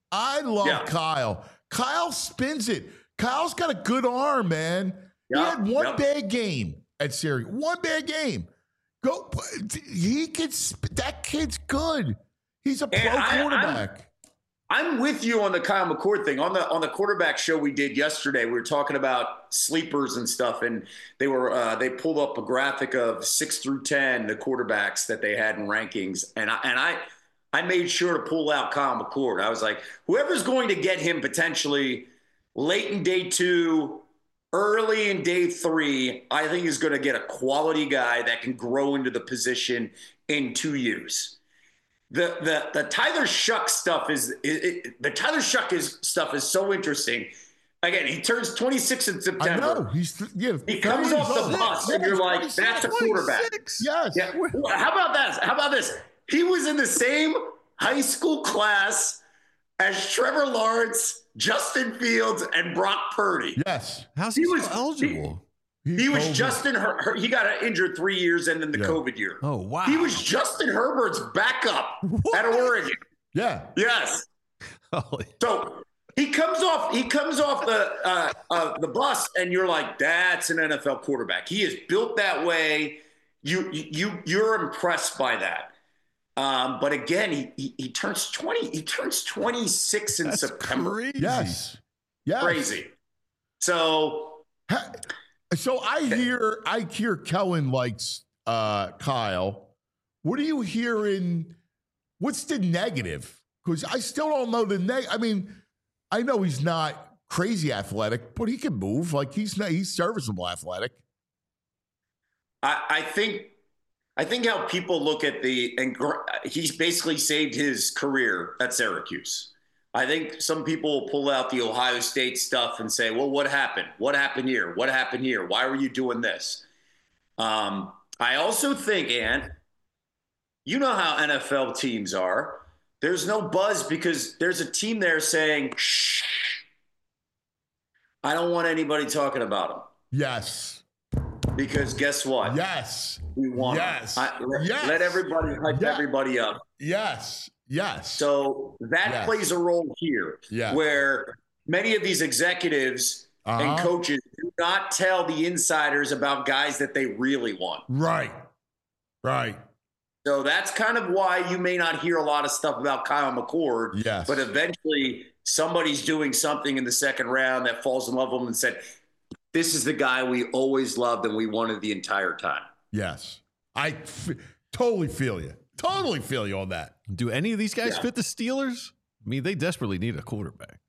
I love yeah. Kyle. Kyle spins it. Kyle's got a good arm, man. Yep, he had one yep. bad game at Syracuse. One bad game. Go. He gets that kid's good. He's a pro I, quarterback. I'm, I'm with you on the Kyle McCord thing. On the on the quarterback show we did yesterday, we were talking about sleepers and stuff, and they were uh, they pulled up a graphic of six through ten the quarterbacks that they had in rankings, and I and I. I made sure to pull out Kyle McCord. I was like, whoever's going to get him potentially late in day two, early in day three, I think is going to get a quality guy that can grow into the position in two years. The the the Tyler Shuck stuff is it, it, the Tyler Shuck is stuff is so interesting. Again, he turns twenty-six in September. I know. He's yeah, he comes off the bus, and you're like, that's a quarterback. Yes. Yeah. How about that? How about this? He was in the same high school class as Trevor Lawrence, Justin Fields, and Brock Purdy. Yes. How's he, he was eligible? He, he was Justin Her- Her- He got injured three years and then the yeah. COVID year. Oh, wow. He was Justin Herbert's backup what? at Oregon. Yeah. Yes. Holy. So he comes off. He comes off the uh, uh, the bus, and you're like, "That's an N F L quarterback. He is built that way." You you you're impressed by that. Um, but again, he, he he turns twenty. He turns twenty-six in That's September. Crazy. Yes, yes, crazy. So, so I hear I hear Kellen likes uh, Kyle. What are you hearing? What's the negative? Because I still don't know the neg. I mean, I know he's not crazy athletic, but he can move. Like he's not, he's serviceable athletic. I, I think. I think how people look at the, and he's basically saved his career at Syracuse. I think some people will pull out the Ohio State stuff and say, well, what happened? What happened here? What happened here? Why were you doing this? Um, I also think, Ant, you know how N F L teams are. There's no buzz because there's a team there saying, shh, I don't want anybody talking about them. Yes. Because guess what? Yes. We want yes. I, let, yes. let everybody hype yes. everybody up. Yes. Yes. So that yes. plays a role here yes. where many of these executives uh-huh. and coaches do not tell the insiders about guys that they really want. Right. Right. So that's kind of why you may not hear a lot of stuff about Kyle McCord. Yes. But eventually somebody's doing something in the second round that falls in love with him and said, this is the guy we always loved and we wanted the entire time. Yes. I f- totally feel you. Totally feel you on that. Do any of these guys Yeah. fit the Steelers? I mean, they desperately need a quarterback.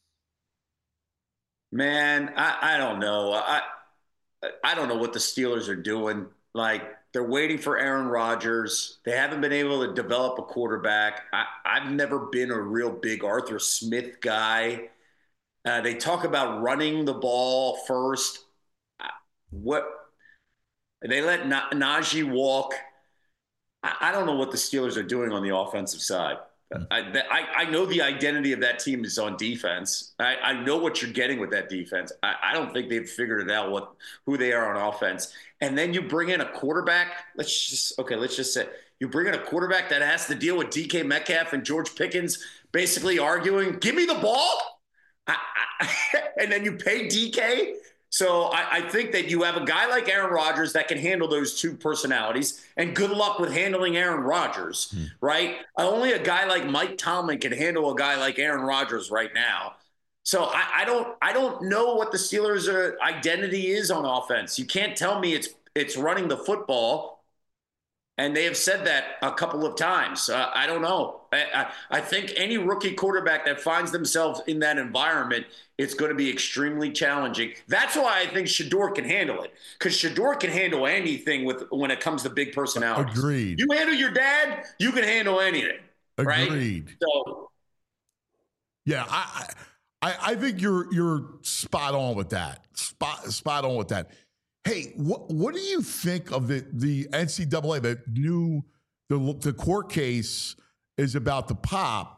Man, I, I don't know. I I don't know what the Steelers are doing. Like, they're waiting for Aaron Rodgers. They haven't been able to develop a quarterback. I, I've never been a real big Arthur Smith guy. Uh, they talk about running the ball first. What they let Na- Najee walk. I, I don't know what the Steelers are doing on the offensive side. I, I, I know the identity of that team is on defense. I, I know what you're getting with that defense. I, I don't think they've figured it out what who they are on offense. And then you bring in a quarterback. Let's just okay. Let's just say you bring in a quarterback that has to deal with D K Metcalf and George Pickens basically arguing, "Give me the ball," I, I, and then you pay D K. So I, I think that you have a guy like Aaron Rodgers that can handle those two personalities, and good luck with handling Aaron Rodgers, mm. right? Only a guy like Mike Tomlin can handle a guy like Aaron Rodgers right now. So I, I don't, I don't know what the Steelers' are, identity is on offense. You can't tell me it's it's running the football, and they have said that a couple of times. Uh, I don't know. I, I, I think any rookie quarterback that finds themselves in that environment, it's going to be extremely challenging. That's why I think Shedeur can handle it, because Shedeur can handle anything with when it comes to big personalities. Agreed. You handle your dad, you can handle anything. Agreed. Right? So, yeah, I, I I think you're you're spot on with that. Spot spot on with that. Hey, what what do you think of the the N C double A? The new the the court case is about the pop,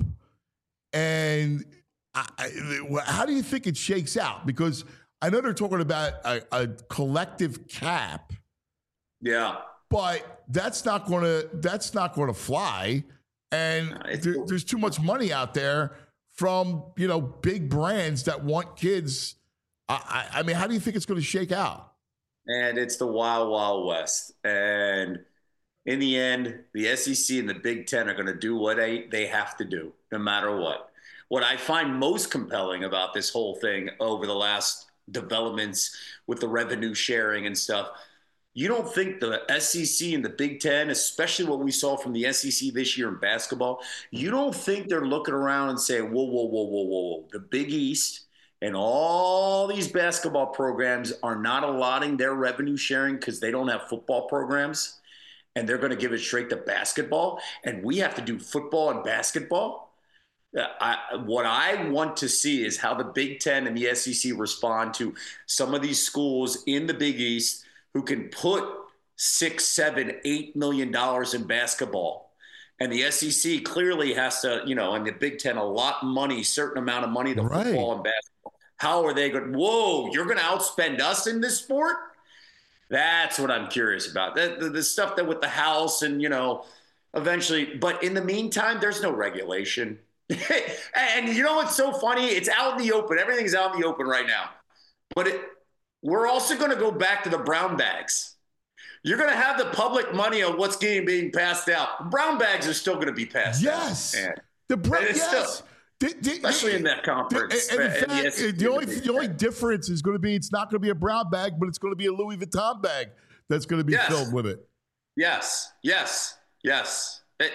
and I, I, how do you think it shakes out? Because I know they're talking about a, a collective cap. Yeah, but that's not going to that's not going to fly, and no, there, cool. there's too much money out there from you know big brands that want kids. I, I, I mean, how do you think it's going to shake out? And it's the wild, wild west. And in the end, the S E C and the Big Ten are going to do what they, they have to do, no matter what. What I find most compelling about this whole thing over the last developments with the revenue sharing and stuff, you don't think the S E C and the Big Ten, especially what we saw from the S E C this year in basketball, you don't think they're looking around and saying, whoa, whoa, whoa, whoa, whoa, whoa, the Big East and all these basketball programs are not allotting their revenue sharing because they don't have football programs, and they're going to give it straight to basketball, and we have to do football and basketball. I, what I want to see is how the Big Ten and the S E C respond to some of these schools in the Big East who can put six, seven, eight million dollars in basketball. And the S E C clearly has to, you know, and the Big Ten, a lot of money, certain amount of money to right. football and basketball. How are they going, whoa, you're going to outspend us in this sport? That's what I'm curious about. The, the, the stuff that with the House and, you know, eventually. But in the meantime, there's no regulation. And you know what's so funny? It's out in the open. Everything's out in the open right now. But it, we're also going to go back to the brown bags. You're going to have the public money on what's getting being passed out. Brown bags are still going to be passed yes. out. Yes. The brown, yes. Still, the, the, especially the, in that conference. The, and in and fact, the, the, only, the only difference is going to be it's not going to be a brown bag, but it's going to be a Louis Vuitton bag that's going to be yes. filled with it. Yes, yes, yes. It,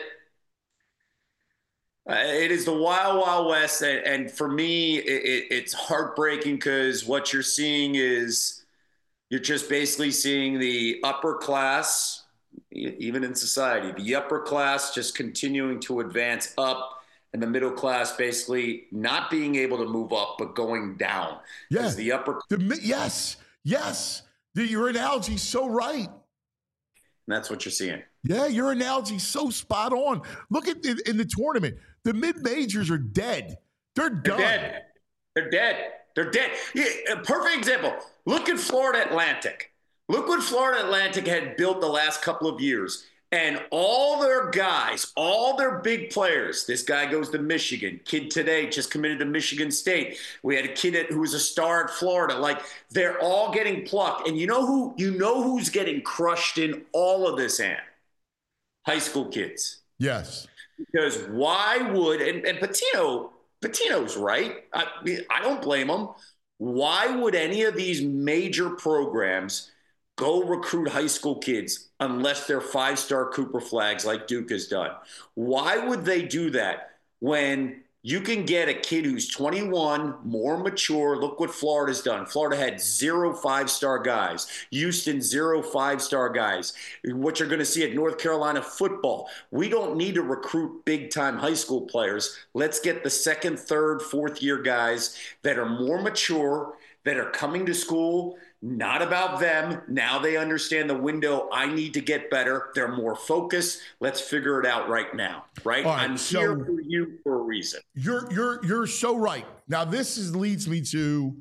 uh, it is the wild, wild west. And, and for me, it, it, it's heartbreaking because what you're seeing is you're just basically seeing the upper class, even in society, the upper class just continuing to advance up and the middle class basically not being able to move up, but going down. Yeah. The upper. The, yes. Yes. The, your analogy's so right. And that's what you're seeing. Yeah, your analogy's so spot on. Look at the, in the tournament. The mid-majors are dead. They're done. They're dead. They're dead. They're dead. Yeah, a perfect example. Look at Florida Atlantic. Look what Florida Atlantic had built the last couple of years. And all their guys, all their big players, this guy goes to Michigan. Kid today just committed to Michigan State. We had a kid at, who was a star at Florida. Like, they're all getting plucked. And you know who? You know who's getting crushed in all of this, Ant? High school kids. Yes. Because why would, and, and Patino, Patino's right. I, I don't blame him. Why would any of these major programs go recruit high school kids unless they're five-star Cooper flags like Duke has done? Why would they do that when you can get a kid who's twenty-one, more mature? Look what Florida's done. Florida had zero five-star guys. Houston, zero five-star guys. What you're going to see at North Carolina football, we don't need to recruit big-time high school players. Let's get the second, third, fourth-year guys that are more mature, that are coming to school. Not about them. Now they understand the window. I need to get better. They're more focused. Let's figure it out right now. Right? All right, I'm so here for you for a reason. You're you're you're so right. Now this is leads me to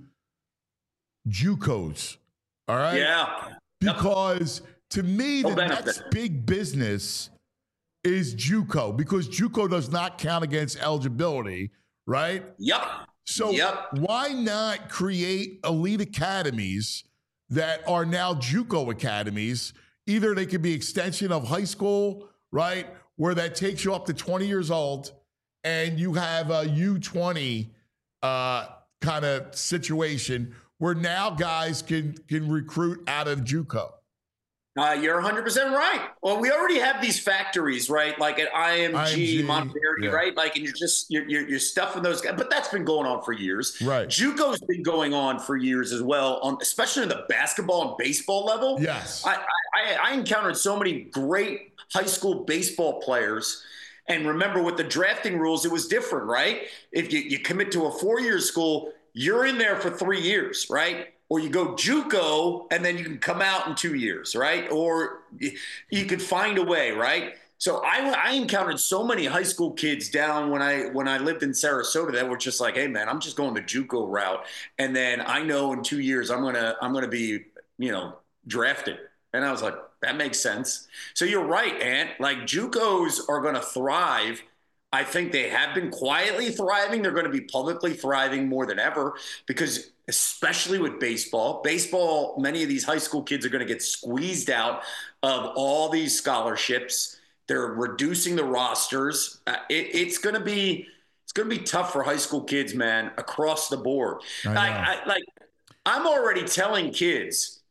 JUCOs. All right. Yeah. Because to me, No the benefit. next big business is JUCO, because JUCO does not count against eligibility, right? Yep. So Yep. why not create elite academies that are now JUCO academies? Either they could be extension of high school, right, where that takes you up to twenty years old, and you have a U twenty uh, kind of situation where now guys can can recruit out of JUCO. Uh, you're one hundred percent right. Well, we already have these factories, right? Like at I M G, I M G, Monteverdi, yeah. right? Like, and you're just you're, you're you're stuffing those guys. But that's been going on for years. Right. JUCO's been going on for years as well, on especially on the basketball and baseball level. Yes. I I, I encountered so many great high school baseball players. And remember, with the drafting rules, it was different, right? If you, you commit to a four-year school, you're in there for three years, right? Or you go JUCO and then you can come out in two years, right? Or you, you could find a way, right? So I, I encountered so many high school kids down when I when I lived in Sarasota that were just like, hey man, I'm just going the JUCO route, and then I know in two years I'm gonna I'm gonna be you know drafted, and I was like, that makes sense. So you're right, Ant. Like JUCOs are gonna thrive. I think they have been quietly thriving. They're going to be publicly thriving more than ever because, especially with baseball, baseball, many of these high school kids are going to get squeezed out of all these scholarships. They're reducing the rosters. Uh, it, it's going to be it's going to be tough for high school kids, man, across the board. I Like, I, like I'm already telling kids,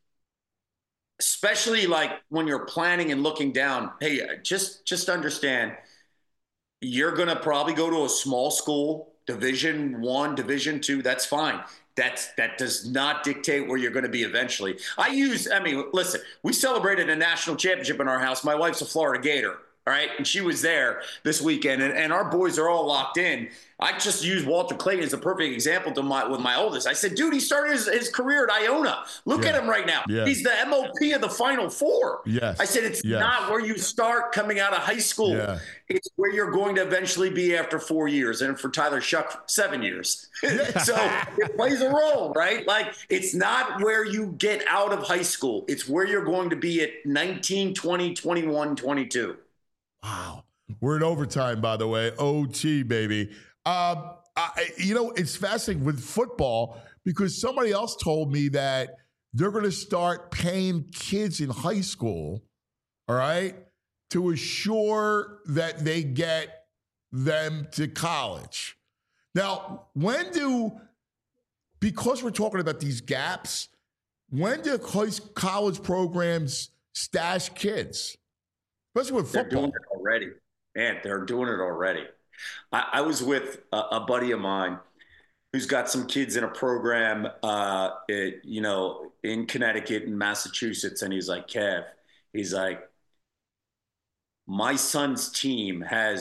especially like when you're planning and looking down, hey, just just understand. You're going to probably go to a small school, division one, division two. That's fine. That's, that does not dictate where you're going to be eventually. I use, I mean, listen, we celebrated a national championship in our house. My wife's a Florida Gator. All right. And she was there this weekend, and, and our boys are all locked in. I just use Walter Clayton as a perfect example to my, with my oldest. I said, dude, he started his, his career at Iona. Look Yeah. at him right now. Yeah. He's the M O P of the Final Four. Yes. I said, it's Yes. not where you start coming out of high school. Yeah. It's where you're going to eventually be after four years. And for Tyler Shuck, seven years. So it plays a role, right? Like, it's not where you get out of high school. It's where you're going to be at nineteen, twenty, twenty-one, twenty-two. Wow. We're in overtime, by the way. O T, baby. Um, I, you know, it's fascinating with football because somebody else told me that they're going to start paying kids in high school, all right, to assure that they get them to college. Now, when do, because we're talking about these gaps, when do college programs stash kids? Especially with They're football. doing it already. Man, they're doing it already. I, I was with a, a buddy of mine who's got some kids in a program, uh, it, you know, in Connecticut and Massachusetts. And he's like, Kev, he's like, my son's team has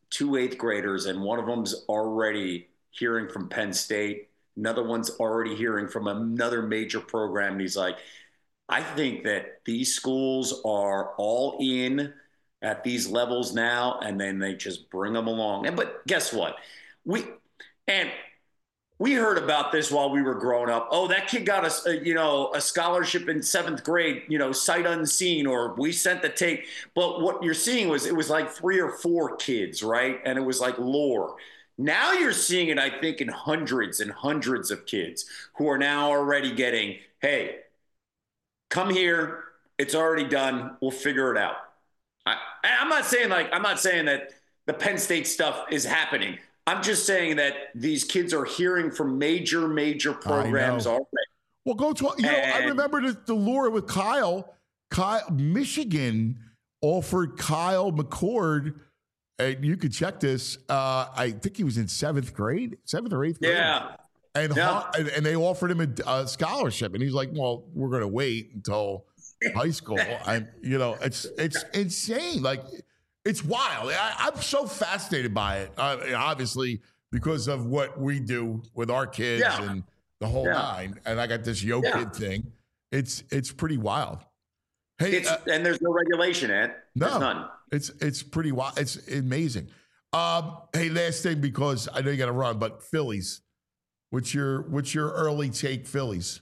two eighth graders, and one of them's already hearing from Penn State. Another one's already hearing from another major program. And he's like, I think that these schools are all in at these levels now, and then they just bring them along. And but guess what? We and we heard about this while we were growing up. Oh, that kid got a, a you know a scholarship in seventh grade, you know, sight unseen, or we sent the tape. But what you're seeing was it was like three or four kids, right? And it was like lore. Now you're seeing it, I think, in hundreds and hundreds of kids who are now already getting, hey, come here. It's already done. We'll figure it out. I, I'm not saying like I'm not saying that the Penn State stuff is happening. I'm just saying that these kids are hearing from major, major programs already. Well, go to you know. And, I remember the, the lure with Kyle. Kyle, Michigan offered Kyle McCord. And you could check this. Uh, I think he was in seventh grade, seventh or eighth grade. Yeah. And, yeah. and and they offered him a, a scholarship, and he's like, "Well, we're going to wait until high school." And you know, it's it's insane. Like, it's wild. I, I'm so fascinated by it. Uh, obviously, because of what we do with our kids yeah. and the whole yeah. nine. And I got this yo yeah. kid thing. It's it's pretty wild. Hey, it's, uh, and there's no regulation, Ed. No, there's none. It's it's pretty wild. It's amazing. Um, hey, last thing, because I know you got to run, but Phillies. What's your what's your early take, Phillies?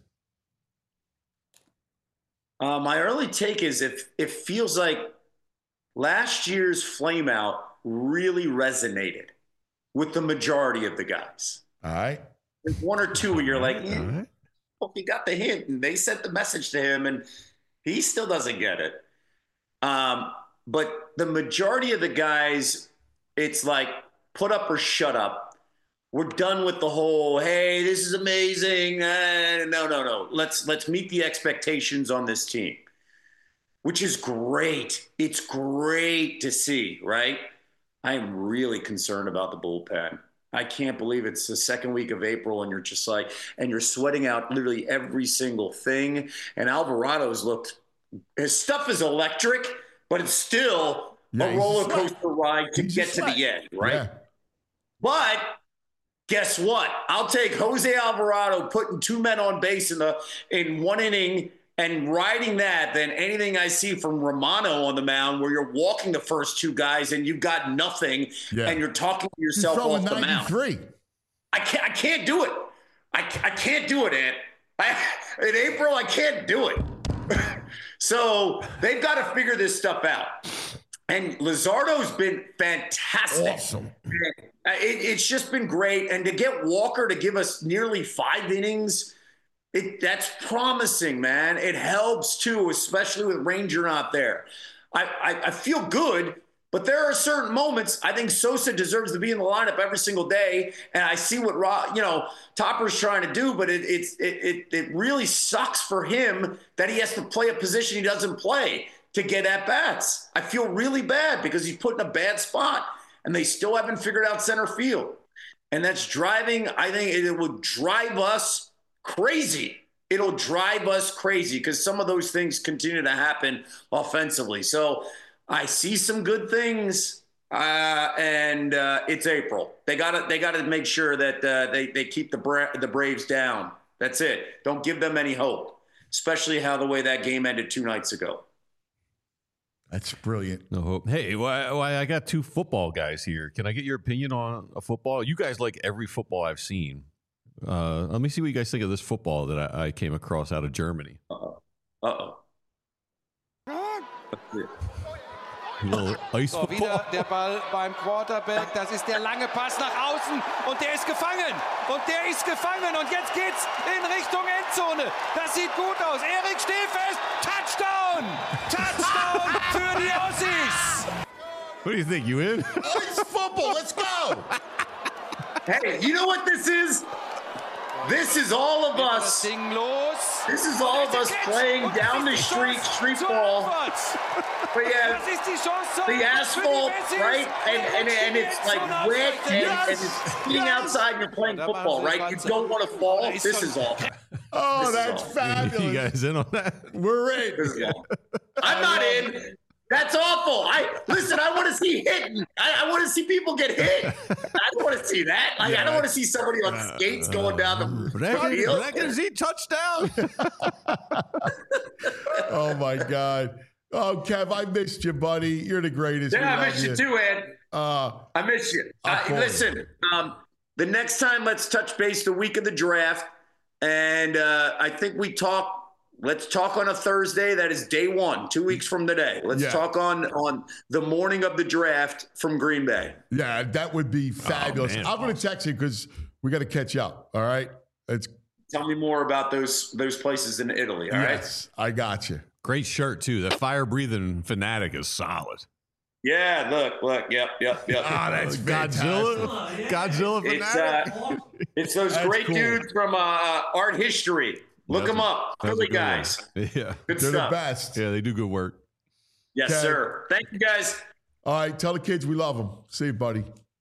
Uh, my early take is if it feels like last year's flame out really resonated with the majority of the guys. All right. There's one or two where you're like, All right. well, he got the hint, and they sent the message to him, and he still doesn't get it. Um, but the majority of the guys, it's like put up or shut up. We're done with the whole, hey, this is amazing. Uh, no, no, no. Let's let's meet the expectations on this team, which is great. It's great to see, right? I am really concerned about the bullpen. I can't believe it's the second week of April and you're just like, and you're sweating out literally every single thing. And Alvarado's looked, his stuff is electric, but it's still yeah, a roller coaster ride to he's get to the end, right? Yeah. But guess what? I'll take Jose Alvarado putting two men on base in the in one inning and riding that than anything I see from Romano on the mound, where you're walking the first two guys and you've got nothing, yeah. and you're talking to yourself off the mound. I can't. I can't do it. I, I can't do it, Ant. I, in April, I can't do it. So they've got to figure this stuff out. And Luzardo's been fantastic. Awesome. It, it's just been great. And to get Walker to give us nearly five innings, it, that's promising, man. It helps too, especially with Ranger not there. I, I, I feel good, but there are certain moments I think Sosa deserves to be in the lineup every single day. And I see what you know Topper's trying to do, but it, it's it, it it really sucks for him that he has to play a position he doesn't play to get at bats. I feel really bad because he's put in a bad spot, and they still haven't figured out center field. And that's driving, I think it will drive us crazy. It'll drive us crazy because some of those things continue to happen offensively. So I see some good things, uh, and uh, it's April. They got to they got to make sure that uh, they they keep the Bra- the Braves down. That's it. Don't give them any hope, especially how the way that game ended two nights ago. That's brilliant. No hope. Hey, why, why I got two football guys here. Can I get your opinion on a football? You guys like every football I've seen. Uh, let me see what you guys think of this football that I, I came across out of Germany. Uh-oh. Uh-oh. A little ice So, football. wieder der Ball beim Quarterback. Das ist der lange Pass nach außen. Und der ist gefangen. Und der ist gefangen. Und jetzt geht's in Richtung Endzone. Das sieht gut aus. Erik Stehfest. Touchdown. Touchdown für die Ossis. What do you think? You in? Ice football. Let's go. Hey, you know what this is? This is all of us. This is all of us playing down the street, street ball. But yeah, the asphalt, right? And, and, and it's like wet and, and it's being outside and you're playing football, right? You don't want to fall. This is all. Oh, This is that's all. fabulous. You guys in on that? We're in. This is all. I'm not in. That's awful. I listen. I want to see hitting. I, I want to see people get hit. I don't want to see that. Like, Yeah. I don't want to see somebody on skates going down the field. Brackensy touchdown. Oh my God. Oh, Kev, I missed you, buddy. You're the greatest. We Yeah, I love miss you too, Ed. Uh, I miss you. I'll Uh, call listen, um, the next time, let's touch base the week of the draft, and uh, I think we talk. Let's talk on a Thursday. That is day one, two weeks from today. Let's Yeah. talk on on the morning of the draft from Green Bay. Yeah, that would be fabulous. man. I'm going to text you because we got to catch up. All right. It's Tell me more about those those places in Italy. All right. yes, I got you. Great shirt too. That fire breathing fanatic is solid. Yeah. Look. Look. Yep. Yep. Yep. Ah, that's Godzilla. Godzilla It's fanatic. uh, it's those That's great cool. dudes from uh, Art History. Look That's them a- up, that's a Philly good one. guys. Yeah. Good They're stuff. the best. Yeah, they do good work. Yes, Okay. sir. Thank you, guys. All right. Tell the kids we love them. See you, buddy.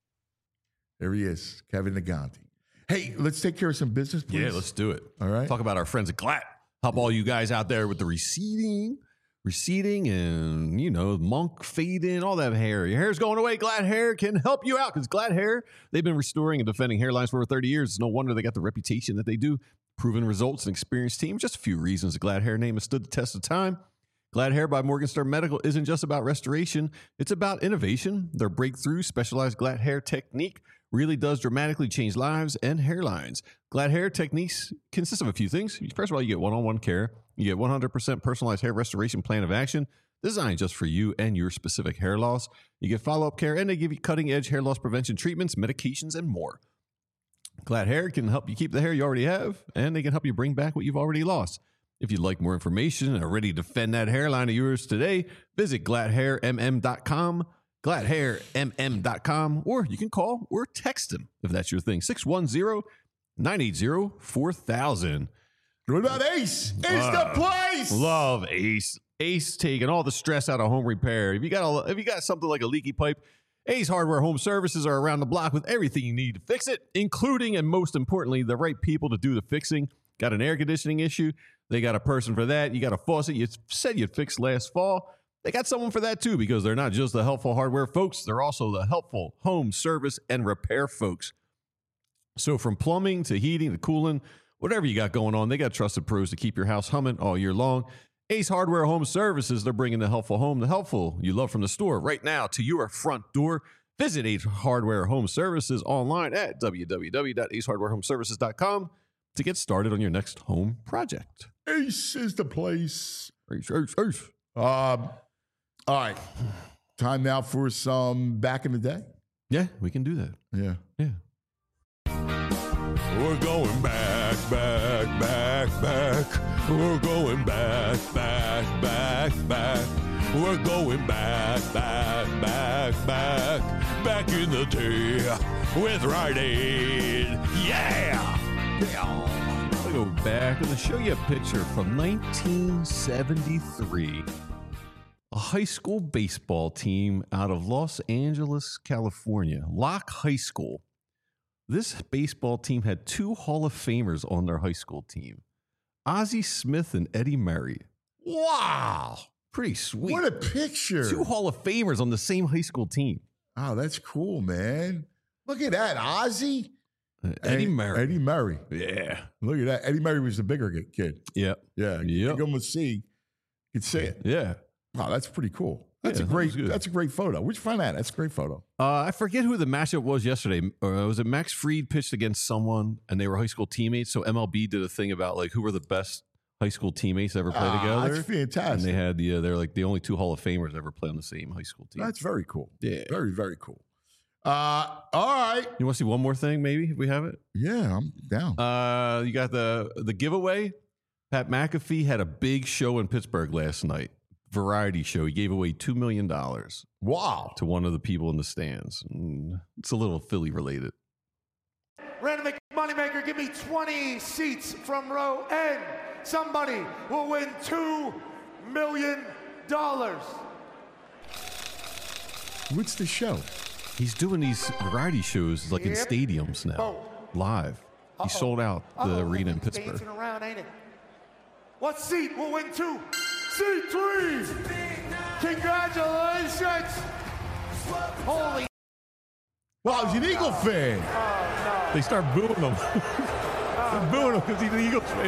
There he is, Kevin Naganti. Hey, let's take care of some business, please. Yeah, let's do it. All right. Talk about our friends at Glatt. Help all you guys out there with the receding, receding, and you know, monk fading, all that hair. Your hair's going away. Glatt Hair can help you out because Glatt Hair, they've been restoring and defending hairlines for over thirty years. It's no wonder they got the reputation that they do. Proven results and experienced team. Just a few reasons the Glatt Hair name has stood the test of time. Glatt Hair by Morgenstern Medical isn't just about restoration. It's about innovation. Their breakthrough specialized Glatt Hair technique really does dramatically change lives and hairlines. Glatt Hair techniques consist of a few things. First of all, you get one-on-one care. You get one hundred percent personalized hair restoration plan of action designed just for you and your specific hair loss. You get follow-up care, and they give you cutting-edge hair loss prevention treatments, medications, and more. Glatt Hair can help you keep the hair you already have, and they can help you bring back what you've already lost. If you'd like more information and are ready to defend that hairline of yours today, visit glatt hair m m dot com, glatt hair m m dot com, or you can call or text them if that's your thing, six one zero, nine eight zero, four thousand. What about Ace? Ace Uh, the place. Love Ace. Ace taking all the stress out of home repair. If you got a, if you got something like a leaky pipe, Ace Hardware Home Services are around the block with everything you need to fix it, including and most importantly, the right people to do the fixing. Got an air conditioning issue? They got a person for that. You got a faucet you said you'd fix last fall. They got someone for that too, because they're not just the helpful hardware folks. They're also the helpful home service and repair folks. So from plumbing to heating to cooling, whatever you got going on, they got trusted pros to keep your house humming all year long. Ace Hardware Home Services, they're bringing the helpful home, the helpful you love from the store right now to your front door. Visit Ace Hardware Home Services online at w w w dot ace hardware home services dot com to get started on your next home project. Ace is the place. Ace, Ace, Ace. Um, all right. Time now for some back in the day. Yeah, we can do that. Yeah. Yeah. We're going back, back, back, back. We're going back, back, back, back. We're going back, back, back, back. Back in the day with Rite Aid. Yeah! I'm going to go back and show you a picture from nineteen seventy-three. A high school baseball team out of Los Angeles, California, Locke High School. This baseball team had two Hall of Famers on their high school team, Ozzie Smith and Eddie Murray. Wow. Pretty sweet. What a picture. Two Hall of Famers on the same high school team. Oh, that's cool, man. Look at that. Ozzie. Uh, Eddie Murray. Eddie Murray. Yeah. Look at that. Eddie Murray was the bigger kid. Yep. Yeah. Yep. You can almost see. You can see it. Yeah. Wow, that's pretty cool. That's Yeah, a that great. was good. That's a great photo. Where'd you find that? That's a great photo. Uh, I forget who the matchup was yesterday. Uh, was it Max Fried pitched against someone and they were high school teammates? So M L B did a thing about like who were the best high school teammates to ever play Ah, together. that's fantastic. And they had the uh, they're like the only two Hall of Famers ever play on the same high school team. That's very cool. Yeah. Very, very cool. Uh, all right. You want to see one more thing? Maybe if we have it. Yeah, I'm down. Uh, you got the the giveaway. Pat McAfee had a big show in Pittsburgh last night. Variety show. He gave away two million dollars. Wow. To one of the people in the stands. Mm, it's a little Philly related. Random Moneymaker, give me twenty seats from row N. Somebody will win two million dollars. What's the show? He's doing these variety shows like in Yep. stadiums now, Oh. live. He sold out the Uh-oh. arena in Pittsburgh. Dancing around, ain't it? What seat will win two? Seat three. Congratulations! Holy. Wow, he's an Eagle fan. Oh, no. They start booing him. They're booing him because he's an Eagles fan.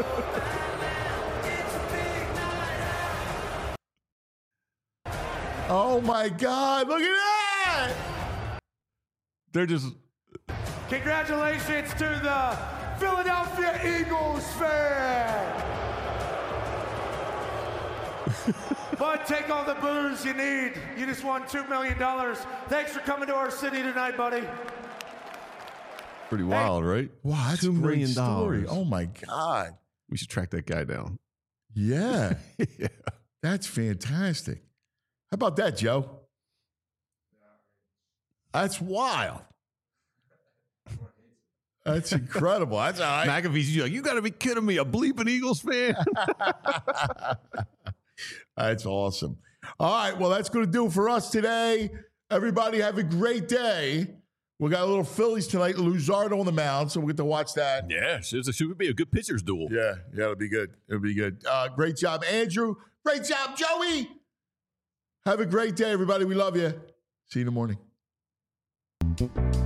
Oh, my God. Look at that. They're just... Congratulations to the Philadelphia Eagles fan. Bud, take all the booze you need. You just won two million dollars. Thanks for coming to our city tonight, buddy. Pretty wild, hey. Right? Wow, that's Two a great million story. dollars. Oh, my God. We should track that guy down. Yeah. Yeah. That's fantastic. How about that, Joe? That's wild. That's incredible. That's all right. McAfee's like, you got to be kidding me. A bleeping Eagles fan? That's awesome. All right. Well, that's going to do it for us today. Everybody have a great day. We got a little Phillies tonight. Luzardo on the mound, so we'll get to watch that. Yeah, it should be a good pitcher's duel. Yeah, yeah, it'll be good. It'll be good. Uh, great job, Andrew. Great job, Joey. Have a great day, everybody. We love you. See you in the morning.